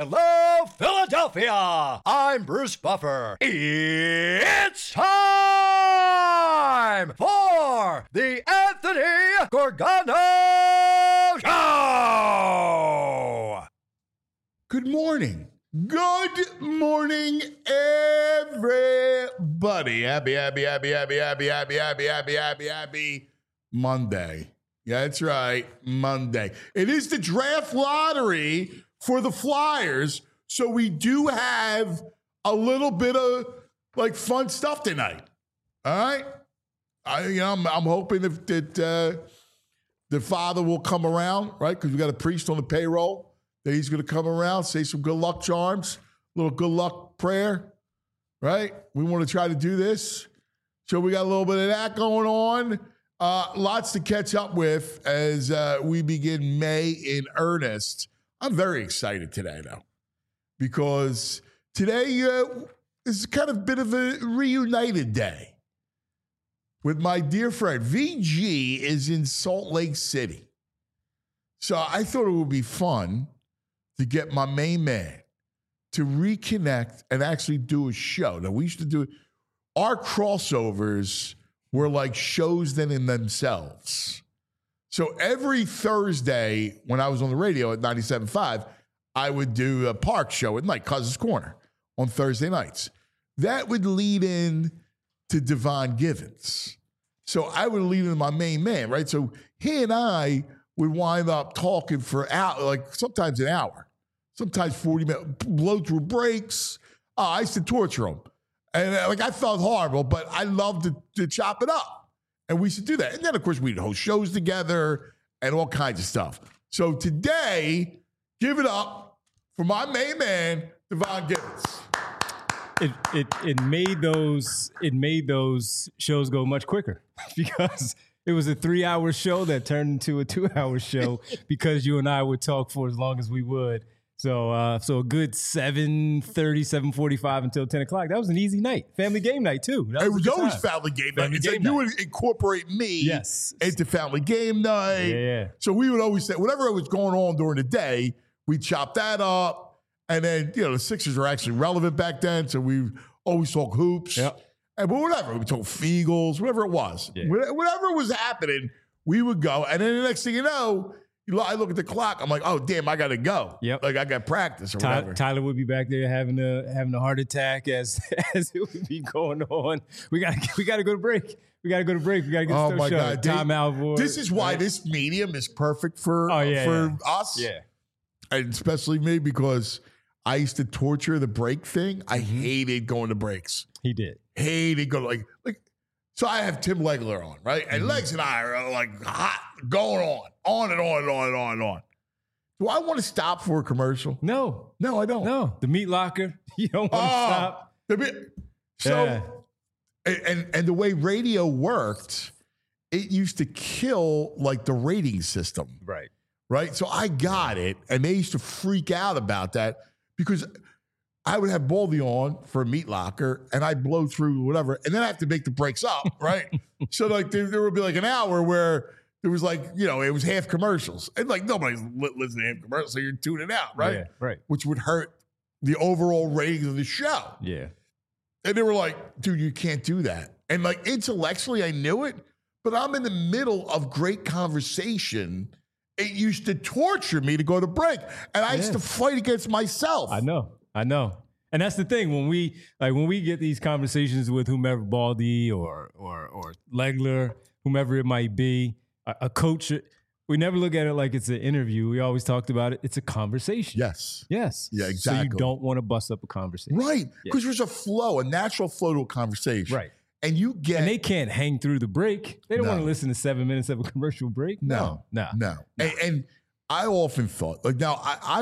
Hello, Philadelphia! I'm Bruce Buffer. It's time for the Anthony Gorgano Show! Good morning. Good morning, everybody. Happy Monday. Yeah, that's right, Monday. It is the draft lottery for the Flyers, so we do have a little bit of like fun stuff tonight. All right, I'm hoping that the father will come around, right? Because we got a priest on the payroll that he's going to come around, say some good luck charms, a little good luck prayer, right? We want to try to do this, so we got a little bit of that going on. Lots to catch up with as we begin May in earnest. I'm very excited today, though, because today is kind of a bit of a reunited day with my dear friend. VG is in Salt Lake City. So I thought it would be fun to get my main man to reconnect and actually do a show. Now, we used to do our crossovers were like shows then in themselves. So every Thursday when I was on the radio at 97.5, I would do a park show at night, Cousins Corner, on Thursday nights. That would lead in to Devon Givens. So I would lead in my main man, right? So he and I would wind up talking for like sometimes an hour, sometimes 40 minutes, blow through breaks. I used to torture him. And I felt horrible, but I loved to chop it up. And we should do that. And then, of course, we'd host shows together and all kinds of stuff. So today, give it up for my main man, Devon Givens. It made those shows go much quicker because it was a 3-hour show that turned into a 2-hour show because you and I would talk for as long as we would. So a good 7:30, 7:45 until 10 o'clock. That was an easy night. Family game night, too. It was always family game night. It's like you would incorporate me into family game night. Yeah. So we would always say, whatever was going on during the day, we'd chop that up. And then, the Sixers were actually relevant back then. So we always talk hoops. Yep. But whatever. We talk Feagles, whatever it was. Yeah. Whatever was happening, we would go. And then the next thing you know, I look at the clock. I'm like, oh, damn, I got to go. Yep. Like I got practice or whatever. Tyler would be back there having a heart attack as it would be going on. We got to go to break. We got to go to break. We got to get oh my God. Timeout board. This is why this medium is perfect for us. Yeah. And especially me because I used to torture the break thing. I hated going to breaks. He did. Hated going like. So I have Tim Legler on, right? And Legs and I are like hot, going on and on and on and on and on. Do I want to stop for a commercial? No, I don't. No, the meat locker. You don't want to stop. And the way radio worked, it used to kill like the rating system. Right. So I got it. And they used to freak out about that because I would have Baldy on for a meat locker and I'd blow through whatever. And then I have to make the breaks up. Right. So like there would be like an hour where there was like, it was half commercials and like nobody's listening to half commercials. So you're tuning out. Right. Yeah, right. Which would hurt the overall ratings of the show. Yeah. And they were like, dude, you can't do that. And like intellectually, I knew it, but I'm in the middle of great conversation. It used to torture me to go to break. And I used to fight against myself. I know. And that's the thing. When we get these conversations with whomever, Baldy or Legler, whomever it might be, a coach, we never look at it like it's an interview. We always talked about it. It's a conversation. Yes. Yeah, exactly. So you don't want to bust up a conversation. Right. Because there's a flow, a natural flow to a conversation. Right. And they can't hang through the break. They don't want to listen to 7 minutes of a commercial break. No. And I often thought, like now I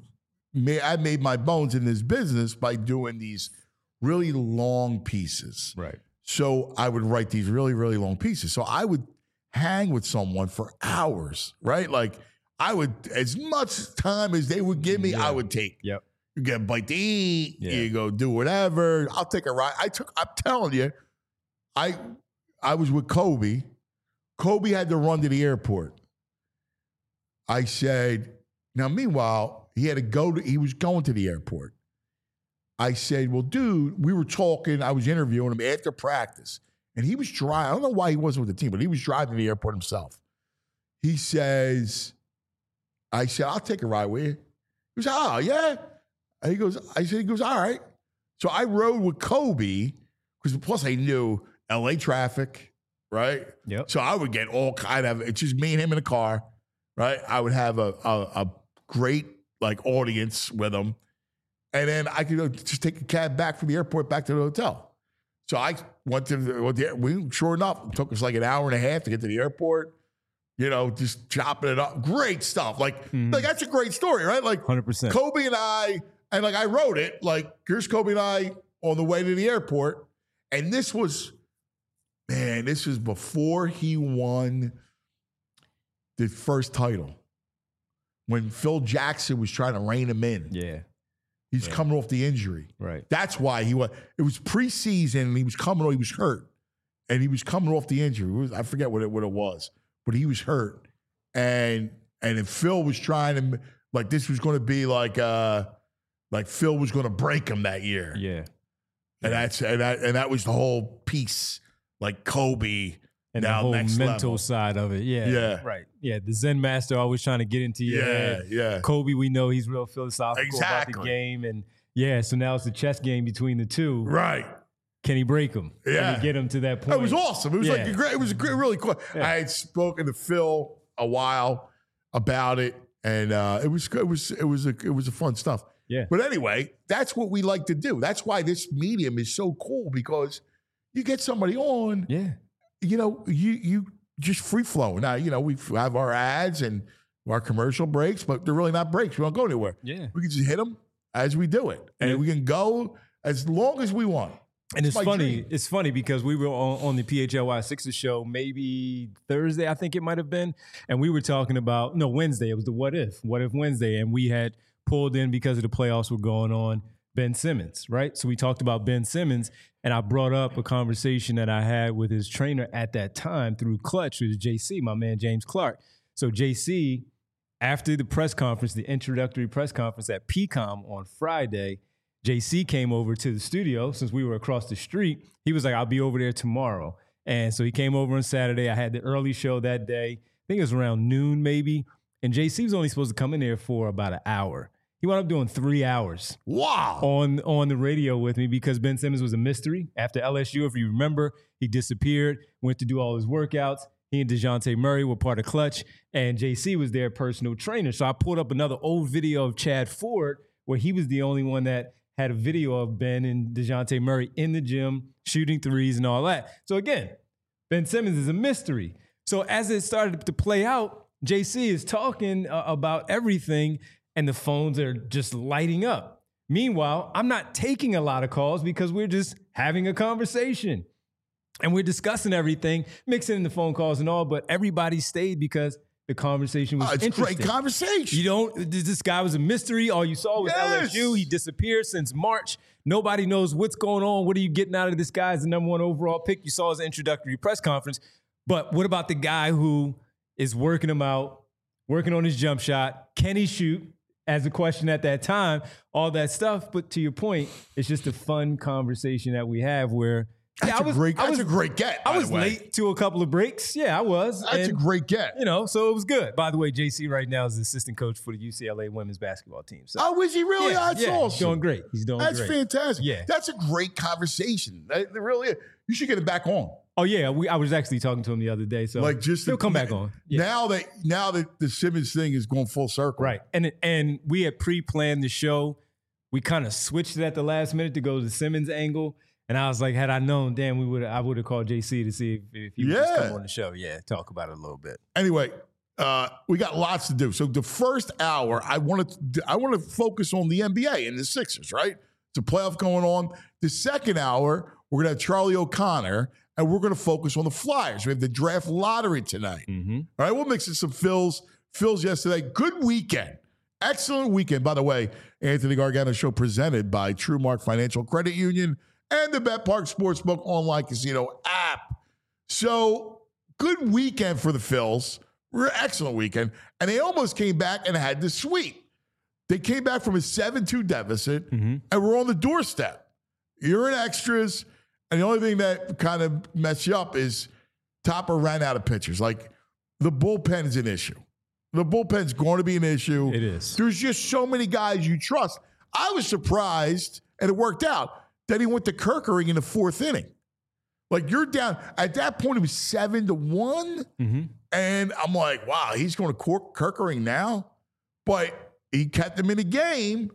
made my bones in this business by doing these really long pieces. Right. So I would write these really, really long pieces. So I would hang with someone for hours, right? Like I would, as much time as they would give me, I would take. Yep. You get a bite to eat, you go do whatever. I'll take a ride. I'm telling you, I was with Kobe. Kobe had to run to the airport. I said, now meanwhile, he was going to the airport. I said, well, dude, we were talking. I was interviewing him after practice, and he was driving. I don't know why he wasn't with the team, but he was driving to the airport himself. He says, I said, I'll take a ride with you. He goes, oh, yeah. And he goes, all right. So I rode with Kobe, because plus I knew LA traffic, right? Yep. So I would get all kind of, it's just me and him in a car, right? I would have a great audience with him. And then I could go just take a cab back from the airport back to the hotel. So I went to sure enough, it took us like an hour and a half to get to the airport, just chopping it up. Great stuff. Like that's a great story, right? 100%. Kobe and I wrote it, here's Kobe and I on the way to the airport. And this was before he won the first title. When Phil Jackson was trying to rein him in. Yeah. He's coming off the injury. Right. That's why it was preseason and he was hurt. And he was coming off the injury. I forget what it was, but he was hurt. And then Phil was trying to, this was going to be Phil was going to break him that year. Yeah. And that was the whole piece, Kobe. And the whole mental side of it. Yeah. Yeah. Right. Yeah. The Zen master always trying to get into your head. Yeah. Kobe, we know he's real philosophical about the game. And so now it's a chess game between the two. Right. Can he break him? Yeah. Can he get him to that point? It was awesome. It was really cool. Yeah. I had spoken to Phil a while about it, and it was a fun stuff. Yeah. But anyway, that's what we like to do. That's why this medium is so cool, because you get somebody on. Yeah. You just free flow. Now, we have our ads and our commercial breaks, but they're really not breaks. We don't go anywhere. Yeah. We can just hit them as we do it. And we can go as long as we want. And it's funny. It's funny because we were on the PHLY Sixers show maybe Thursday, I think it might have been. And we were talking about, Wednesday. It was the What If Wednesday. And we had pulled in, because of the playoffs were going on, Ben Simmons, right? So we talked about Ben Simmons, and I brought up a conversation that I had with his trainer at that time through Clutch, who was JC, my man James Clark. So JC, after the press conference, the introductory press conference at PCOM on Friday, JC came over to the studio since we were across the street. He was like, I'll be over there tomorrow. And so he came over on Saturday. I had the early show that day. I think it was around noon maybe. And JC was only supposed to come in there for about an hour. He wound up doing 3 hours. Wow. On the radio with me, because Ben Simmons was a mystery. After LSU, if you remember, he disappeared, went to do all his workouts. He and DeJounte Murray were part of Clutch, and JC was their personal trainer. So I pulled up another old video of Chad Ford, where he was the only one that had a video of Ben and DeJounte Murray in the gym, shooting threes and all that. So again, Ben Simmons is a mystery. So as it started to play out, JC is talking about everything, and the phones are just lighting up. Meanwhile, I'm not taking a lot of calls because we're just having a conversation. And we're discussing everything, mixing in the phone calls and all, but everybody stayed because the conversation was interesting. It's a great conversation. This guy was a mystery. All you saw was LSU. He disappeared since March. Nobody knows what's going on. What are you getting out of this guy as the number 1 overall pick? You saw his introductory press conference. But what about the guy who is working him out, working on his jump shot? Can he shoot? As a question at that time, all that stuff. But to your point, it's just a fun conversation that we have where That's a great get. I was late to a couple of breaks. Yeah, I was. That's a great get. So it was good. By the way, JC right now is the assistant coach for the UCLA women's basketball team. So, is he really? That's awesome. He's doing great. That's fantastic. Yeah. That's a great conversation. It really is. You should get it back on. Oh, yeah. I was actually talking to him the other day. So he'll come back on. Yeah. Now that the Simmons thing is going full circle. Right. And we had pre-planned the show. We kind of switched it at the last minute to go to the Simmons angle. And I was like, had I known, damn, I would have called JC to see if he would just come on the show. Yeah, talk about it a little bit. Anyway, we got lots to do. So the first hour, I want to focus on the NBA and the Sixers, right? It's a playoff going on. The second hour, we're going to have Charlie O'Connor, and we're going to focus on the Flyers. We have the draft lottery tonight. Mm-hmm. All right, we'll mix in some Phil's yesterday. Good weekend. Excellent weekend. By the way, Anthony Gargano Show presented by TrueMark Financial Credit Union and the BetPark Sportsbook online casino app. So, good weekend for the Phils. Excellent weekend. And they almost came back and had the sweep. They came back from a 7-2 deficit, and we're on the doorstep. You're in extras, and the only thing that kind of messed you up is Topper ran out of pitchers. Like, the bullpen is an issue. The bullpen's going to be an issue. It is. There's just so many guys you trust. I was surprised, and it worked out, that he went to Kerkering in the 4th inning. Like, you're down. At that point, it was 7-1. And I'm like, wow, he's going to Kerkering now? But he kept them in the game,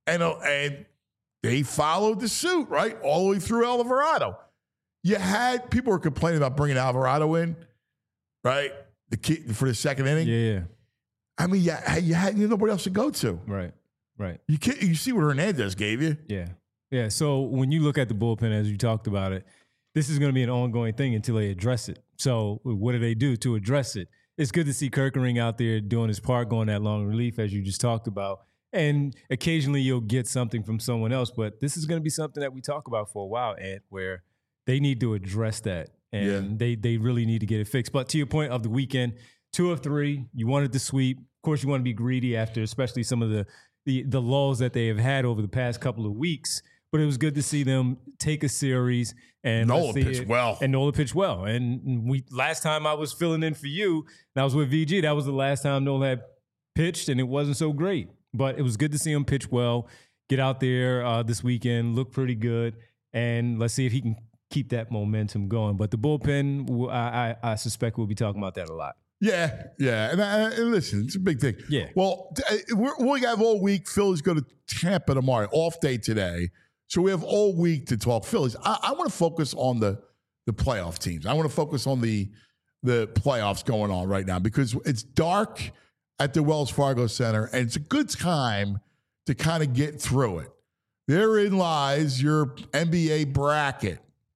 and they followed the suit, right? All the way through Alvarado. You had, people were complaining about bringing Alvarado in, right? The kid for the 2nd inning. Yeah. I mean, you had nobody else to go to. Right. You see what Hernandez gave you. Yeah. So when you look at the bullpen, as you talked about it, this is going to be an ongoing thing until they address it. So what do they do to address it? It's good to see Kerkering out there doing his part, going that long relief, as you just talked about. And occasionally you'll get something from someone else, but this is going to be something that we talk about for a while, Ant, where they need to address that. And they really need to get it fixed. But to your point of the weekend, 2 of 3, you wanted to sweep. Of course, you want to be greedy after, especially some of the lulls that they have had over the past couple of weeks. But it was good to see them take a series and Nola pitched well. And Nola pitched well. And last time I was filling in for you, and I was with VG, that was the last time Nola had pitched, and it wasn't so great. But it was good to see him pitch well, get out there this weekend, look pretty good, and let's see if he can keep that momentum going. But the bullpen, I suspect we'll be talking about that a lot. Yeah. And listen, it's a big thing. Yeah. Well, we have all week. Phillies go to Tampa tomorrow, off day today. So we have all week to talk Phillies. I want to focus on the playoff teams. I want to focus on the playoffs going on right now because it's dark at the Wells Fargo Center, and it's a good time to kind of get through it. Therein lies your NBA bracket.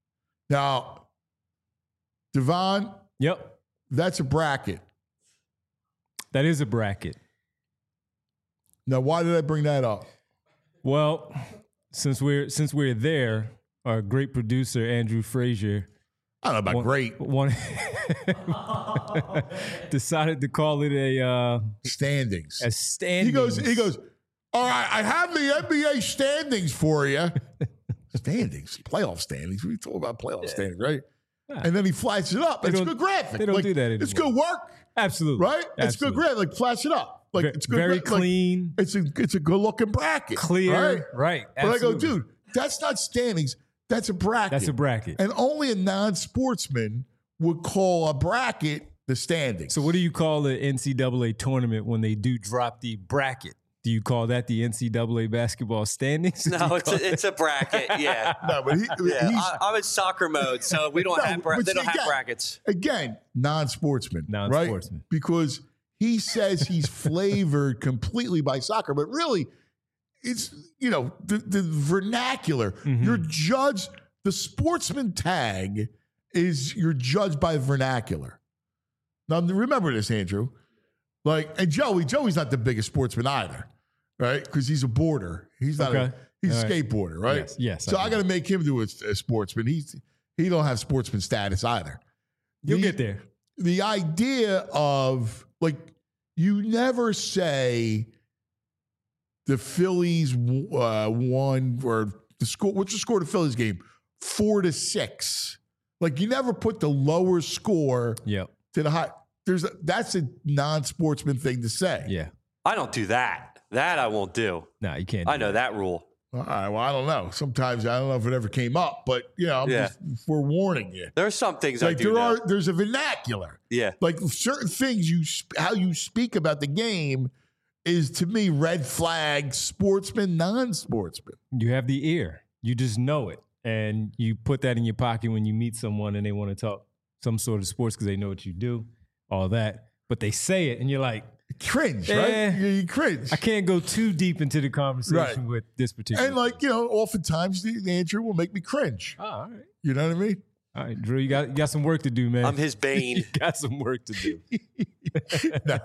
Now, Devon, yep, that's a bracket. That is a bracket. Now, why did I bring that up? Well, since we're there, our great producer Andrew Frazier, I don't know about great, decided to call it a standings. A standings. He goes. All right, I have the NBA standings for you. Standings, playoff standings. We talk about playoff standings, right? Yeah. And then he flashes it up. It's a good graphic. They don't do that anymore. It's good work. Absolutely. Right? Absolutely. It's good graphic. Like, flash it up. Like, it's good. Very clean. Like, it's a good looking bracket. Clear. Right. But I go, dude, that's not standings. That's a bracket. That's a bracket. And only a non-sportsman would call a bracket the standings. So what do you call the NCAA tournament when they do drop the bracket? Do you call that the NCAA basketball standings? No, it's a bracket. Yeah. No, but I'm in soccer mode, so we don't have they don't have brackets. Again, non-sportsman, right? Because he says he's flavored completely by soccer, but really, it's the vernacular. Mm-hmm. You're judged. The sportsman tag is you're judged by vernacular. Now remember this, Andrew. And Joey's not the biggest sportsman either. Right, because he's a boarder. He's not. Okay. He's a skateboarder, right? Yes. So I got to make him do a sportsman. He don't have sportsman status either. You'll get there. The idea of you never say the Phillies won or the score. What's the score of the Phillies game? 4-6. You never put the lower score. Yep. To the high. That's a non-sportsman thing to say. Yeah. I don't do that. That I won't do. No, you can't. I know that rule. All right. Well, I don't know. Sometimes I don't know if it ever came up, but I'm just forewarning you. There are some things I do know. There's a vernacular. Yeah. Certain things how you speak about the game is to me red flag, sportsman, non-sportsman. You have the ear. You just know it, and you put that in your pocket when you meet someone and they want to talk some sort of sports because they know what you do, all that. But they say it, and you're like. Cringe, right? You cringe. I can't go too deep into the conversation with this particular. And oftentimes the answer will make me cringe. Oh, all right. You know what I mean? All right, Drew, you got some work to do, man. I'm his bane. You got some work to do. No,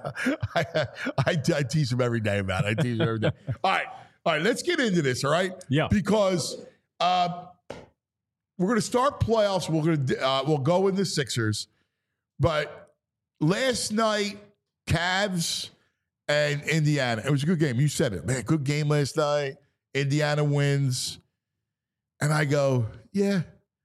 I tease him every day about it. I tease him every day. All right. Let's get into this. All right. Yeah. Because we're going to start playoffs. We'll go in the Sixers, but last night. Cavs and Indiana. It was a good game. You said it, man. Good game last night. Indiana wins. And I go, yeah.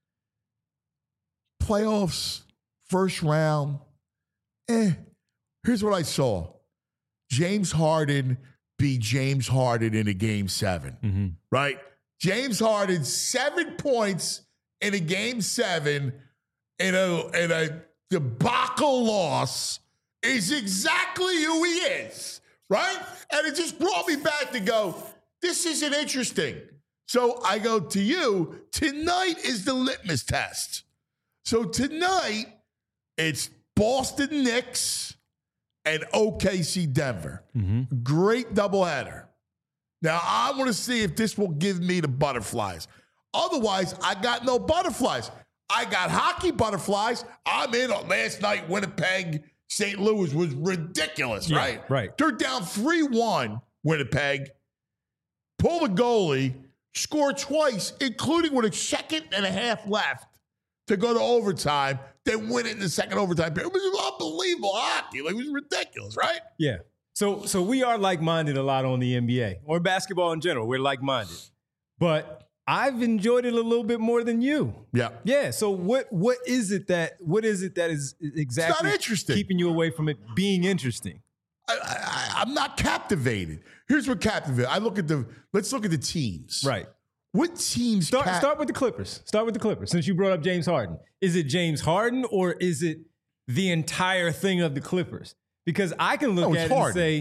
Playoffs, first round. Here's what I saw. James Harden beat James Harden in a game 7, right? James Harden, 7 points in a game 7 in a debacle loss is exactly who he is, right? And it just brought me back to go, this isn't interesting. So I go to you, tonight is the litmus test. So tonight, it's Boston Knicks and OKC Denver. Great doubleheader. Now, I want to see if this will give me the butterflies. Otherwise, I got no butterflies. I got hockey butterflies. I'm in on last night. Winnipeg, St. Louis was ridiculous, right? Right. They're down 3-1, Winnipeg. Pull the goalie, score twice, including with a second and a half left to go to overtime, then win it in the second overtime period. It was unbelievable hockey. Like, it was ridiculous, right? Yeah. So we are like-minded a lot on the NBA or basketball in general. We're like-minded. But I've enjoyed it a little bit more than you. Yeah. Yeah. So what is it that is exactly It's not interesting. keeping you away from it being interesting? I'm not captivated. Here's what captivated. Let's look at the teams. Right. What teams? Start with the Clippers. Start with the Clippers. Since you brought up James Harden, is it James Harden or is it the entire thing of the Clippers? Because I can look at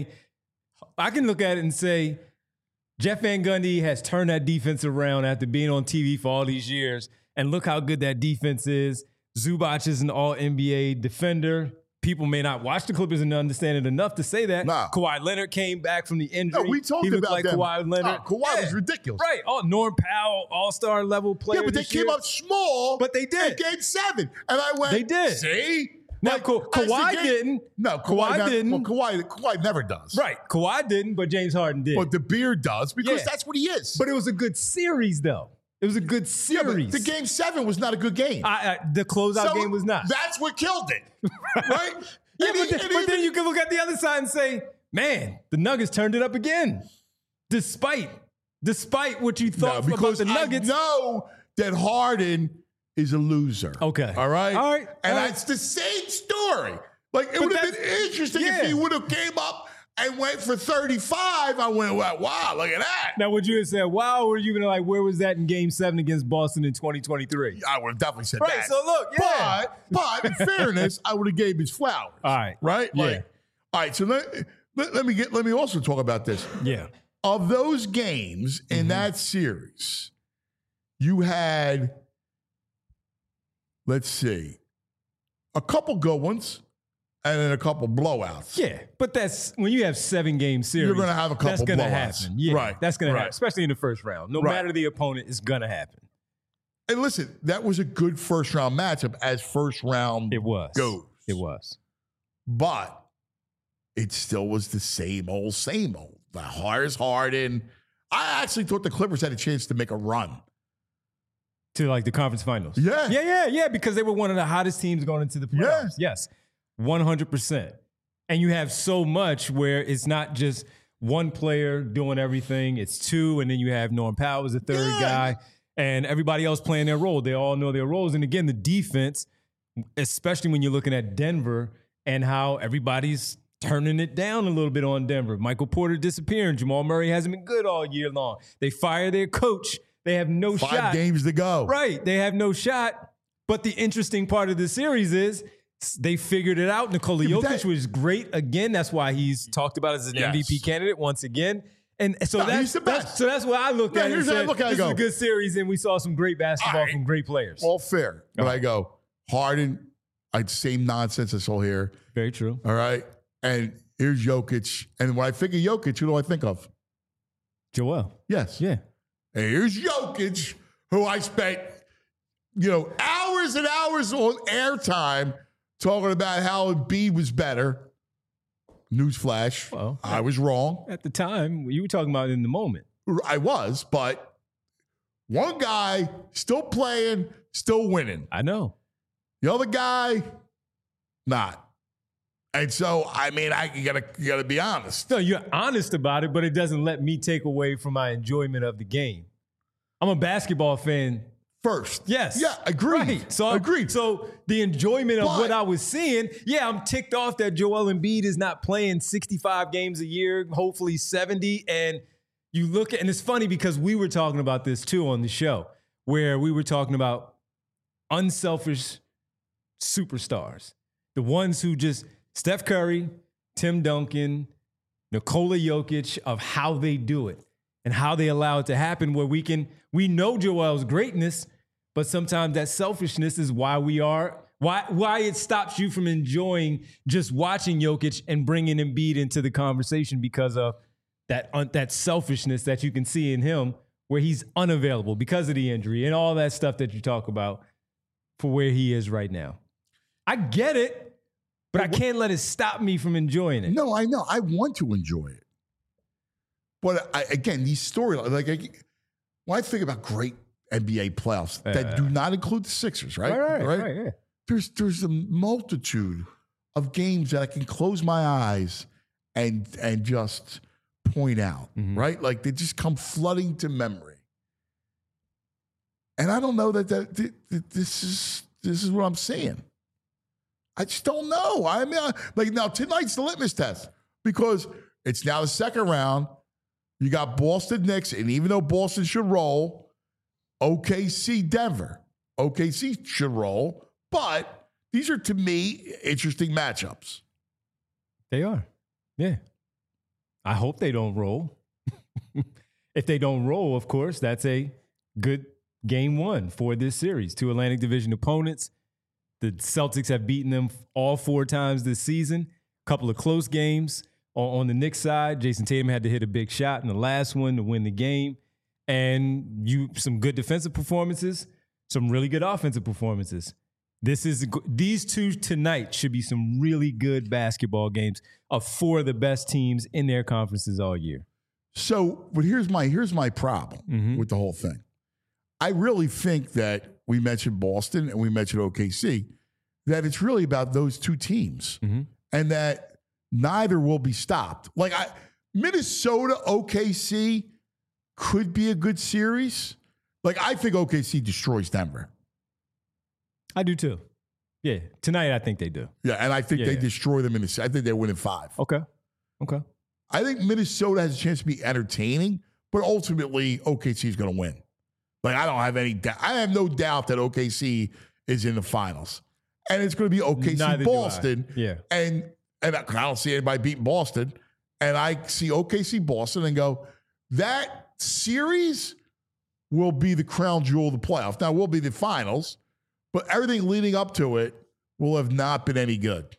it and say, Jeff Van Gundy has turned that defense around after being on TV for all these years, and look how good that defense is. Zubac is an All-NBA defender. People may not watch the Clippers and understand it enough to say that. Nah. Kawhi Leonard came back from the injury. No, we talked he looked about like them. Kawhi Leonard. Kawhi was ridiculous. Right. Oh, Norm Powell, all-star level player. Yeah, but they this came year. up small. But they did. In game 7. And I went, They did. See? Now, Like, Kawhi as the game- didn't. No, Kawhi didn't. Well, Kawhi never does. Right. Kawhi didn't, but James Harden did. But the beard does because Yeah. that's what he is. But it was a good series, though. It was a good yeah, but series. the game 7 was not a good game. The closeout game was not. That's what killed it. Right? Yeah, And but then you can look at the other side and say, man, the Nuggets turned it up again. Despite what you thought about because the Nuggets. I know that Harden is a loser. Okay. All right? All right. And All right. it's the same story. Like, it But would have been that's- interesting yeah. if he would have came up and went for 35. I went, wow, look at that. Now, would you have said, wow, or you going to like, where was that in game 7 against Boston in 2023? I would have definitely said Right, that. so look, yeah. But in fairness, I would have gave his flowers. All right. Right? Yeah. Like, all right, so let me also talk about this. Yeah. Of those games in that series, you had, let's see, a couple good ones and then a couple blowouts. Yeah, but that's when you have 7-game series. You're gonna have a couple That's going to blowouts. happen. Yeah, Right, that's going right. to happen, especially in the first round. No Right. matter the opponent, it's going to happen. And listen, that was a good first round matchup as first round It was. goes. It was. But it still was the same old, same old. The Harris Harden. I actually thought the Clippers had a chance to make a run. To like the conference finals. Yeah. Yeah, because they were one of the hottest teams going into the playoffs. Yes, 100%. And you have so much where it's not just one player doing everything. It's two, and then you have Norm Powell as the third guy, and everybody else playing their role. They all know their roles. And again, the defense, especially when you're looking at Denver and how everybody's turning it down a little bit on Denver. Michael Porter disappearing. Jamal Murray hasn't been good all year long. They fire their coach. They have no shot. 5 games to go. Right. They have no shot. But the interesting part of the series is they figured it out. Nikola Jokic was great again. That's why he's talked about as an MVP candidate once again. And so he's the best. that's why I looked at it. Here's And how I said, look at it, this is go. a good series, and we saw some great basketball All right. from great players. All fair. But I go, Harden, same nonsense I saw here. Very true. All right. And here's Jokic. And when I think of Jokic, who do I think of? Joel. Yes. Yeah. And here's Jokic, who I spent, hours and hours on airtime talking about how Embiid was better. Newsflash. Well, I was wrong. At the time, you were talking about it in the moment. I was, but one guy still playing, still winning. I know. The other guy, not. And so, I mean, you gotta be honest. No, you're honest about it, but it doesn't let me take away from my enjoyment of the game. I'm a basketball fan First. Yes. Yeah, agreed. Right. So agreed. So the enjoyment of what I was seeing, I'm ticked off that Joel Embiid is not playing 65 games a year, hopefully 70. And you look at, and it's funny because we were talking about this too on the show, where we were talking about unselfish superstars. The ones who just, Steph Curry, Tim Duncan, Nikola Jokic, of how they do it and how they allow it to happen, where we know Joel's greatness, but sometimes that selfishness is why it stops you from enjoying just watching Jokic and bringing Embiid into the conversation because of that selfishness that you can see in him, where he's unavailable because of the injury and all that stuff that you talk about for where he is right now. I get it, but I can't let it stop me from enjoying it. No, I know. I want to enjoy it. But again, these storylines, when I think about great NBA playoffs that do not include the Sixers, right? Right, yeah. There's a multitude of games that I can close my eyes and just point out, right? Like they just come flooding to memory. And I don't know that this is what I'm seeing. I just don't know. I mean, now tonight's the litmus test because it's now the second round. You got Boston Knicks, and even though Boston should roll, OKC Denver. OKC should roll, but these are, to me, interesting matchups. They are. Yeah. I hope they don't roll. If they don't roll, of course, that's a good game one for this series. Two Atlantic Division opponents. The Celtics have beaten them all 4 times this season. A couple of close games. On the Knicks side, Jason Tatum had to hit a big shot in the last one to win the game. And some good defensive performances, some really good offensive performances. These two tonight should be some really good basketball games of 4 of the best teams in their conferences all year. So, but here's my problem with the whole thing. I really think that we mentioned Boston and we mentioned OKC, that it's really about those 2 teams and that neither will be stopped. Like Minnesota, OKC could be a good series. Like I think OKC destroys Denver. I do too. Yeah, tonight I think they do. Yeah, and I think they destroy them I think they win in 5. Okay. I think Minnesota has a chance to be entertaining, but ultimately OKC is going to win. Like I don't have any doubt. I have no doubt that OKC is in the finals, and it's going to be OKC Boston. Yeah, and I don't see anybody beating Boston, and I see OKC Boston and go, that series will be the crown jewel of the playoff. Now, it will be the finals, but everything leading up to it will have not been any good.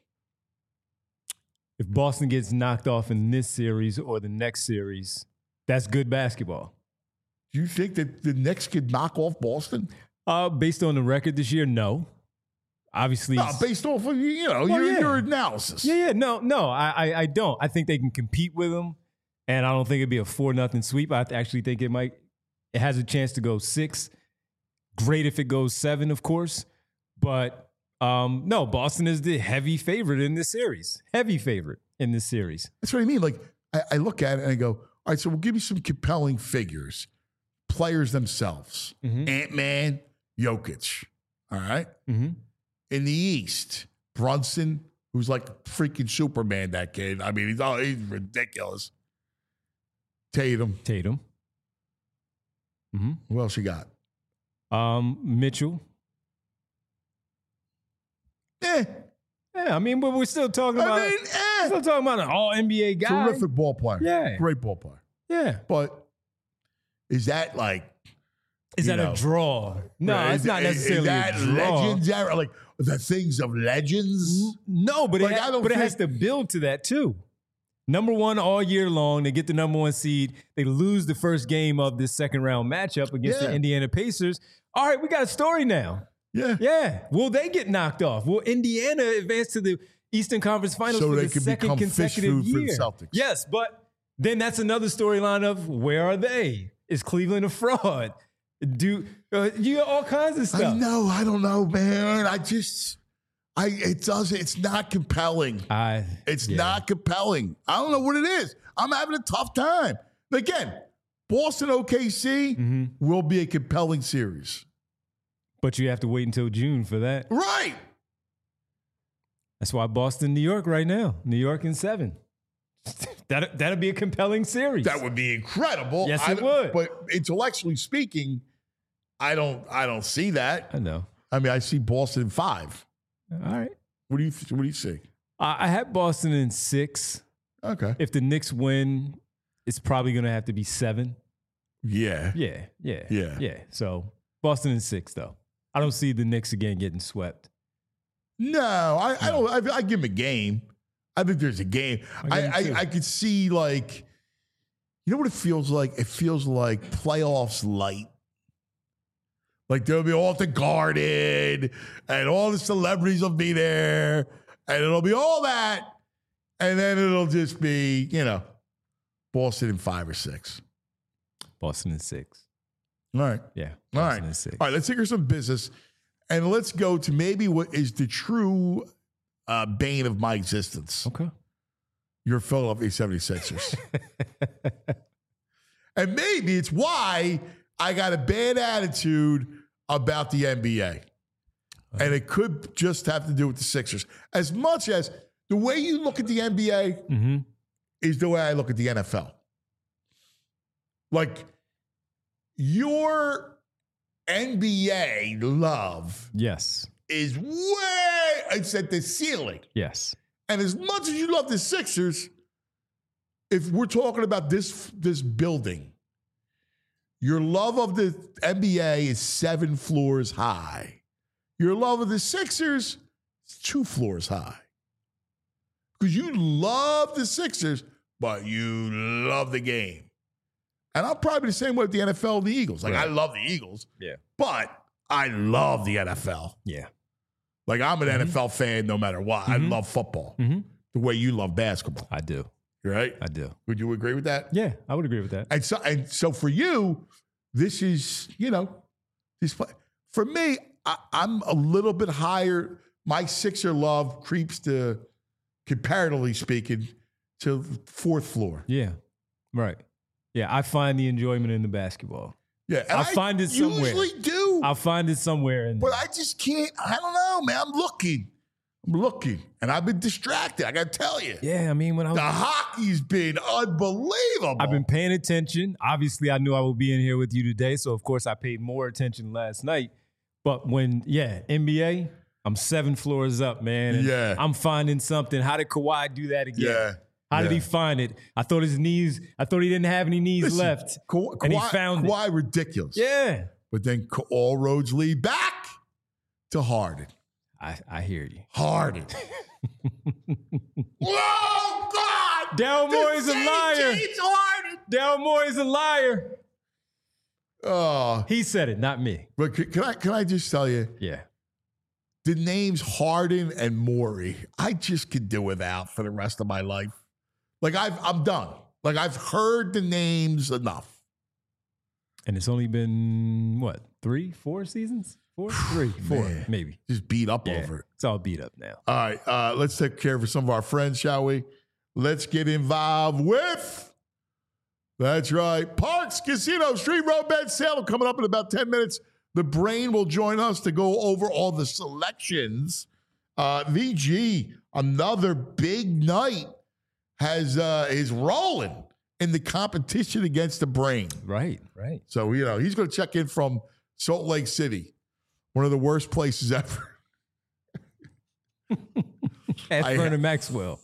If Boston gets knocked off in this series or the next series, that's good basketball. Do you think that the Knicks could knock off Boston? Based on the record this year, no. Obviously, based off of your analysis. Yeah. No, I don't. I think they can compete with them, and I don't think it'd be a 4-0 sweep. I actually think it has a chance to go 6. Great if it goes 7, of course, but no. Boston is the heavy favorite in this series. Heavy favorite in this series. That's what I mean. Like I look at it and I go, all right. So we'll give you some compelling figures, players themselves. Ant-Man, Jokic. All right. In the East, Brunson, who's like freaking Superman, that kid. I mean, he's ridiculous. Tatum. Who else you got? Mitchell. Yeah, I mean, but we're still talking about an all-NBA guy. Terrific ball player. Yeah. Great ball player. Yeah. But is that like... Is that a draw? No, it's not necessarily a draw. Legends, like the things of legends? No, but it has to build to that too. Number 1 all year long. They get the number 1 seed. They lose the first game of this second round matchup against the Indiana Pacers. All right, we got a story now. Yeah. Will they get knocked off? Will Indiana advance to the Eastern Conference Finals for the second consecutive year? For the Celtics. Yes, but then that's another storyline of where are they? Is Cleveland a fraud? You got all kinds of stuff. I know. I don't know, man. It's not compelling. It's Yeah. not compelling. I don't know what it is. I'm having a tough time. Again, Boston OKC will be a compelling series. But you have to wait until June for that. Right. That's why Boston, New York right now. New York in 7. That'd be a compelling series. That would be incredible. Yes, it would. But intellectually speaking, I don't see that. I know. I mean, I see Boston in 5. All right. What do you see? I had Boston in 6. Okay. If the Knicks win, it's probably going to have to be 7. Yeah. Yeah. So Boston in 6, though. I don't see the Knicks again getting swept. No, I don't. I give them a game. I think there's a game. I could see, like, you know what it feels like? It feels like playoffs light. Like there'll be all the Garden and all the celebrities will be there and it'll be all that. And then it'll just be, Boston in 5 or 6. Boston in 6. All right. Yeah. All Boston right. in 6. All right. Let's take care of some business and let's go to maybe what is the true bane of my existence. Okay. Your Philadelphia 76ers. And maybe it's why I got a bad attitude about the NBA. And it could just have to do with the Sixers. As much as the way you look at the NBA is the way I look at the NFL. Like, your NBA love Yes. is it's at the ceiling. Yes. And as much as you love the Sixers, if we're talking about this building, your love of the NBA is 7 floors high. Your love of the Sixers is 2 floors high. Because you love the Sixers, but you love the game. And I'm probably the same way with the NFL and the Eagles. Like, I love the Eagles, but I love the NFL. Yeah. Like, I'm an NFL fan no matter what. I love football the way you love basketball. I do. Right? I do. Would you agree with that? Yeah, I would agree with that. And so for you, this is, for me, I'm a little bit higher. My Sixer love creeps to, comparatively speaking, to 4th floor. Yeah. Right. Yeah, I find the enjoyment in the basketball. Yeah, and I find it somewhere. Usually do. I'll find it somewhere. But I just can't. I don't know, man. I'm looking, and I've been distracted. I got to tell you. Yeah, I mean, when I was The hockey's been unbelievable. I've been paying attention. Obviously, I knew I would be in here with you today, so of course I paid more attention last night. But when, NBA, I'm 7 floors up, man. And I'm finding something. How did Kawhi do that again? Yeah. How did he find it? I thought he didn't have any knees left. And he found Kawhi ridiculous. Yeah. But then all roads lead back to Harden. I hear you. Harden. Oh, God! Daryl Morey's a liar. James Harden. Daryl Morey's a liar. Oh. He said it, not me. But can I just tell you? Yeah. The names Harden and Morey, I just could do without for the rest of my life. Like, I'm done. Like, I've heard the names enough. And it's only been, 3, 4 seasons? 4? 3, 4, Man. maybe. Just beat up over it. It's all beat up now. All right, let's take care of some of our friends, shall we? Let's get involved with, that's right, Parks Casino Street Road Bet Sale coming up in about 10 minutes. The Brain will join us to go over all the selections. VG, another big night, is rolling in the competition against the Brain. Right. So, he's going to check in from Salt Lake City, one of the worst places ever. At Vernon Maxwell.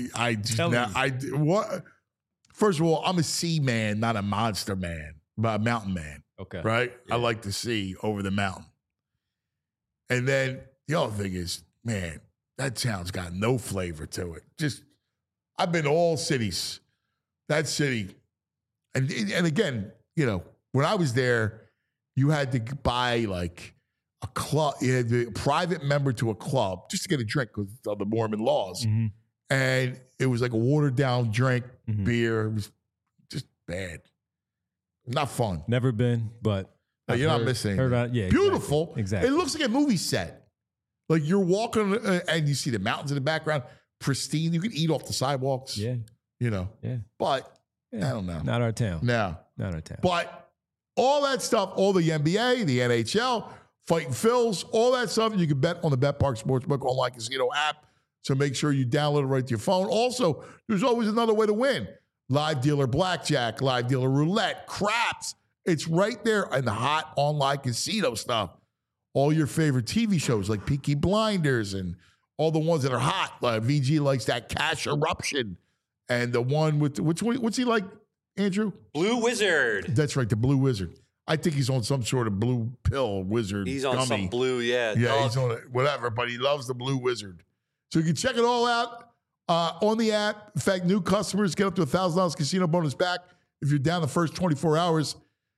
What? First of all, I'm a sea man, not a monster man, but a mountain man. Okay. Right? Yeah. I like to see over the mountain. And then the other thing is, man, that town's got no flavor to it. I've been to all cities. That city. And again, when I was there, you had to buy like a club. You had to be a private member to a club just to get a drink because of the Mormon laws. Mm-hmm. And it was like a watered down drink, beer. It was just bad. Not fun. Never been, but You're not missing anything. Yeah, Beautiful. Exactly. It looks like a movie set. Like you're walking and you see the mountains in the background, pristine. You can eat off the sidewalks. Yeah. You know. Yeah. But I don't know. Not our town. No. Not our town. But all that stuff, all the NBA, the NHL, Fighting Phils, all that stuff, you can bet on the BetPark Sportsbook online casino app. So make sure you download it right to your phone. Also, there's always another way to win. Live dealer blackjack, live dealer roulette, craps. It's right there in the hot online casino stuff. All your favorite TV shows like Peaky Blinders and all the ones that are hot. VG likes that Cash Eruption. And the one with, what's he like, Andrew? Blue Wizard. That's right, the Blue Wizard. I think he's on some sort of blue pill wizard. He's on gummy. some blue, yeah. Yeah, he's on it, whatever, but he loves the Blue Wizard. So you can check it all out on the app. In fact, new customers get up to $1,000 casino bonus back if you're down the first 24 hours.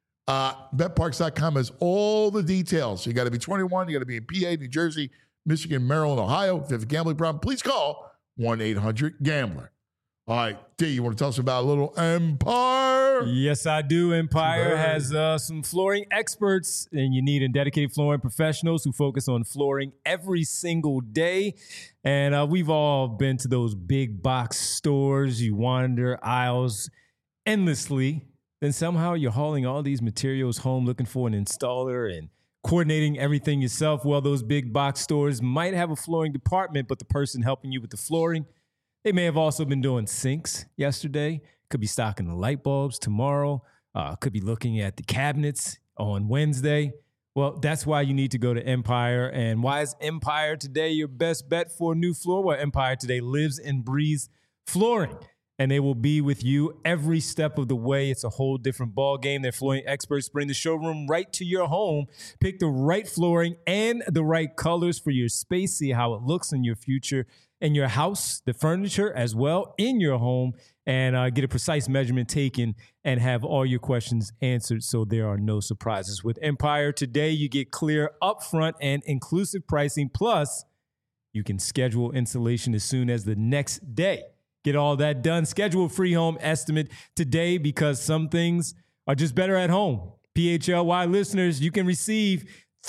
BetParks.com has all the details. You got to be 21. You got to be in PA, New Jersey, Michigan, Maryland, Ohio. If you have a gambling problem, please call 1-800-GAMBLER. All right, D, you want to tell us about a little Empire? Yes, I do. Empire has some flooring experts, and you need dedicated flooring professionals who focus on flooring every single day. And we've all been to those big box stores. You wander aisles endlessly. Then somehow you're hauling all these materials home looking for an installer and coordinating everything yourself. Well, those big box stores might have a flooring department, but the person helping you with the flooring, they may have also been doing sinks yesterday, could be stocking the light bulbs tomorrow, could be looking at the cabinets on Wednesday. Well, that's why you need to go to Empire. And why is Empire today your best bet for a new floor? Well, Empire today lives and breathes flooring, and they will be with you every step of the way. It's a whole different ball game. Their flooring experts bring the showroom right to your home. Pick the right flooring and the right colors for your space. See how it looks in your future, in your house, the furniture as well, in your home, and get a precise measurement taken and have all your questions answered so there are no surprises. With Empire today, you get clear, upfront, and inclusive pricing. Plus, you can schedule installation as soon as the next day. Get all that done. Schedule a free home estimate today because some things are just better at home. PHLY listeners, you can receive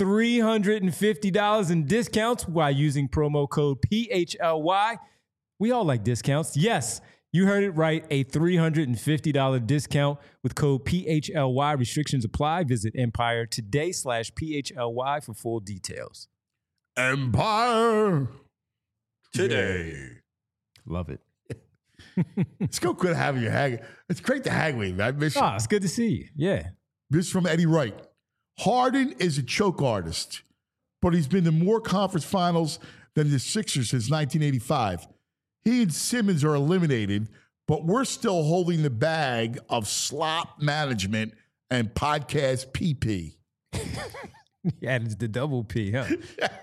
$350 in discounts while using promo code PHLY. We all like discounts. Yes, you heard it right. A $350 discount with code PHLY. Restrictions apply. Visit Empire today/PHLY for full details. Empire Today. Love it. It's so good having you hang. It's great to hang with you. I miss you. It's good to see you. Yeah. This is from Eddie Wright. Harden is a choke artist, but he's been to more conference finals than the Sixers since 1985. He and Simmons are eliminated, but we're still holding the bag of slop management and podcast PP. He added the double P, huh?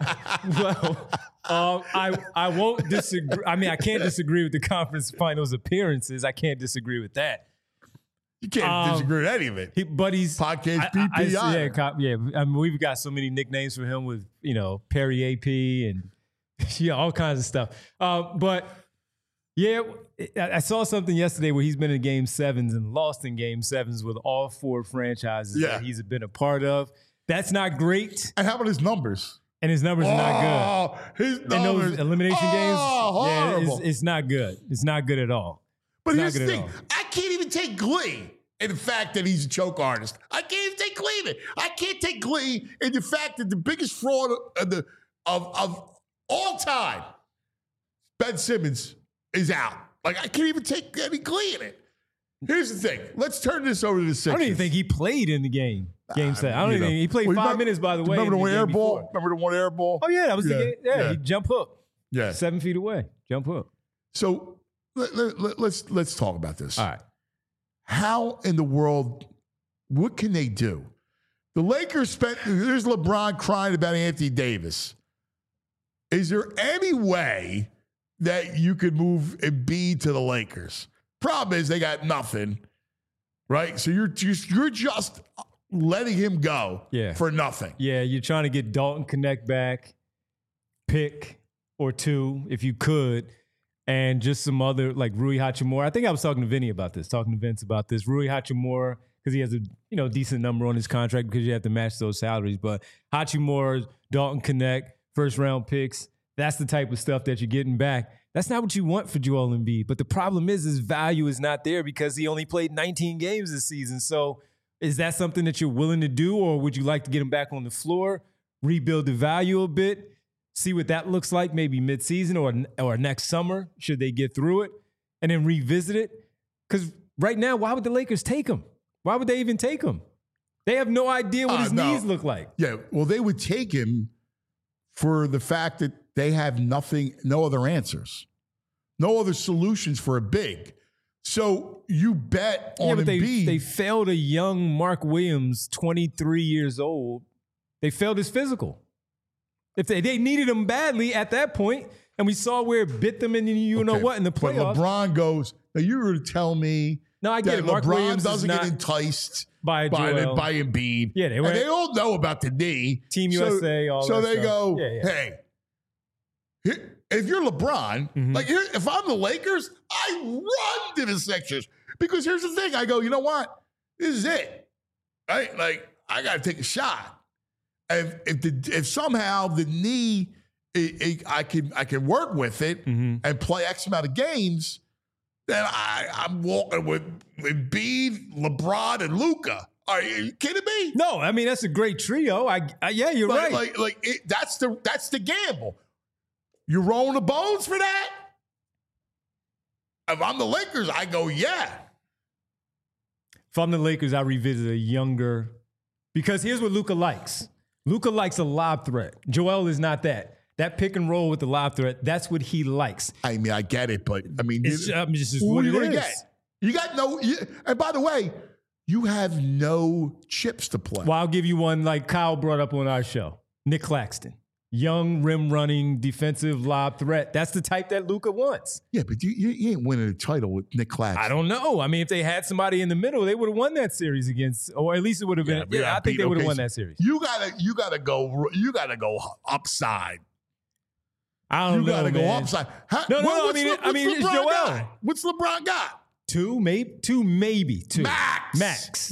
Well, I won't disagree. I mean, I can't disagree with the conference finals appearances. I can't disagree with that. You can't disagree with any of it. But he's podcast PP. Yeah. I mean, we've got so many nicknames for him with Perry AP and all kinds of stuff. But yeah, I saw something yesterday where he's been in Game 7s and lost in Game 7s with all four franchises that he's been a part of. That's not great. And how about his numbers? And his numbers are not good. His numbers. In those elimination games, horrible. It's not good. It's not good at all. But here's the thing. I can't even take glee in the fact that he's a choke artist. I can't even take glee in it. I can't take glee in the fact that the biggest fraud of all time, Ben Simmons, is out. Like, I can't even take any glee in it. Here's the thing. Let's turn this over to the Sixers. I don't even think he played in the game. Game 7. I don't even think he played 5 minutes, by the way. Remember the one air ball? Remember the one air ball? Oh, yeah. That was the game. Yeah, he jump hook. Yeah. 7 feet away. Jump hook. So let's talk about this. All right. How in the world, what can they do? The Lakers there's LeBron crying about Anthony Davis. Is there any way that you could move Embiid to the Lakers? Problem is they got nothing, right? So you're just letting him go for nothing. Yeah, you're trying to get Dalton Connect back, pick or two if you could, and just some other like Rui Hachimura. I think I was talking to Vince about this. Rui Hachimura, because he has a decent number on his contract because you have to match those salaries. But Hachimura, Dalton Connect first-round picks. That's the type of stuff that you're getting back. That's not what you want for Joel Embiid. But the problem is his value is not there because he only played 19 games this season. So is that something that you're willing to do, or would you like to get him back on the floor, rebuild the value a bit, see what that looks like maybe midseason or next summer should they get through it, and then revisit it? Because right now, why would the Lakers take him? Why would they even take him? They have no idea what his knees look like. Yeah, well, they would take him for the fact that they have no other answers, no other solutions for a big. So you bet on Embiid. They failed a young Mark Williams, 23 years old. They failed his physical. If they needed him badly at that point, and we saw where it bit them in know what in the playoffs. But LeBron goes, now you were to tell me no, I get it. Mark LeBron Williams doesn't get enticed by Embiid. Yeah, and they all know about the knee. Team USA, all that So they stuff. go, Yeah. hey, if you're LeBron, like if I'm the Lakers, I run to the Sixers. Because here's the thing. I go, you know what? This is it. Right? Like, I got to take a shot. If somehow the knee, I can work with it and play X amount of games, then I'm walking with Embiid, LeBron, and Luka. Are you kidding me? No, I mean that's a great trio. Yeah, you're right. That's the gamble. You rolling the bones for that? If I'm the Lakers, I go, yeah. If I'm the Lakers, I revisit a younger, because here's what Luka likes. Luka likes a lob threat. Joel is not that. That pick and roll with the lob threat, that's what he likes. I mean, I get it, but I mean, it's just what what are you it going to is. get? You got and by the way, you have no chips to play. Well, I'll give you one like Kyle brought up on our show. Nick Claxton. Young, rim-running, defensive lob threat. That's the type that Luka wants. Yeah, but you ain't winning a title with Nick Claxton. I don't know. I mean, if they had somebody in the middle, they would have won that series against, or at least it would have been. Yeah, I think they would have won that series. You gotta go upside. I don't know. You gotta go man. upside. No. I mean, it's Joel. What's LeBron got? Two, maybe two. Max.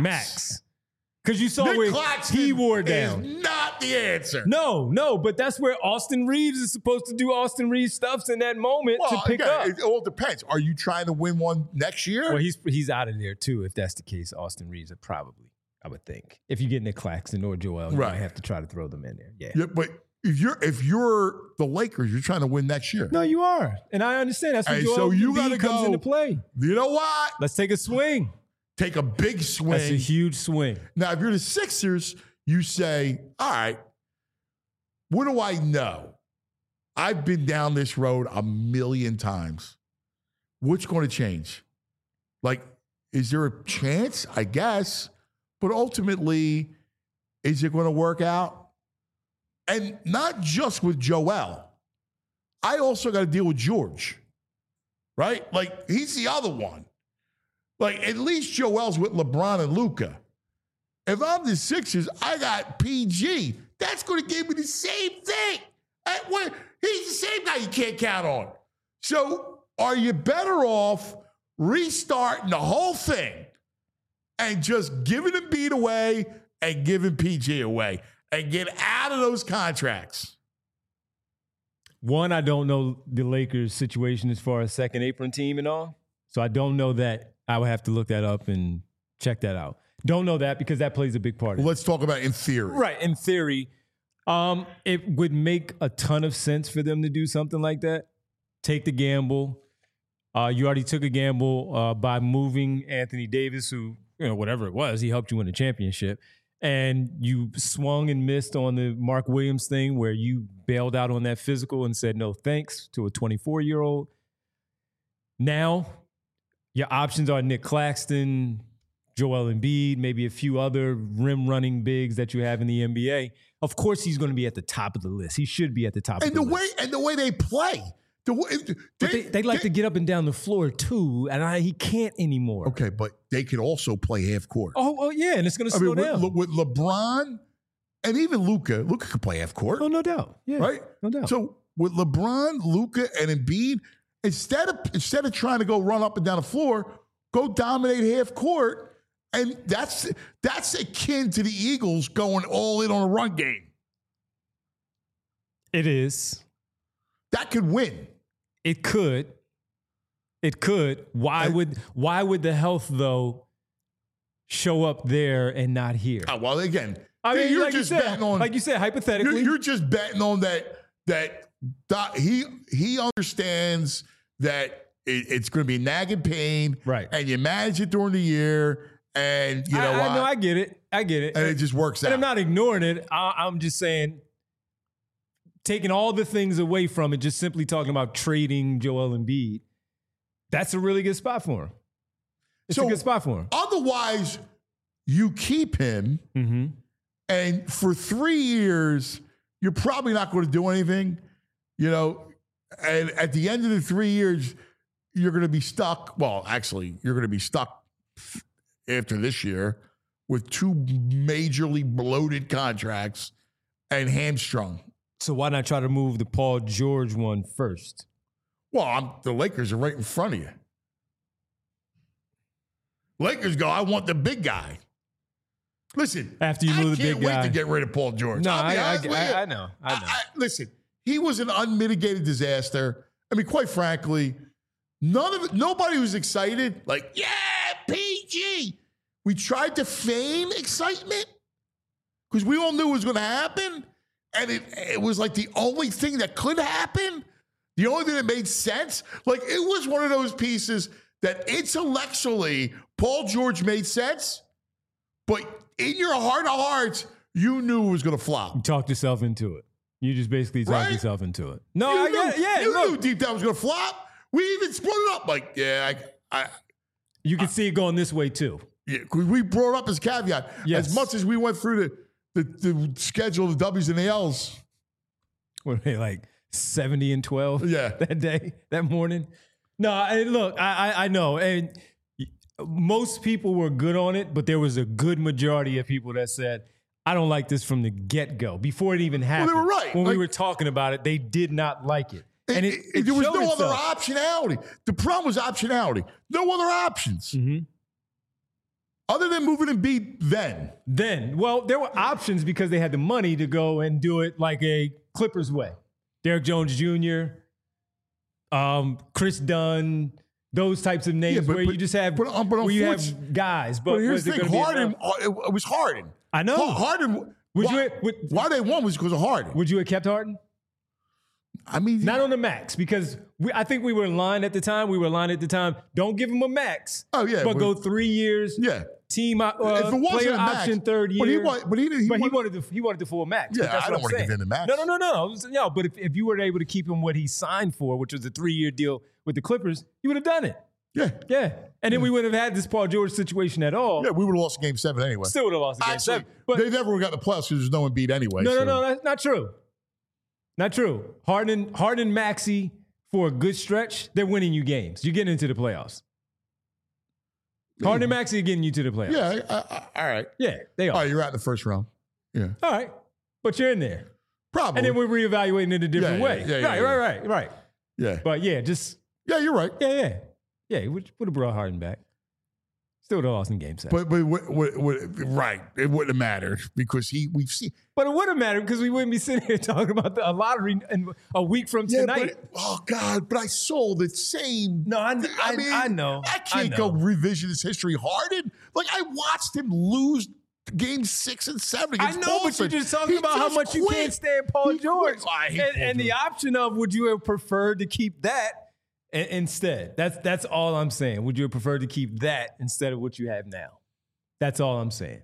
Because you saw Nick where Claxton he wore down. Is not the answer. No, but that's where Austin Reeves is supposed to do Austin Reeves stuffs in that moment to pick up. It all depends. Are you trying to win one next year? Well, he's out of there too. If that's the case, Austin Reeves would probably, I would think. If you get Nick Claxton or Joel, you might have to try to throw them in there. Yeah, but if you're the Lakers, you're trying to win next year. No, you are, and I understand. That's when Joel Embiid comes into play. You know what? Let's take a swing. Take a big swing. That's a huge swing. Now, if you're the Sixers, you say, all right, what do I know? I've been down this road a million times. What's going to change? Like, is there a chance? I guess. But ultimately, is it going to work out? And not just with Joel. I also got to deal with George, right? Like, he's the other one. Like, at least Joel's with LeBron and Luka. If I'm the Sixers, I got PG. That's going to give me the same thing. He's the same guy you can't count on. So are you better off restarting the whole thing and just giving Embiid away and giving PG away and get out of those contracts? One, I don't know the Lakers' situation as far as second apron team and all. So I don't know that. I would have to look that up and check that out. Don't know that because that plays a big part. Let's talk about in theory. Right, in theory. It would make a ton of sense for them to do something like that. Take the gamble. You already took a gamble by moving Anthony Davis, who, whatever it was, he helped you win a championship. And you swung and missed on the Mark Williams thing where you bailed out on that physical and said no thanks to a 24-year-old. Now, your options are Nick Claxton, Joel Embiid, maybe a few other rim-running bigs that you have in the NBA. Of course, he's going to be at the top of the list. He should be at the top of the list. And the way they play. They like to get up and down the floor, too, and he can't anymore. Okay, but they could also play half court. Oh yeah, and it's going to slow down. With LeBron and even Luka could play half court. Oh, no doubt. Yeah, right? No doubt. So with LeBron, Luka, and Embiid, instead of trying to go run up and down the floor, go dominate half court, and that's akin to the Eagles going all in on a run game. It is. That could win. It could. It could. Why would the health though show up there and not here? Well, again, I mean, you're like just you said, betting on. like you said, hypothetically, You're just betting on that he understands that it's going to be nagging pain, right? And you manage it during the year, and you know I know, I get it, and it just works out. And I'm not ignoring it. I'm just saying, taking all the things away from it, just simply talking about trading Joel Embiid, that's a really good spot for him. It's a good spot for him. Otherwise, you keep him. Mm-hmm. And for 3 years, you're probably not going to do anything, you know. And at the end of the 3 years, you're going to be stuck. Well, actually, you're going to be stuck after this year with 2 majorly bloated contracts and hamstrung. So why not try to move the Paul George one first? Well, the Lakers are right in front of you. Lakers go, I want the big guy. Listen, after you move the big guy, I can't wait to get rid of Paul George. No, I know. Listen, he was an unmitigated disaster. I mean, quite frankly, nobody was excited. Like, yeah, PG. We tried to feign excitement because we all knew it was going to happen, and it was like the only thing that could happen, the only thing that made sense. Like, it was one of those pieces that intellectually Paul George made sense, but in your heart of hearts, you knew it was going to flop. You talked yourself into it. You just basically talked yourself into it. No, I get it. Yeah, you knew deep down it was going to flop. We even split it up. Like, you could see it going this way too. Yeah, we brought up as caveat. Yes. As much as we went through the schedule of the W's and the L's. What are they, like 70 and 12? Yeah, that day, that morning. No, look, I know, and most people were good on it, but there was a good majority of people that said, I don't like this from the get-go. Before it even happened. Well, they were right. When we were talking about it, they did not like it. And there was no other optionality. The problem was optionality. No other options. Mm-hmm. Other than moving Embiid then. Well, there were options because they had the money to go and do it like a Clippers way. Derek Jones Jr., Chris Dunn, those types of names where you just have you have guys. But here's the thing, Harden, it was Harden. I know. Harden, why they won was because of Harden. Would you have kept Harden? I mean, not on the max, because I think we were in line at the time. Don't give him a max. Oh, yeah. But go 3 years. Yeah. Team if it wasn't player a max, option third year. But he wanted the full max. Yeah, I don't want to give him the max. No. But if you were able to keep him what he signed for, which was a 3-year deal with the Clippers, you would have done it. Yeah. And then we wouldn't have had this Paul George situation at all. Yeah, we would have lost Game 7 anyway. Still would have lost Game 7. But they never would have got the playoffs because there's no Embiid anyway. No, that's not true. Not true. Harden, Maxey, for a good stretch, they're winning you games. You're getting into the playoffs. Harden and Maxey are getting you to the playoffs. Yeah, all right. Yeah, they are. All right, you're out in the first round. Yeah. All right. But you're in there. Probably. And then we're reevaluating it a different way. Right. Yeah. But yeah, you're right. Yeah. Yeah, would have brought Harden back. Still would have lost in Game 7. But right. It wouldn't have mattered because we've seen. But it would have mattered because we wouldn't be sitting here talking about a lottery a week from tonight. But I saw the same. No, I know. I can't go revisionist history. Harden, like I watched him lose Game 6 and 7 against Boston. But you're just talking about how much you can't stand Paul George. And the option of would you have preferred to keep that instead? That's all I'm saying. Would you have preferred to keep that instead of what you have now? That's all I'm saying.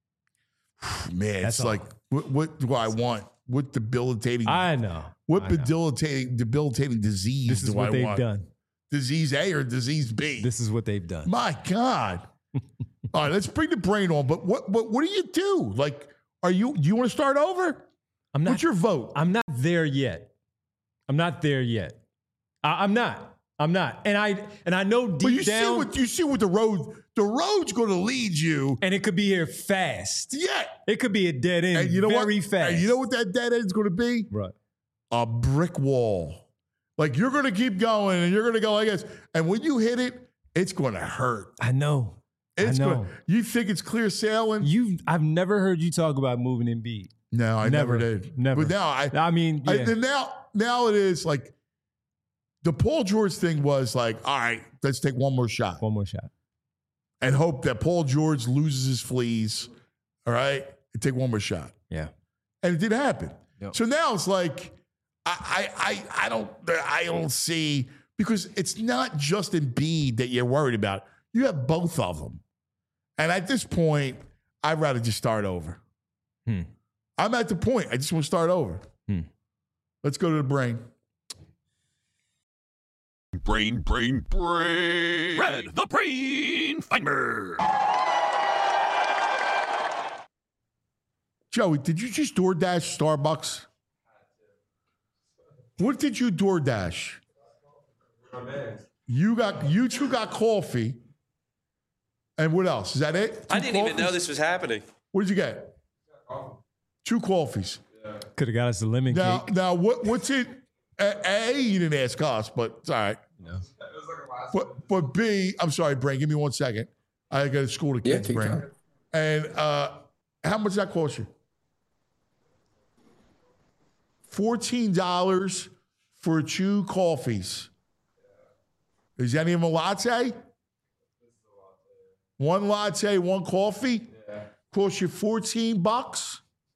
Man, it's like, what do I want? What debilitating? I know. What debilitating disease this is do what I they've want? Done. Disease A or disease B? This is what they've done. My God. All right, let's bring the brain on. But what do you do? Like, do you want to start over? I'm not. What's your vote? I'm not there yet. I'm not. And I know deep down. You see what the road's going to lead you. And it could be here fast. Yeah. It could be a dead end very fast. And you know what that dead end is going to be? Right. A brick wall. Like you're going to keep going and you're going to go like this. And when you hit it, it's going to hurt. I know. You think it's clear sailing? I've never heard you talk about moving Embiid. No, I never did. Never. But now now it is like the Paul George thing was like, all right, let's take one more shot. One more shot. And hope that Paul George loses his fleas. All right. And take one more shot. Yeah. And it didn't happen. Yep. So now it's like, I don't see, because it's not just Embiid that you're worried about. You have both of them. And at this point, I'd rather just start over. I'm at the point. I just want to start over. Let's go to the brain. Brain. Red, the brain finder. Joey, did you just DoorDash Starbucks? What did you DoorDash? You two got coffee. And what else? Is that it? I didn't even know this was happening. What did you get? 2 coffees. Could have got us a lemon cake. Now what's it? A, you didn't ask us, but it's all right. No. But B, I'm sorry, Brain, give me 1 second. I got to school the kids, Brain. time. And how much does that cost you? $14 for 2 coffees. Is any of them a latte? 1 latte, 1 coffee? Yeah. Cost you $14?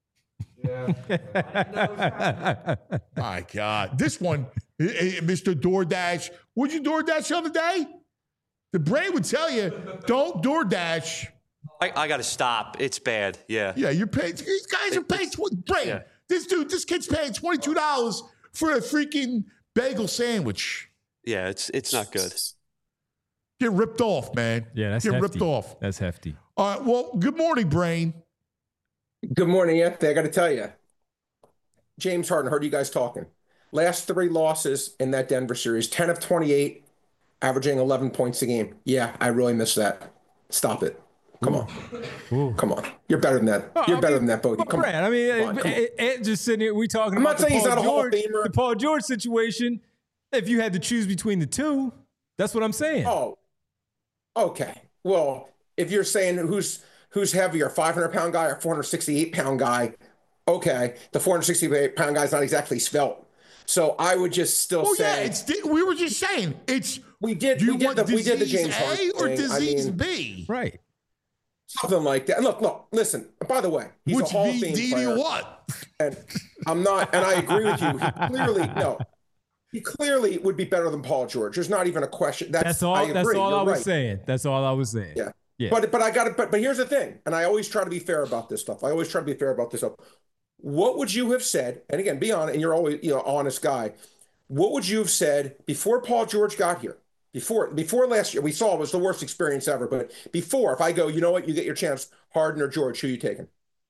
Yeah. My God. This one, Mr. DoorDash. Would you DoorDash the other day? The Brain would tell you, don't DoorDash. I got to stop. It's bad. Yeah. Yeah, you're paying. These guys are paying. Brain. Yeah. This kid's paying $22 for a freaking bagel sandwich. Yeah, it's not good. Get ripped off, man. Yeah, that's Get hefty. ripped off. That's hefty. All right. Well, good morning, Brain. Good morning, Anthony. I got to tell you, James Harden, heard you guys talking. Last 3 losses in that Denver series, 10 of 28, averaging 11 points a game. Yeah, I really miss that. Stop it. Come on. Ooh. Come on. You're better than that. You're better than that, Bodie. Come on. I mean, Ed just sitting here, we talking about the Paul George situation. If you had to choose between the two, that's what I'm saying. Oh, okay. Well, if you're saying who's heavier, 500-pound guy or 468-pound guy, okay, the 468-pound guy's not exactly svelte. So I would just still say. Yeah, we were just saying we did the James Harden A or thing. disease B, right? Something like that. And look, listen. By the way, he's a Hall of Fame player. What? And I'm not. And I agree with you. He clearly would be better than Paul George. There's not even a question. That's all. I was saying. That's all I was saying. Yeah. But I got it. But here's the thing. And I always try to be fair about this stuff. What would you have said? And again, be honest. And you're always honest guy. What would you have said before Paul George got here? Before last year, we saw it was the worst experience ever. But before, if I go, you know what, you get your chance, Harden or George, who are you taking?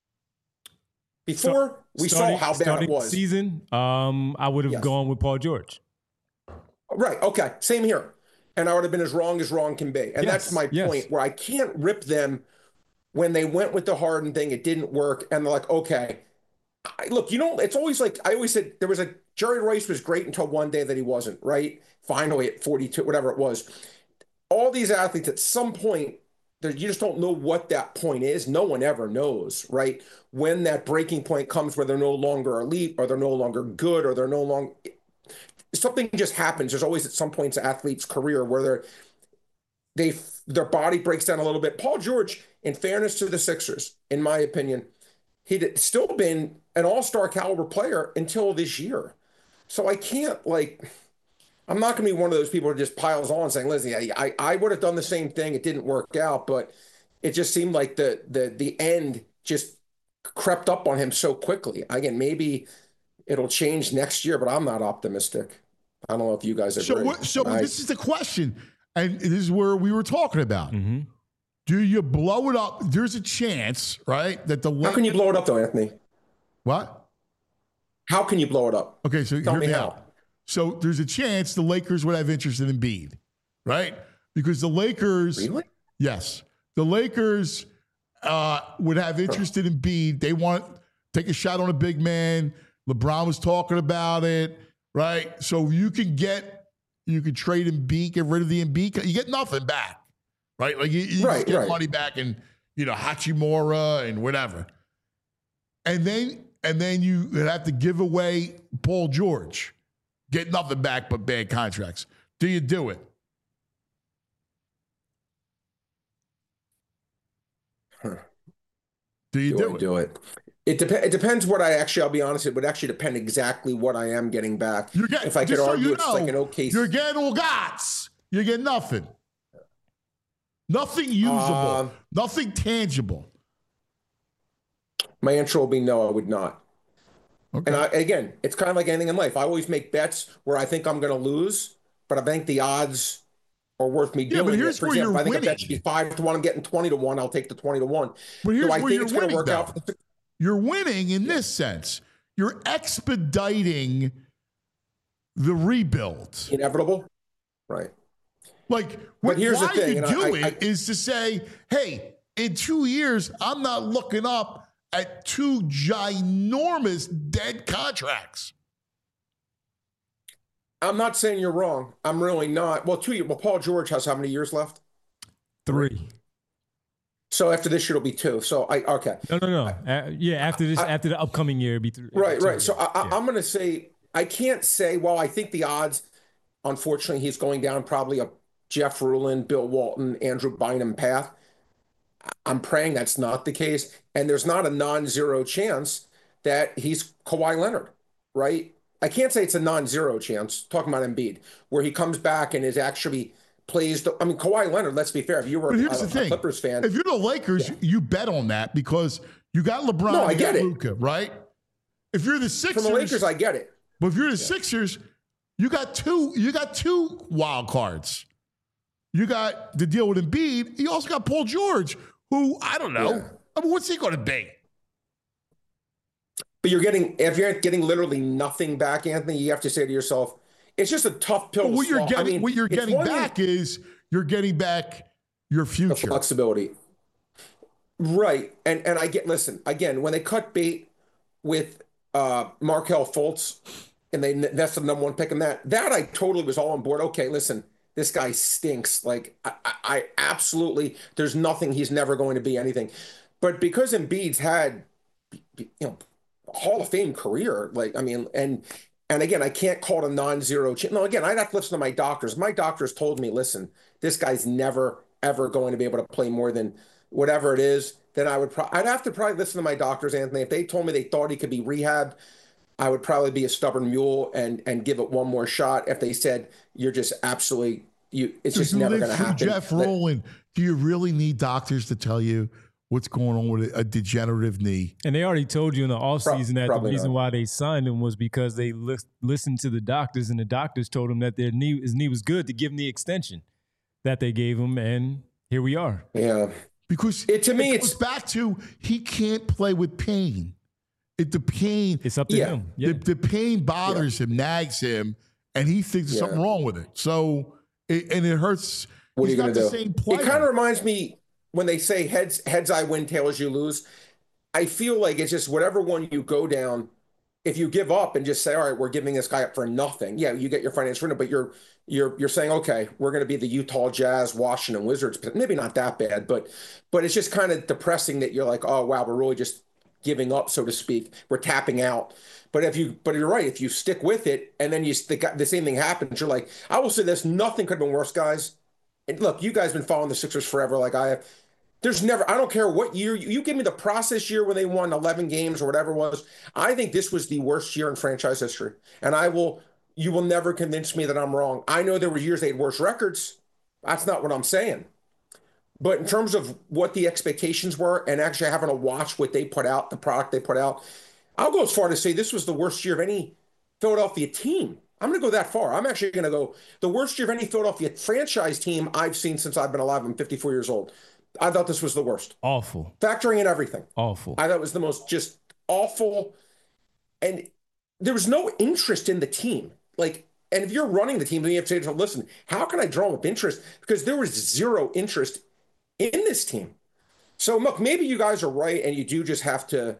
Before we saw how bad it was. Season, I would have gone with Paul George. Right. Okay. Same here. And I would have been as wrong can be. And that's my point, where I can't rip them when they went with the Harden thing. It didn't work. And they're like, okay, look, it's always like, I always said there was Jerry Rice was great until one day that he wasn't, right? Finally at 42, whatever it was. All these athletes at some point, you just don't know what that point is. No one ever knows, right? When that breaking point comes where they're no longer elite or they're no longer good or they're no longer... Something just happens. There's always at some points an athlete's career where their body breaks down a little bit. Paul George, in fairness to the Sixers, in my opinion, he'd still been an all-star caliber player until this year. So I can't, I'm not going to be one of those people who just piles on saying, listen, I would have done the same thing. It didn't work out, but it just seemed like the end just crept up on him so quickly. Again, maybe it'll change next year, but I'm not optimistic. I don't know if you guys agree. So this is the question, and this is where we were talking about. Mm-hmm. Do you blow it up? There's a chance, right, that the How can you blow it up, though, Anthony? What? How can you blow it up? Okay, so Tell me how. So there's a chance the Lakers would have interest in Embiid, right? Because the Lakers... Really? Yes. The Lakers would have interest in Embiid. They want to take a shot on a big man. LeBron was talking about it, right? So you can trade Embiid, get rid of the Embiid. You get nothing back, right? Like you just get money back and, Hachimura and whatever. And then and then you have to give away Paul George. Get nothing back but bad contracts. Do you do it? Do you do it? It depends what I'll be honest, it would actually depend exactly what I am getting back. If I could argue it's like an okay. You're getting all gots. You get nothing. Nothing usable. Nothing tangible. My answer will be no, I would not. Okay. And again, it's kind of like anything in life. I always make bets where I think I'm going to lose, but I think the odds are worth me doing. But here's For where example, you're I think winning. a bet should be 5-1. I'm getting 20-1. I'll take the 20-1. But here's I where think you're it's going to winning, work out. though. You're winning in this sense. You're expediting the rebuild. Inevitable, right? Like, but here's why the thing, you do it is to say, hey, in 2 years, I'm not looking up at 2 ginormous dead contracts. I'm not saying you're wrong. I'm really not. Well, 2 years. Well, Paul George has how many years left? 3. So after this year, it'll be 2. So okay. No. After this, after the upcoming year, it'll be 3. Right. So I'm going to say, I can't say, well, I think the odds, unfortunately, he's going down probably a Jeff Ruland, Bill Walton, Andrew Bynum path. I'm praying that's not the case. And there's not a non-zero chance that he's Kawhi Leonard, right? I can't say it's a non-zero chance, talking about Embiid, where he comes back and is actually plays. Kawhi Leonard, let's be fair. If you were a Clippers fan. If you're the Lakers, you bet on that because you got LeBron no, I and get Luka, right? If you're the Sixers. From the Lakers, I get it. But if you're the Sixers, you got two wild cards. You got the deal with Embiid. You also got Paul George, who, I don't know. Yeah. What's he going to be? But if you're getting literally nothing back, Anthony, you have to say to yourself, it's just a tough pill to swallow. What you're getting back is you're getting back your future. The flexibility. Right. And I get, listen, again, when they cut bait with Markelle Fultz and that's the number 1 pick in that I totally was all on board. Okay, listen, this guy stinks. Like I absolutely, there's nothing, he's never going to be anything. But because Embiid's had, Hall of Fame career, and again, I can't call it a non-zero chance. No, again, I'd have to listen to my doctors. My doctors told me, listen, this guy's never, ever going to be able to play more than whatever it is. Then I'd have to probably listen to my doctors, Anthony. If they told me they thought he could be rehabbed, I would probably be a stubborn mule and give it one more shot. If they said, you're just absolutely, it's just never going to happen. Jeff Rowland, do you really need doctors to tell you what's going on with a degenerative knee? And they already told you in the offseason that the reason why they signed him was because they listened to the doctors, and the doctors told him that his knee was good to give him the extension that they gave him, and here we are. Yeah. Because it goes back to he can't play with pain. It's up to him. Yeah. The pain bothers him, nags him, and he thinks there's something wrong with it. So, it hurts. What are you going to do? Same player. It kind of reminds me when they say heads I win, tails you lose. I feel like it's just whatever one you go down. If you give up and just say, all right, we're giving this guy up for nothing. Yeah, you get your financial freedom, but you're saying, okay, we're going to be the Utah Jazz, Washington Wizards. Maybe not that bad, but it's just kind of depressing that you're like, oh wow, we're really just giving up, so to speak. We're tapping out. But you're right. If you stick with it and then the same thing happens, you're like, I will say this: nothing could have been worse, guys. And look, you guys have been following the Sixers forever, like I have. There's never, I don't care what year, you give me the process year when they won 11 games or whatever it was. I think this was the worst year in franchise history. And you will never convince me that I'm wrong. I know there were years they had worse records. That's not what I'm saying. But in terms of what the expectations were and actually having to watch what they put out, the product they put out, I'll go as far to say this was the worst year of any Philadelphia team. I'm going to go that far. I'm actually going to go the worst year of any Philadelphia franchise team I've seen since I've been alive. I'm 54 years old. I thought this was the worst. Awful. Factoring in everything. Awful. I thought it was the most just awful. And there was no interest in the team. And if you're running the team, then you have to say, listen, how can I draw up interest? Because there was zero interest in this team. So look, maybe you guys are right and you do just have to,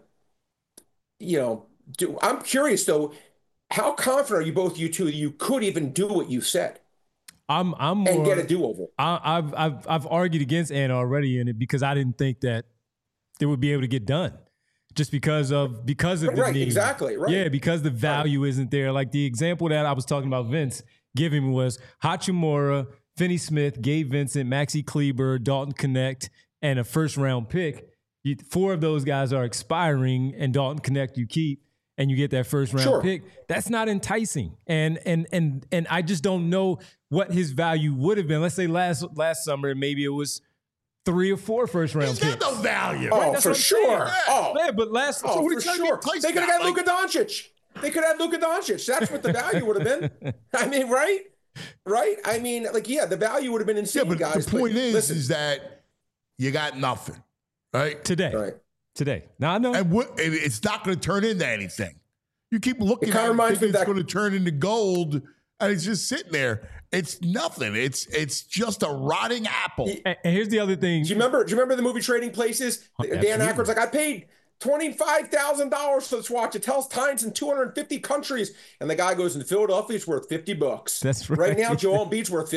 I'm curious though, how confident are you both, you two, that you could even do what you said? I'm more, and get a do-over. I've argued against Ant already in it because I didn't think that they would be able to get done. just because of the need. Exactly, right. Yeah, because the value isn't there. Like the example that I was talking about Vince giving me was Hachimura, Finney Smith, Gabe Vincent, Maxi Kleber, Dalton Connect, and a first-round pick. 4 of those guys are expiring, and Dalton Connect you keep, and you get that first-round pick. That's not enticing. And I just don't know what his value would have been. Let's say last summer, maybe it was 3 or 4 first-round picks. He's got no value. Oh, right? For sure. Yeah, but for sure. They could have had Luka Doncic. That's what the value would have been. I mean, right? I mean, the value would have been insane, guys. The point is that you got nothing, right? Today. Now, I know. And it's not going to turn into anything. You keep looking at it, thinking it's going to turn into gold, and it's just sitting there. It's nothing. It's just a rotting apple. And here's the other thing. Do you remember the movie Trading Places? Dan Aykroyd's like, I paid $25,000 for this watch. It tells times in 250 countries. And the guy goes, in Philadelphia, it's worth $50. That's right. Right now, Joel Embiid's worth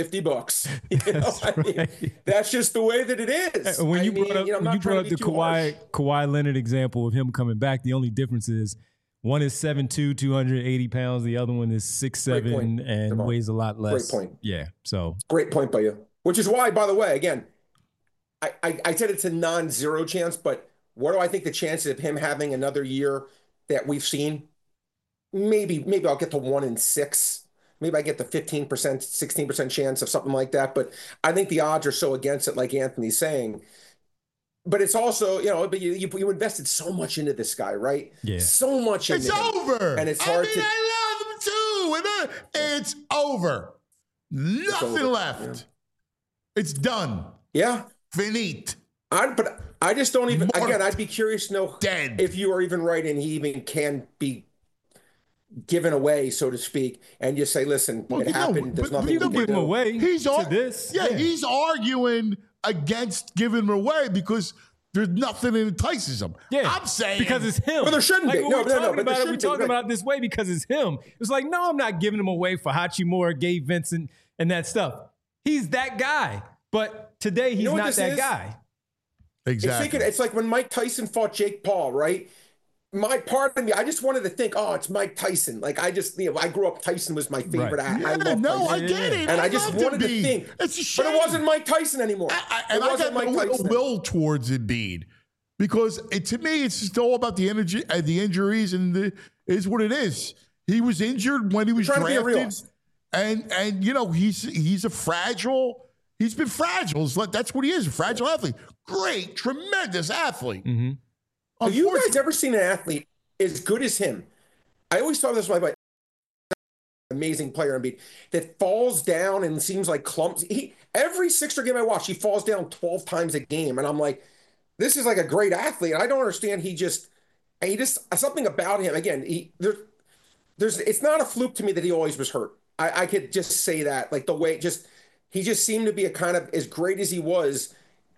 $50. That's just the way that it is. When you brought up the Kawhi Leonard example of him coming back, the only difference is one is 7'2", 280 pounds. The other one is 6'7", and weighs a lot less. Great point. Yeah. So great point by you. Which is why, by the way, again, I said it's a non-zero chance, but what do I think the chances of him having another year that we've seen? Maybe I'll get to 1 in 6. Maybe I get the 15%, 16% chance of something like that. But I think the odds are so against it, like Anthony's saying. But it's also, but you invested so much into this guy, right? Yeah. So much into him. It's over. And it's hard to. I love him too. It's over. Nothing left. Yeah. It's done. Yeah. Finite. But I just don't even. Again, I'd be curious to know if you are even right and he even can be given away, so to speak, and just say, listen, it happened. There's nothing we can do. Give him away. He's arguing against giving him away because there's nothing that entices him. Yeah, I'm saying because it's him. But there shouldn't be. We're talking about it this way because it's him. It's like, no, I'm not giving him away for Hachimura, Gabe Vincent, and that stuff. He's that guy, but today he's not that guy. Exactly. It's like when Mike Tyson fought Jake Paul, right? My part of me, I just wanted to think, it's Mike Tyson. Like I grew up, Tyson was my favorite. Right. I love Tyson. I get it. And I just wanted to think. It's a shame. But it wasn't Mike Tyson anymore. I got a little will towards Embiid because to me, it's just all about the energy, the injuries, and is what it is. He was injured when he was drafted, and he's a fragile. He's been fragile. That's what he is, a fragile athlete. Great, tremendous athlete. Mm-hmm. Have you guys ever seen an athlete as good as him? I always thought this was my amazing player, Embiid, that falls down and seems like clumsy. Every Sixer game I watch, he falls down 12 times a game. And I'm like, this is like a great athlete. I don't understand. He just something about him. Again, it's not a fluke to me that he always was hurt. I could just say that, like the way he just seemed to be a kind of, as great as he was,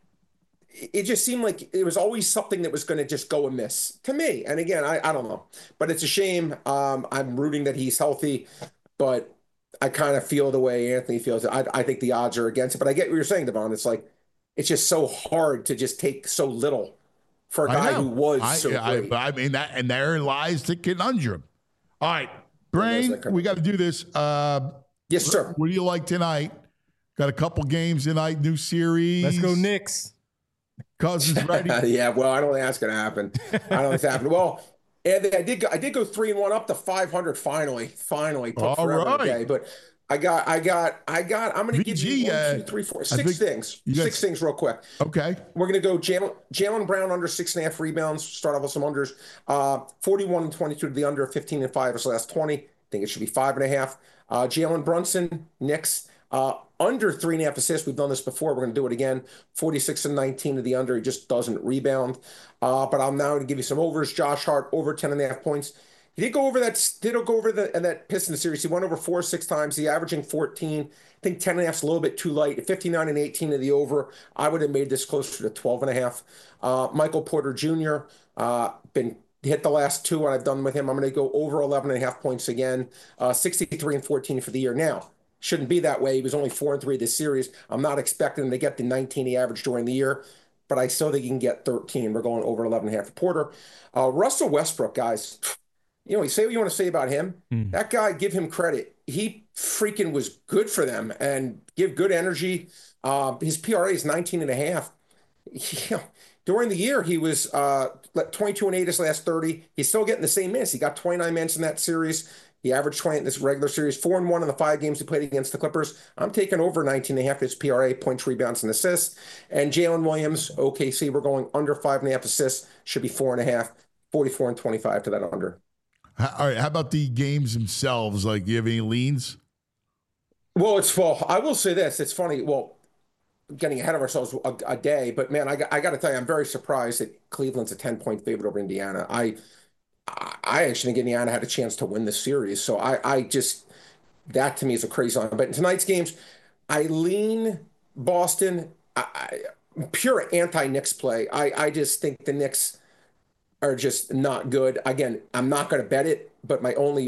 it just seemed like it was always something that was going to just go amiss to me. And again, I don't know, but it's a shame. I'm rooting that he's healthy, but I kind of feel the way Anthony feels. I think the odds are against it, but I get what you're saying, Devon. It's like, it's just so hard to just take so little for a guy who was so great. I mean, and therein lies the conundrum. All right, Brain, we got to do this. Yes, sir. What do you like tonight? Got a couple games tonight, new series. Let's go Knicks. Cousins ready? Yeah, well, I don't think that's going to happen. I don't think it's happening. Well, Anthony, I did go 3-1 up to 500 finally. Took forever today, but I'm going to give you 1, 2, 3, 4, 6 things. 6 things real quick. Okay. We're going to go Jaylen Brown under 6.5 rebounds. Start off with some unders. 41-22 to the under, 15-5 his last 20. I think it should be 5.5. Jalen Brunson, Knicks. Under 3.5 assists. We've done this before. We're going to do it again. 46-19 to the under. He just doesn't rebound. But I'm now going to give you some overs. Josh Hart over 10.5 points. He did go over that Pistons series. He went over 4 or 6 times. He averaging 14. I think 10.5 is a little bit too light. 59-18 to the over. I would have made this closer to 12.5. Michael Porter Jr. Been hit the last 2 and I've done with him. I'm going to go over 11.5 points again. 63-14 for the year. Now, shouldn't be that way. He was only 4-3 this series. I'm not expecting him to get the 19 he averaged during the year. but I still think he can get 13. We're going over 11.5 for Porter. Russell Westbrook, guys, you say what you want to say about him. That guy, give him credit. He freaking was good for them and give good energy. His PRA is 19.5. During the year, he was 22-8 his last 30. He's still getting the same minutes. He got 29 minutes in that series. He averaged 20 in this regular series, 4-1 in the 5 games he played against the Clippers. I'm taking over 19.5 his PRA, points, rebounds, and assists. And Jalen Williams, OKC, we're going under 5.5 assists. Should be 4.5, 44 and 25 to that under. All right. How about the games themselves? Like, do you have any leans? Well, I will say this. It's funny. Well, getting ahead of ourselves a day, but man, I got to tell you, I'm very surprised that Cleveland's a 10-point favorite over Indiana. I actually think Indiana had a chance to win the series. So I just, that to me is a crazy line. But in tonight's games, I lean Boston. Pure anti-Knicks play. I just think the Knicks are just not good. Again, I'm not going to bet it, but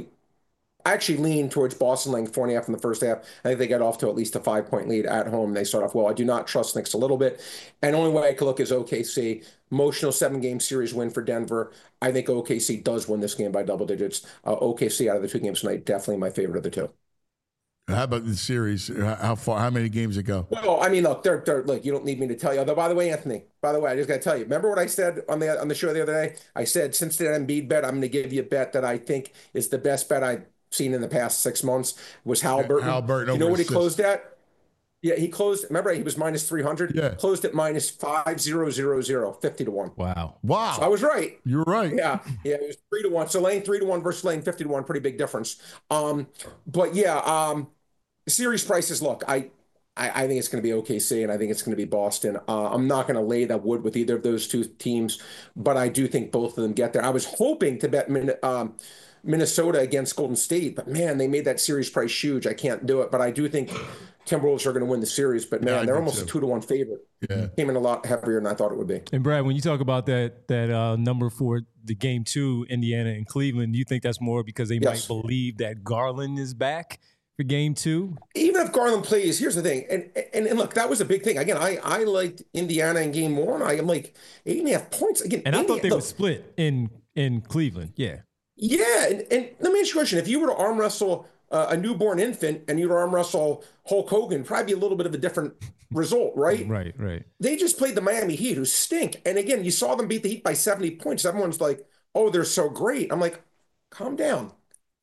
I actually lean towards Boston laying 4.5 in the first half. I think they get off to at least a 5-point lead at home. They start off well. I do not trust Knicks a little bit. And the only way I could look is OKC. Emotional 7-game series win for Denver. I think OKC does win this game by double digits. OKC out of the 2 games tonight, definitely my favorite of the 2. How about the series? How many games ago? Well, I mean, look, look, you don't need me to tell you. Although, by the way, Anthony, I just got to tell you, remember what I said on the show the other day? I said, since that Embiid bet, I'm going to give you a bet that I think is the best bet I've seen in the past 6 months was Halliburton. Halliburton. You know what he closed at? Yeah, he closed. Remember, he was minus 300. Yeah, closed at minus 5,000, 50 to 1. Wow. So I was right. You're right. Yeah, it was 3 to 1. So laying 3 to 1 versus laying 50 to 1, pretty big difference. But yeah, series prices. Look, I think it's going to be OKC, and I think it's going to be Boston. I'm not going to lay that wood with either of those 2 teams, but I do think both of them get there. I was hoping to bet Minnesota against Golden State, but man, they made that series price huge. I can't do it, but I do think Timberwolves are going to win the series. But man, they're almost a 2-1 favorite. Yeah, came in a lot heavier than I thought it would be. And Brad, when you talk about that number for the game 2, Indiana and Cleveland, do you think that's more because they might believe that Garland is back for game 2? Even if Garland plays, here's the thing, and look, that was a big thing. Again, I liked Indiana in game 1. I am like 8.5 points again. And I thought they would split in Cleveland. Yeah. Yeah, and let me ask you a question. If you were to arm wrestle a newborn infant and you were to arm wrestle Hulk Hogan, probably be a little bit of a different result, right? Right. They just played the Miami Heat, who stink. And again, you saw them beat the Heat by 70 points. Everyone's like, oh, they're so great. I'm like, calm down.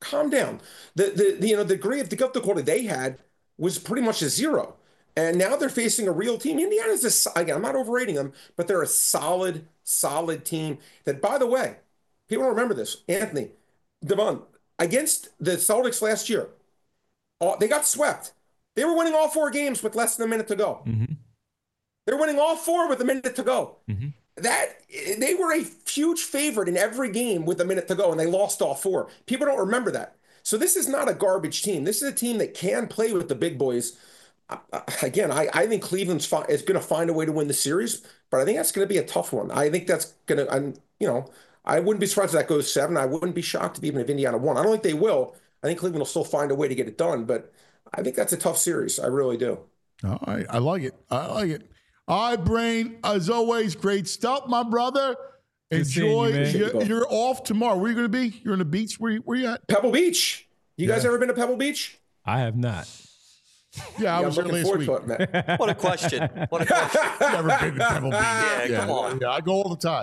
The degree of difficulty they had was pretty much a 0. And now they're facing a real team. Indiana's again, I'm not overrating them, but they're a solid team that, by the way, people don't remember this. Anthony, Devon, against the Celtics last year, they got swept. They were winning all 4 games with less than a minute to go. Mm-hmm. They're winning all 4 with a minute to go. Mm-hmm. They were a huge favorite in every game with a minute to go, and they lost all 4. People don't remember that. So this is not a garbage team. This is a team that can play with the big boys. Again, I think Cleveland's is going to find a way to win the series, but I think that's going to be a tough one. I think that's going to, I wouldn't be surprised if that goes 7. I wouldn't be shocked even if Indiana won. I don't think they will. I think Cleveland will still find a way to get it done, but I think that's a tough series. I really do. All right. I like it. All right, Brain, as always, great stuff, my brother. Enjoy. You're off tomorrow. Where are you going to be? You're on the beach? Where you at? Pebble Beach. You guys ever been to Pebble Beach? I have not. Yeah, I was there last week. What a question. Never been to Pebble Beach. Yeah, come on. Yeah, I go all the time.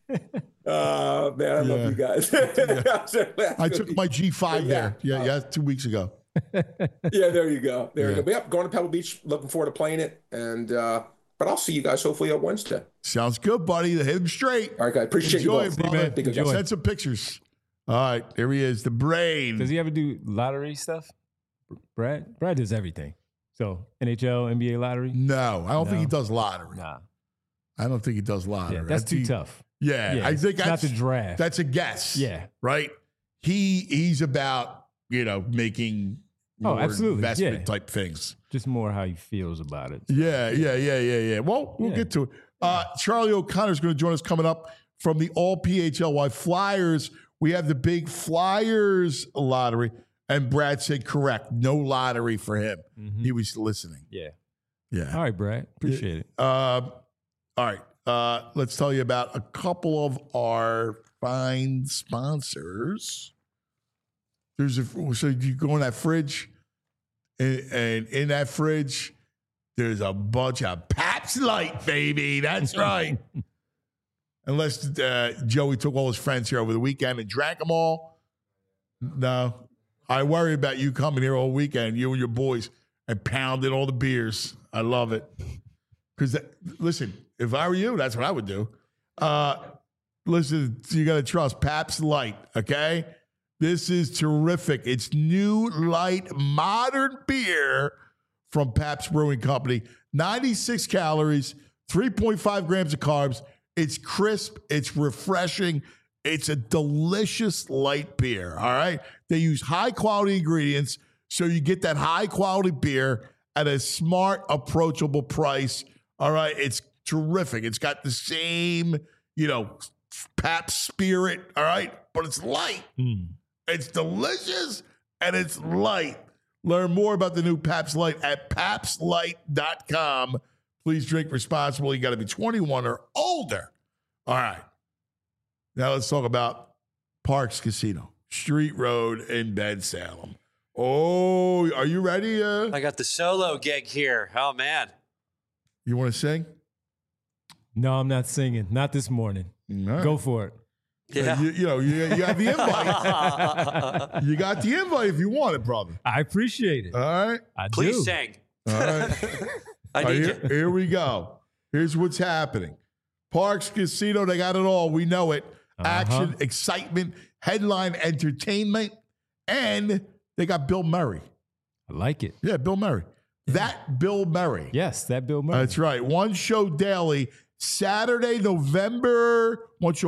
Man, I love you guys. I took my G5 there. Yeah, 2 weeks ago. Yeah, there you go. There you go. But yep, going to Pebble Beach. Looking forward to playing it. And but I'll see you guys hopefully on Wednesday. Sounds good, buddy. Hit him straight. All right, guys. Appreciate you both. Enjoy. Send some pictures. All right, there he is, the Brain. Does he ever do lottery stuff? Brad does everything. So NHL, NBA lottery? No, I don't think he does lottery. Nah. I don't think he does lottery. Yeah, that's too tough. Yeah, I think that's not the draft. That's a guess. Yeah. Right? He's about, making more investment type things. Just more how he feels about it. Yeah. Well, we'll get to it. Charlie O'Connor is going to join us coming up from the All PHLY Flyers. We have the big Flyers lottery. And Brad said correct. No lottery for him. Mm-hmm. He was listening. Yeah. All right, Brad. Appreciate it. All right. let's tell you about a couple of our fine sponsors. So you go in that fridge, and in that fridge, there's a bunch of Pabst Light, baby. That's right. Unless Joey took all his friends here over the weekend and drank them all. No. I worry about you coming here all weekend, you and your boys, and pounding all the beers. I love it. Because, listen, if I were you, that's what I would do. Listen, you got to trust Pabst Light, okay? This is terrific. It's new, light, modern beer from Pabst Brewing Company. 96 calories, 3.5 grams of carbs. It's crisp. It's refreshing. It's a delicious light beer, all right? They use high-quality ingredients, so you get that high-quality beer at a smart, approachable price, all right? It's terrific. It's got the same, Pabst spirit, all right? But it's light. It's delicious, and it's light. Learn more about the new Pabst Light at PabstLight.com. Please drink responsibly. You got to be 21 or older. All right. Now let's talk about Parx Casino, Street Road in Bensalem. Oh, are you ready? I got the solo gig here. Oh, man. You want to sing? No, I'm not singing. Not this morning. Right. Go for it. Yeah. You have the invite. You got the invite if you want it, brother. I appreciate it. All right. Please sing. All right. I need you. Here we go. Here's what's happening. Parx Casino, they got it all. We know it. Action, excitement, headline entertainment, and they got Bill Murray. I like it. Yeah, Bill Murray. That Bill Murray. Yes, that Bill Murray. That's right. One show daily. Saturday, November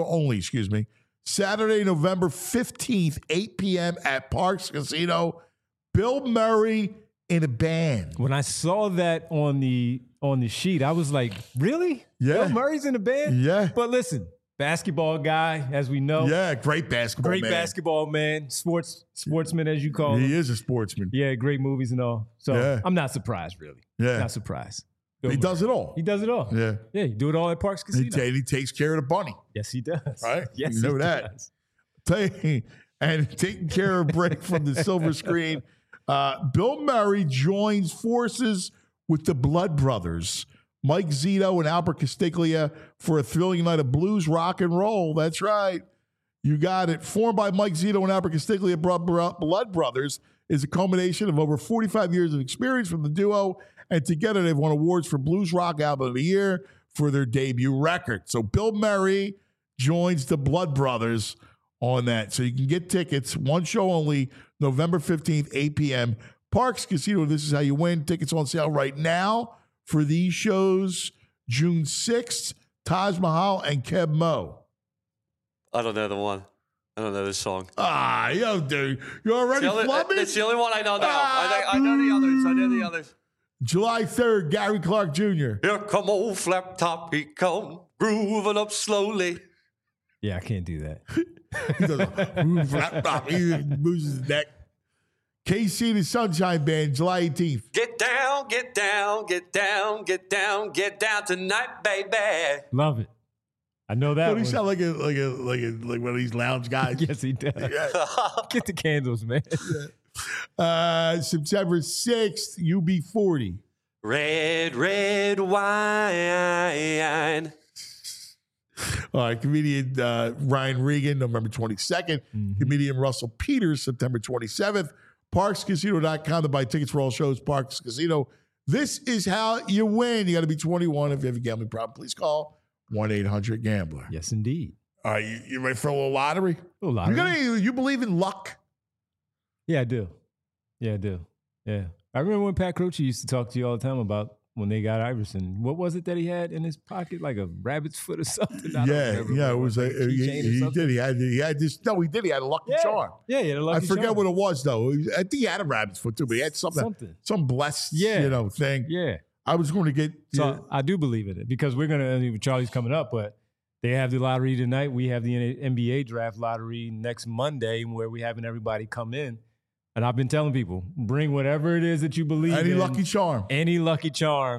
15th, 8 p.m. at Parx Casino. Bill Murray in a band. When I saw that on the sheet, I was like, really? Yeah. Bill Murray's in a band? Yeah. But listen, basketball guy, as we know. Yeah, great basketball man. Great basketball man. Sportsman, as you call him. He is a sportsman. Yeah, great movies and all. So Yeah. I'm not surprised, really. Yeah. Not surprised. He does it all. He does it all. Yeah. Yeah, you do it all at Parx Casino. He takes care of the bunny. Yes, he does. Right? Yes, You know he that. does. And taking care of break from the silver screen. Bill Murray joins forces with the Blood Brothers, Mike Zito and Albert Castiglia, for a thrilling night of blues, rock, and roll. That's right. You got it. Formed by Mike Zito and Albert Castiglia, Blood Brothers is a culmination of over 45 years of experience from the duo, and together they've won awards for Blues Rock Album of the Year for their debut record. So Bill Murray joins the Blood Brothers on that. So you can get tickets, one show only, November 15th, 8 p.m. Parx Casino, this is how you win. Tickets on sale right now for these shows, June 6th, Taj Mahal and Keb Mo. I don't know the one. I don't know this song. Dude. You're already flubbing? It's the only one I know now. I know the others. I know the others. July 3rd, Gary Clark Jr. Here come old Flap Top. He come grooving up slowly. Yeah, I can't do that. He does flap top. He moves his neck. KC and the Sunshine Band, July 18th. Get down, get down, get down, get down, get down tonight, baby. Love it. I know that. Don't he one. sound like one of these lounge guys? Yes, he does. Yeah. Get the candles, man. September 6th, UB40. Red, red wine. All right, comedian Ryan Regan, November 22nd. Comedian Russell Peters, September 27th. ParxCasino.com to buy tickets for all shows. Parx Casino. This is how you win. You got to be 21. If you have a gambling problem, please call 1-800-GAMBLER. Yes, indeed. All right, you ready for a little lottery? A little lottery. You believe in luck? Yeah, I do. Yeah, I do. Yeah. I remember when Pat Croce used to talk to you all the time about when they got Iverson. What was it that he had in his pocket? Like a rabbit's foot or something? Yeah. It was a he did. He had this. No, he did. He had a lucky charm. Yeah, he had a lucky charm. I forget what it was though. I think he had a rabbit's foot too, but he had some blessed thing. Yeah. I was going to get. So I do believe in it because we're gonna. Charlie's coming up, but they have the lottery tonight. We have the NBA draft lottery next Monday, where we're having everybody come in. And I've been telling people, bring whatever it is that you believe in. Any lucky charm. Any lucky charm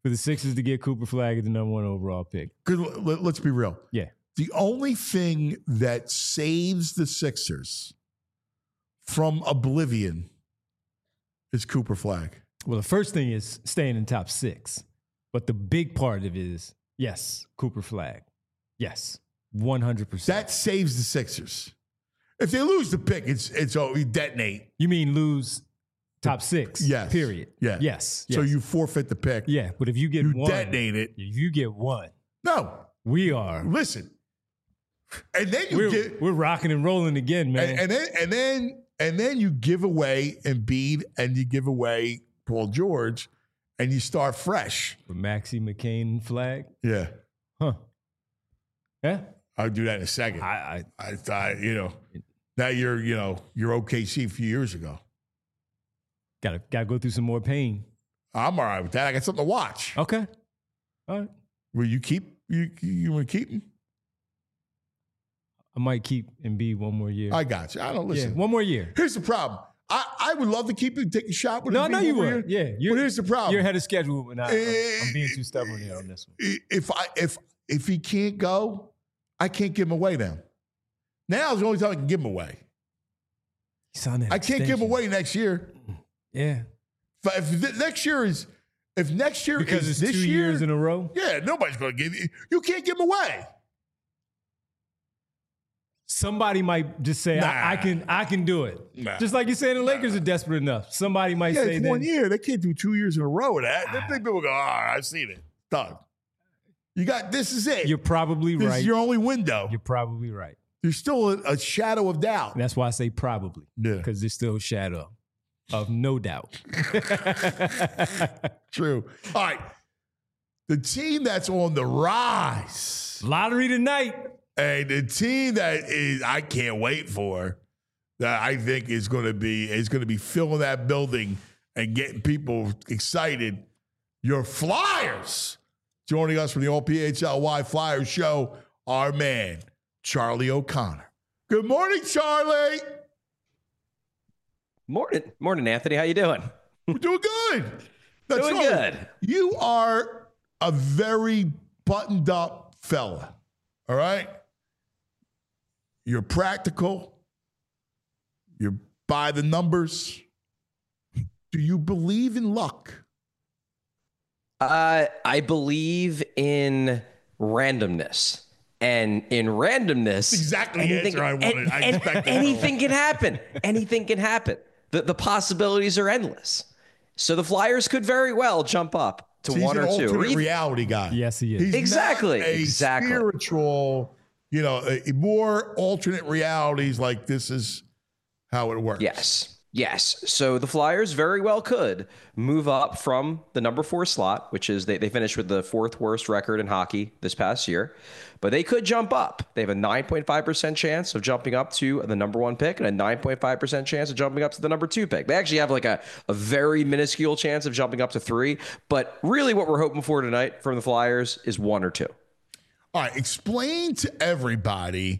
for the Sixers to get Cooper Flagg as the number 1 overall pick. Because let's be real. Yeah. The only thing that saves the Sixers from oblivion is Cooper Flagg. Well, the first thing is staying in top 6. But the big part of it is, yes, Cooper Flagg. Yes, 100%. That saves the Sixers. If they lose the pick, it's we detonate. You mean lose top 6? Yes. Period. Yeah. Yes. So you forfeit the pick. Yeah, but if you get you one. detonate it. If you get one. No. We are. Listen. And then we're rocking and rolling again, man. And then you give away Embiid and you give away Paul George and you start fresh. With Maxey, McCain, Flagg? Yeah. Huh. Yeah. I'll do that in a second. I thought, now you're OKC a few years ago. Gotta go through some more pain. I'm all right with that. I got something to watch. Okay. All right. Will you keep you want to keep him? I might keep Embiid one more year. I got you. I don't listen. Yeah, one more year. Here's the problem. I would love to keep him, take a shot with him. No, you would. Yeah. But here's the problem. You're ahead of schedule, and I'm being too stubborn here on this one. If he can't go, I can't give him away now. Now is the only time I can give him away. I can't give him away next year. Yeah. But if next year is because it's this 2 year, years in a row. Yeah, nobody's going to give you. You can't give him away. Somebody might just say, I can do it. Nah. Just like you said, the Lakers are desperate enough. Somebody might say it's that. 1 year. They can't do 2 years in a row of that. Then people go, all right, I've seen it. Done. This is it. You're probably right. This is your only window. You're probably right. There's still a shadow of doubt. And that's why I say probably. Yeah. Because there's still a shadow of no doubt. True. All right. The team that's on the rise. Lottery tonight. And the team that is I can't wait for, that I think is going to be filling that building and getting people excited. Your Flyers. Joining us from the All-PHLY Flyers show, our man, Charlie O'Connor. Good morning, Charlie. Morning, Anthony. How you doing? We're doing good. Doing good. You are a very buttoned up fella. All right? You're practical. You're by the numbers. Do you believe in luck? I believe in randomness. And in randomness, exactly the answer I wanted. I expected anything can happen. Anything can happen. The possibilities are endless. So the Flyers could very well jump up to one or two. He's an alternate reality guy. Yes, he is. He's exactly. Not a spiritual, more alternate realities like this is how it works. Yes. So the Flyers very well could move up from the number 4 slot, which is they finished with the 4th worst record in hockey this past year, but they could jump up. They have a 9.5% chance of jumping up to the number 1 pick and a 9.5% chance of jumping up to the number 2 pick. They actually have like a very minuscule chance of jumping up to 3, but really what we're hoping for tonight from the Flyers is 1 or 2. All right, explain to everybody